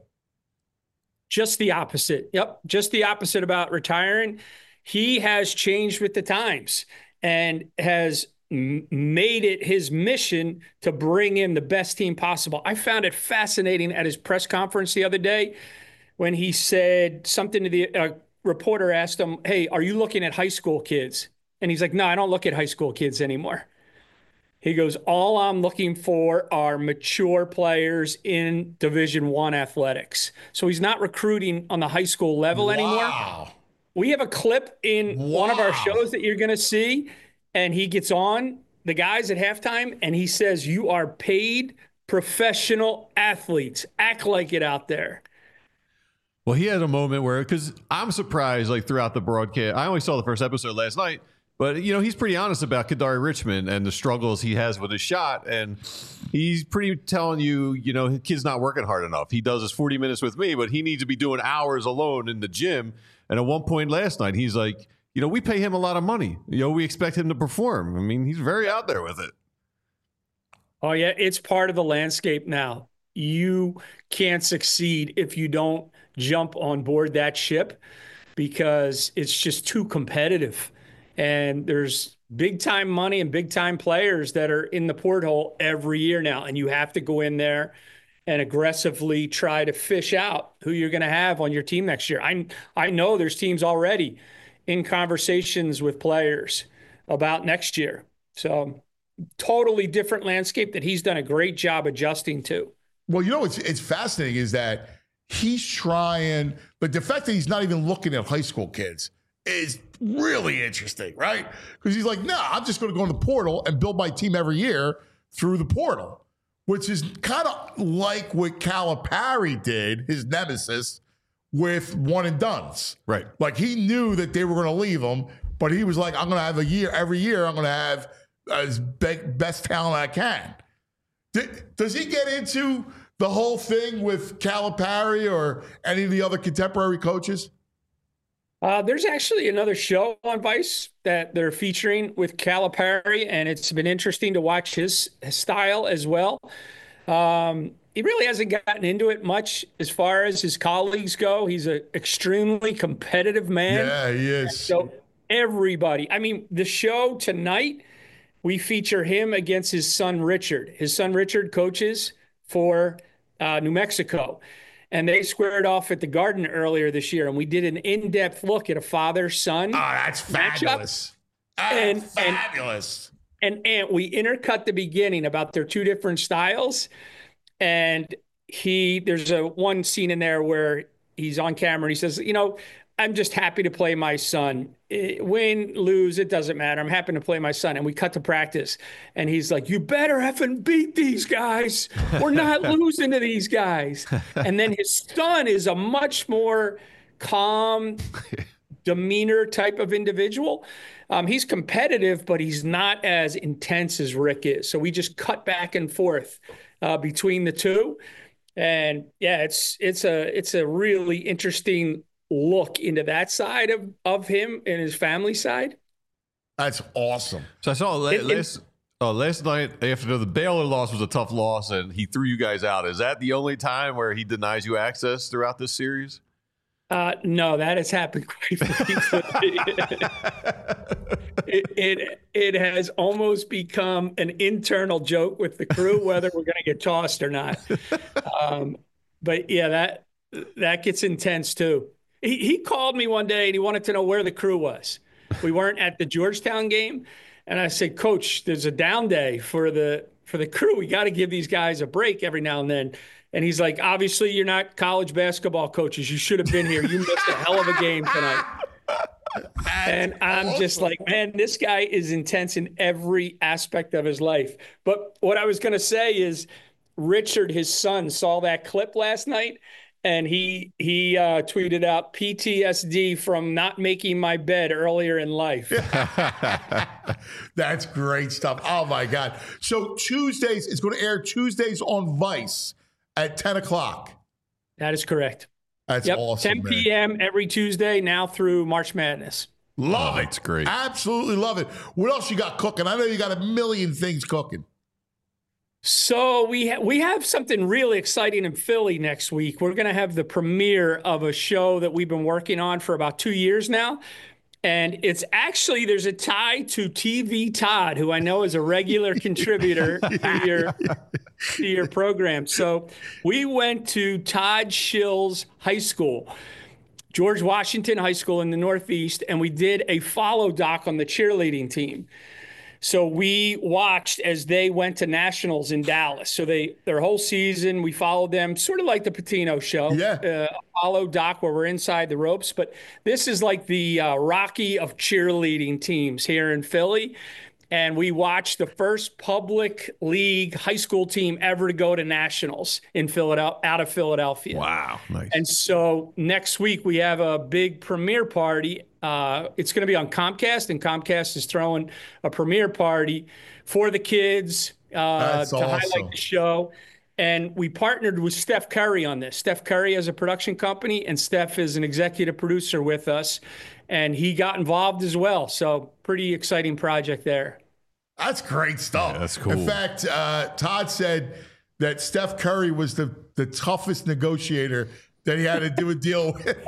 Just the opposite. Yep. Just the opposite about retiring. He has changed with the times and has m- made it his mission to bring in the best team possible. I found it fascinating at his press conference the other day when he said something to the uh, reporter asked him, "Hey, are you looking at high school kids?" And he's like, "No, I don't look at high school kids anymore." He goes, "All I'm looking for are mature players in Division One athletics." So he's not recruiting on the high school level wow. anymore. We have a clip in wow. one of our shows that you're going to see, and he gets on the guys at halftime, and he says, "You are paid professional athletes. Act like it out there." Well, he had a moment where, because I'm surprised, like throughout the broadcast, I only saw the first episode last night, but, you know, he's pretty honest about Kadari Richmond and the struggles he has with his shot. And he's pretty telling you, you know, his kid's not working hard enough. He does his forty minutes with me, but he needs to be doing hours alone in the gym. And at one point last night, he's like, you know, we pay him a lot of money. You know, we expect him to perform. I mean, he's very out there with it. Oh, yeah. It's part of the landscape now. You can't succeed if you don't jump on board that ship because it's just too competitive. And there's big time money and big time players that are in the porthole every year now. And you have to go in there and aggressively try to fish out who you're going to have on your team next year. I I know there's teams already in conversations with players about next year. So totally different landscape that he's done a great job adjusting to. Well, you know, it's it's fascinating is that he's trying, but the fact that he's not even looking at high school kids is really interesting, right? Because he's like, no, I'm just going to go in the portal and build my team every year through the portal, which is kind of like what Calipari did, his nemesis, with one and dones. Right. Like he knew that they were going to leave him, but he was like, I'm going to have a year, every year, I'm going to have as big, best talent I can. Did, does he get into the whole thing with Calipari or any of the other contemporary coaches? Uh, there's actually another show on Vice that they're featuring with Calipari, and it's been interesting to watch his, his style as well. Um, he really hasn't gotten into it much as far as his colleagues go. He's an extremely competitive man. Yeah, he is. So everybody, I mean, the show tonight, we feature him against his son, Richard. His son, Richard, coaches for uh, New Mexico. And they squared off at the Garden earlier this year. And we did an in-depth look at a father-son. Oh, that's fabulous. That's and, fabulous. And, and, and we intercut the beginning about their two different styles. And he, there's a one scene in there where he's on camera and he says, you know, I'm just happy to play my son. Win, lose, it doesn't matter. I'm happy to play my son. And we cut to practice. And he's like, you better effing beat these guys. We're not losing to these guys. And then his son is a much more calm demeanor type of individual. Um, he's competitive, but he's not as intense as Rick is. So we just cut back and forth uh, between the two. And yeah, it's it's a it's a really interesting look into that side of, of him and his family side. That's awesome. So I saw la- It- it- last, uh, last night after the Baylor loss was a tough loss and he threw you guys out. Is that the only time where he denies you access throughout this series? Uh, no, that has happened quite frequently. it, it it has almost become an internal joke with the crew whether we're going to get tossed or not. Um, but yeah, that that gets intense too. He he called me one day and he wanted to know where the crew was. We weren't at the Georgetown game, and I said, Coach, there's a down day for the for the crew. We got to give these guys a break every now and then. And he's like, obviously, you're not college basketball coaches. You should have been here. You missed a hell of a game tonight. And I'm awesome. Just like, man, this guy is intense in every aspect of his life. But what I was going to say is Richard, his son, saw that clip last night. And he he uh, tweeted out P T S D from not making my bed earlier in life. That's great stuff. Oh, my God. So Tuesdays, it's going to air Tuesdays on Vice at ten o'clock. That is correct. That's yep. awesome, ten p.m. every Tuesday now through March Madness. Love oh, it. That's great. Absolutely love it. What else you got cooking? I know you got a million things cooking. So we ha- we have something really exciting in Philly next week. We're going to have the premiere of a show that we've been working on for about two years now. And it's actually, there's a tie to T V Todd, who I know is a regular contributor to your, to your program. So we went to Todd Schill's high school, George Washington High School in the Northeast, and we did a follow doc on the cheerleading team. So we watched as they went to nationals in Dallas. So they their whole season, we followed them, sort of like the Patino show. Yeah. Uh, follow doc where we're inside the ropes. But this is like the uh, Rocky of cheerleading teams here in Philly. And we watched the first public league high school team ever to go to nationals in Philadelphia, out of Philadelphia. Wow. Nice. And so next week we have a big premiere party. Uh, it's going to be on Comcast, and Comcast is throwing a premiere party for the kids uh, to awesome. highlight the show. And we partnered with Steph Curry on this. Steph Curry has a production company, and Steph is an executive producer with us. And he got involved as well. So pretty exciting project there. That's great stuff. Yeah, that's cool. In fact, uh, Todd said that Steph Curry was the, the toughest negotiator that he had to do a deal with.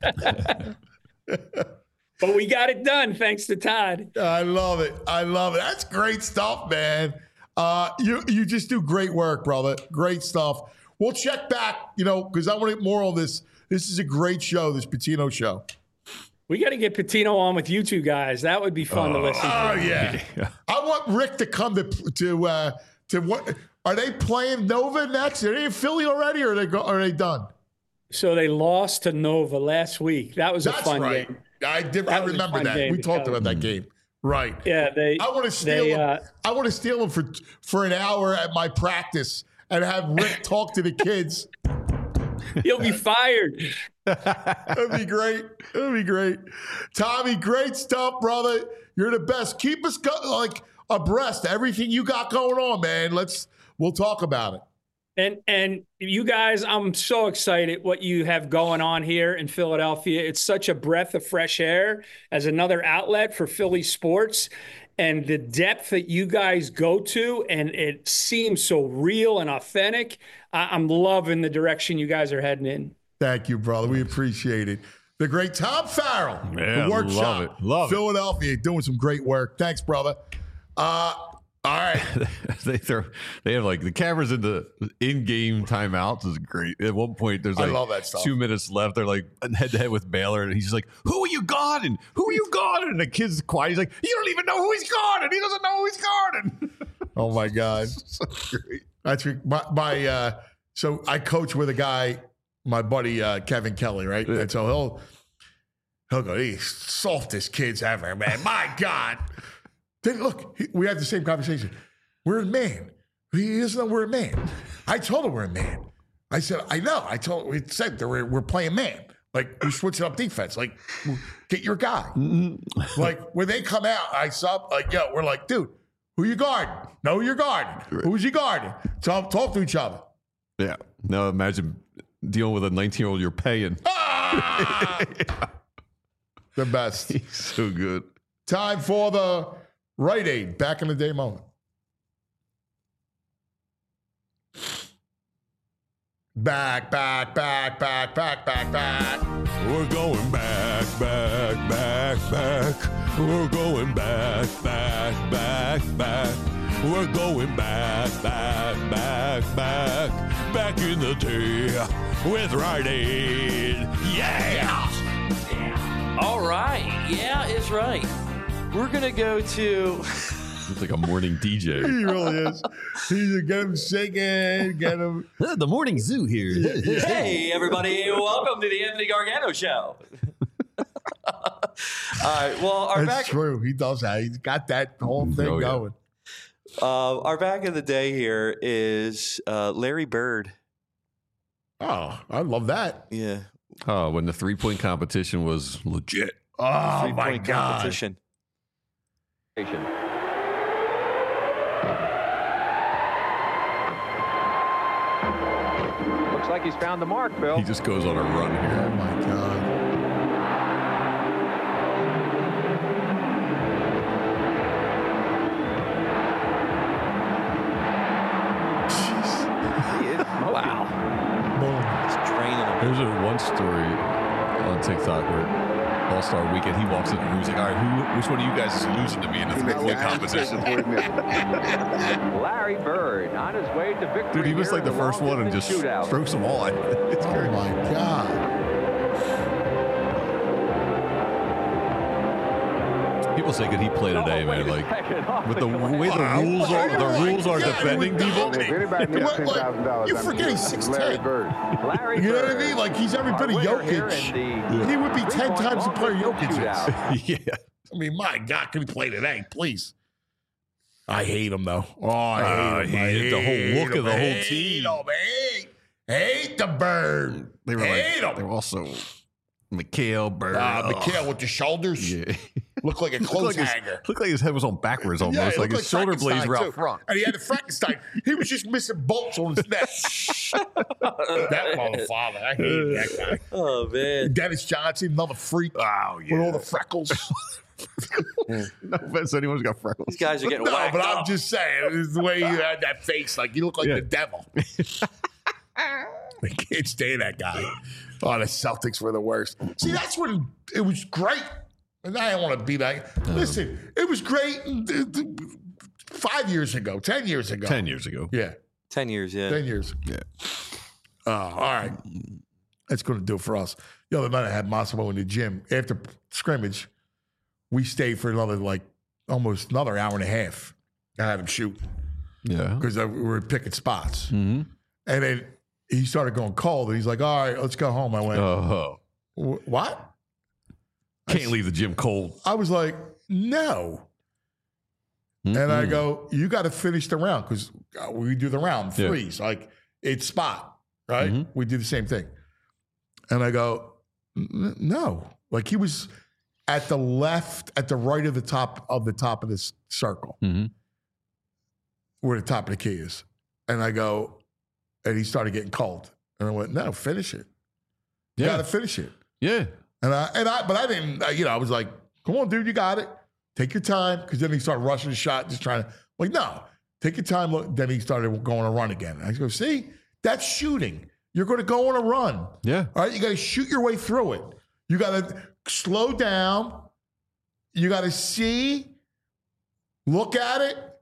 But we got it done, thanks to Todd. I love it. I love it. That's great stuff, man. Uh, you you just do great work, brother. Great stuff. We'll check back, you know, because I want to get more on this. This is a great show, this Patino show. We got to get Patino on with you two guys. That would be fun oh, to listen to. Oh, yeah. I want Rick to come to, to, uh, to what? Are they playing Nova next? Are they in Philly already, or are they, go, are they done? So they lost to Nova last week. That was That's a fun right. game. I did. That I was a remember fun that. game We to talked go. about that game. Right. Yeah, they. I want to steal they, him. uh, I want to steal him for for an hour at my practice and have Rick talk to the kids. He'll be fired. That'd be great. That'd be great. Tommy, great stuff, brother. You're the best. Keep us go- like abreast of everything you got going on, man. Let's we'll talk about it. And and you guys, I'm so excited what you have going on here in Philadelphia. It's such a breath of fresh air as another outlet for Philly sports. And the depth that you guys go to, and it seems so real and authentic. I- I'm loving the direction you guys are heading in. Thank you, brother. We appreciate it. The great Tom Farrell, Yeah, the workshop, love it. Love it. Philadelphia, doing some great work. Thanks, brother. Uh, All right. they throw, they have like the cameras in the in-game timeouts is great. At one point, there's I like love that stuff. two minutes left. They're like head to head with Baylor, and he's just like, "Who are you guarding? Who are you guarding?" And the kid's quiet. He's like, "You don't even know who he's guarding. He doesn't know who he's guarding." Oh my God. So great. That's re- my, my uh, so I coach with a guy, my buddy uh, Kevin Kelly, right? Yeah. And so he'll he'll go, "These softest kids ever, man. My God." Then look, he, we had the same conversation. We're a man. He doesn't know we're a man. I told him we're a man. I said, I know. I told we said that we're, we're playing man. Like, we're switching up defense. Like, get your guy. Like, when they come out, I sub, like, yo, we're like, dude, who you guarding? Know who you're guarding. Who's you guarding? Talk, talk to each other. Yeah. Now imagine dealing with a nineteen-year-old you're paying. Ah! Yeah. The best. He's so good. Time for the Rite Aid back in the day moment. Back, back, back, back, back, back, back. We're going back, back, back, back. We're going back, back, back, back. We're going back, back, back, back. Back in the day with Rite Aid. Yeah! All right. Yeah, is right. We're going to go to... It's like a morning D J. He really is. He's get him shaking, get him. The morning zoo here. Hey, everybody. Welcome to the Anthony Gargano Show. All right. Well, our That's back... true. He does that. He's got that whole thing Oh, yeah. going. Uh, our back of the day here is uh, Larry Bird. Oh, I love that. Yeah. Oh, when the three-point competition was legit. Oh, my Three-point God. competition. Looks like he's found the mark, Bill. He just goes on a run Oh, here. my God. He is smoking. Wow. Boom. It's draining him. There's a one story on TikTok where All-Star Weekend, he walks in the room, he's like, all right, who, which one of you guys is losing to me in the three-point competition? Larry Bird on his way to victory. Dude, he was here like the in first one and long-distance just shootout. strokes them all. It's Oh, great. my God. People say, could he play today, Oh, man? wait a Like, second. Off with the the glass. way the rules are, the rules are Yeah, defending with the- people. okay. If anybody needs What, ten thousand dollars, you forget he's six Larry ten. Bird. Larry You know what I Bird, mean? Like, he's every bit of our winner here Jokic. in the He would be ten three-point times the player long-distance Jokic is. shootout. Yeah. I mean, my God, can he play today? Please. I hate him, though. Oh, I Uh, hate him. I I hate the whole hate look of him. the whole Hate team. him. Hate, hate the Bird. They were hate like, they him. were also Mikhail Bird. Ah, Oh. Mikhail with the shoulders. Yeah. Look like a Looked clothes like his- hanger. Looked like his head was on backwards almost. Yeah, it like looked his shoulder blades were Frankenstein, out too. front. And he had a Frankenstein. He was just missing bolts on his neck. That motherfucker. I hate that guy. Oh, man. Dennis Johnson, another freak Oh, yeah. with all the freckles. No offense, anyone's got freckles. These guys are getting No, whacked but I'm up. just saying, it's the way you had that face, like you look like Yeah. the devil. I can't stand that guy. Oh, the Celtics were the worst. See, that's when it was great. And I don't want to be like, listen, it was great uh, five years ago, ten years ago. Ten years ago. Yeah, Ten years, yeah. ten years. Yeah. Oh, all right. That's going to do it for us. The other night I had Massimo in the gym. After scrimmage, we stayed for another, like, almost another hour and a half. I had him shoot Yeah. because we were picking spots. Mm-hmm. And then he started going cold. And he's like, all right, let's go home. I went, Oh. "Wh- what? Can't leave the gym cold. I was like, no. And I Mm-mm. go, you got to finish the round because we do the round Yeah. threes. Like, it's spot, right? Mhm. We do the same thing. And I go, "N- no. Like, he was at the left, at the right of the top of the top of this circle, Mhm. where the top of the key is. And I go, and he started getting cold. And I went, no, finish it. You Yeah. got to finish it. Yeah. And I, and I, but I didn't, uh, you know, I was like, come on, dude, you got it. Take your time. Because then he started rushing the shot, just trying to, like, no, take your time. Look, then he started going on a run again. And I go, see, that's shooting. You're going to go on a run. Yeah. All right. You got to shoot your way through it. You got to slow down. You got to see, look at it,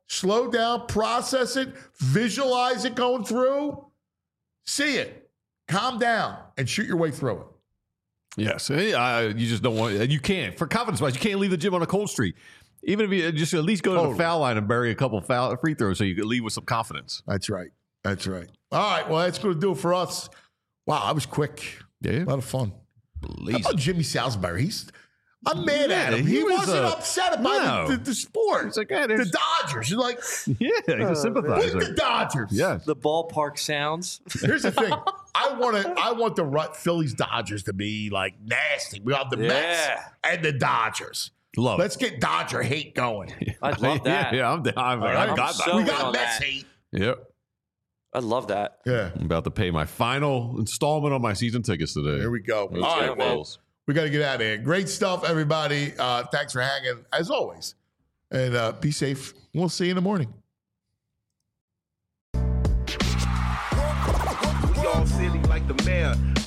Slow down, process it, visualize it going through, see it, calm down, and shoot your way through it. Yes, uh, you just don't want. You can't for confidence wise. You can't leave the gym on a cold streak. Even if you just at least go Totally. to the foul line and bury a couple foul free throws, so you can leave with some confidence. That's right. That's right. All right. Well, that's going to do it for us. Wow, I was quick. Yeah, a lot of fun. Please. How about Jimmy Salisbury? He's. I'm mad Yeah, at him. He, he was, wasn't uh, upset about no. the, the, the sport. It's like, yeah, the there's- Dodgers. He's like, Yeah, he's a sympathizer. with the Dodgers. Yes. The ballpark sounds. Here's the thing. I want to. I want the Rut- Phillies Dodgers to be like nasty. We have the Mets Yeah. and the Dodgers. Love Let's get Dodger hate going. I'd love that. Yeah, yeah, I'm, I'm, right. I've I'm got so that. we in got on Mets that. hate. Yep. I'd love that. Yeah. I'm about to pay my final installment on my season tickets today. There we go. Let's All go, right, well, Bills. we got to get out of here. Great stuff, everybody. Uh, thanks for hanging, as always. And uh, be safe. We'll see you in the morning. We all silly like the mayor.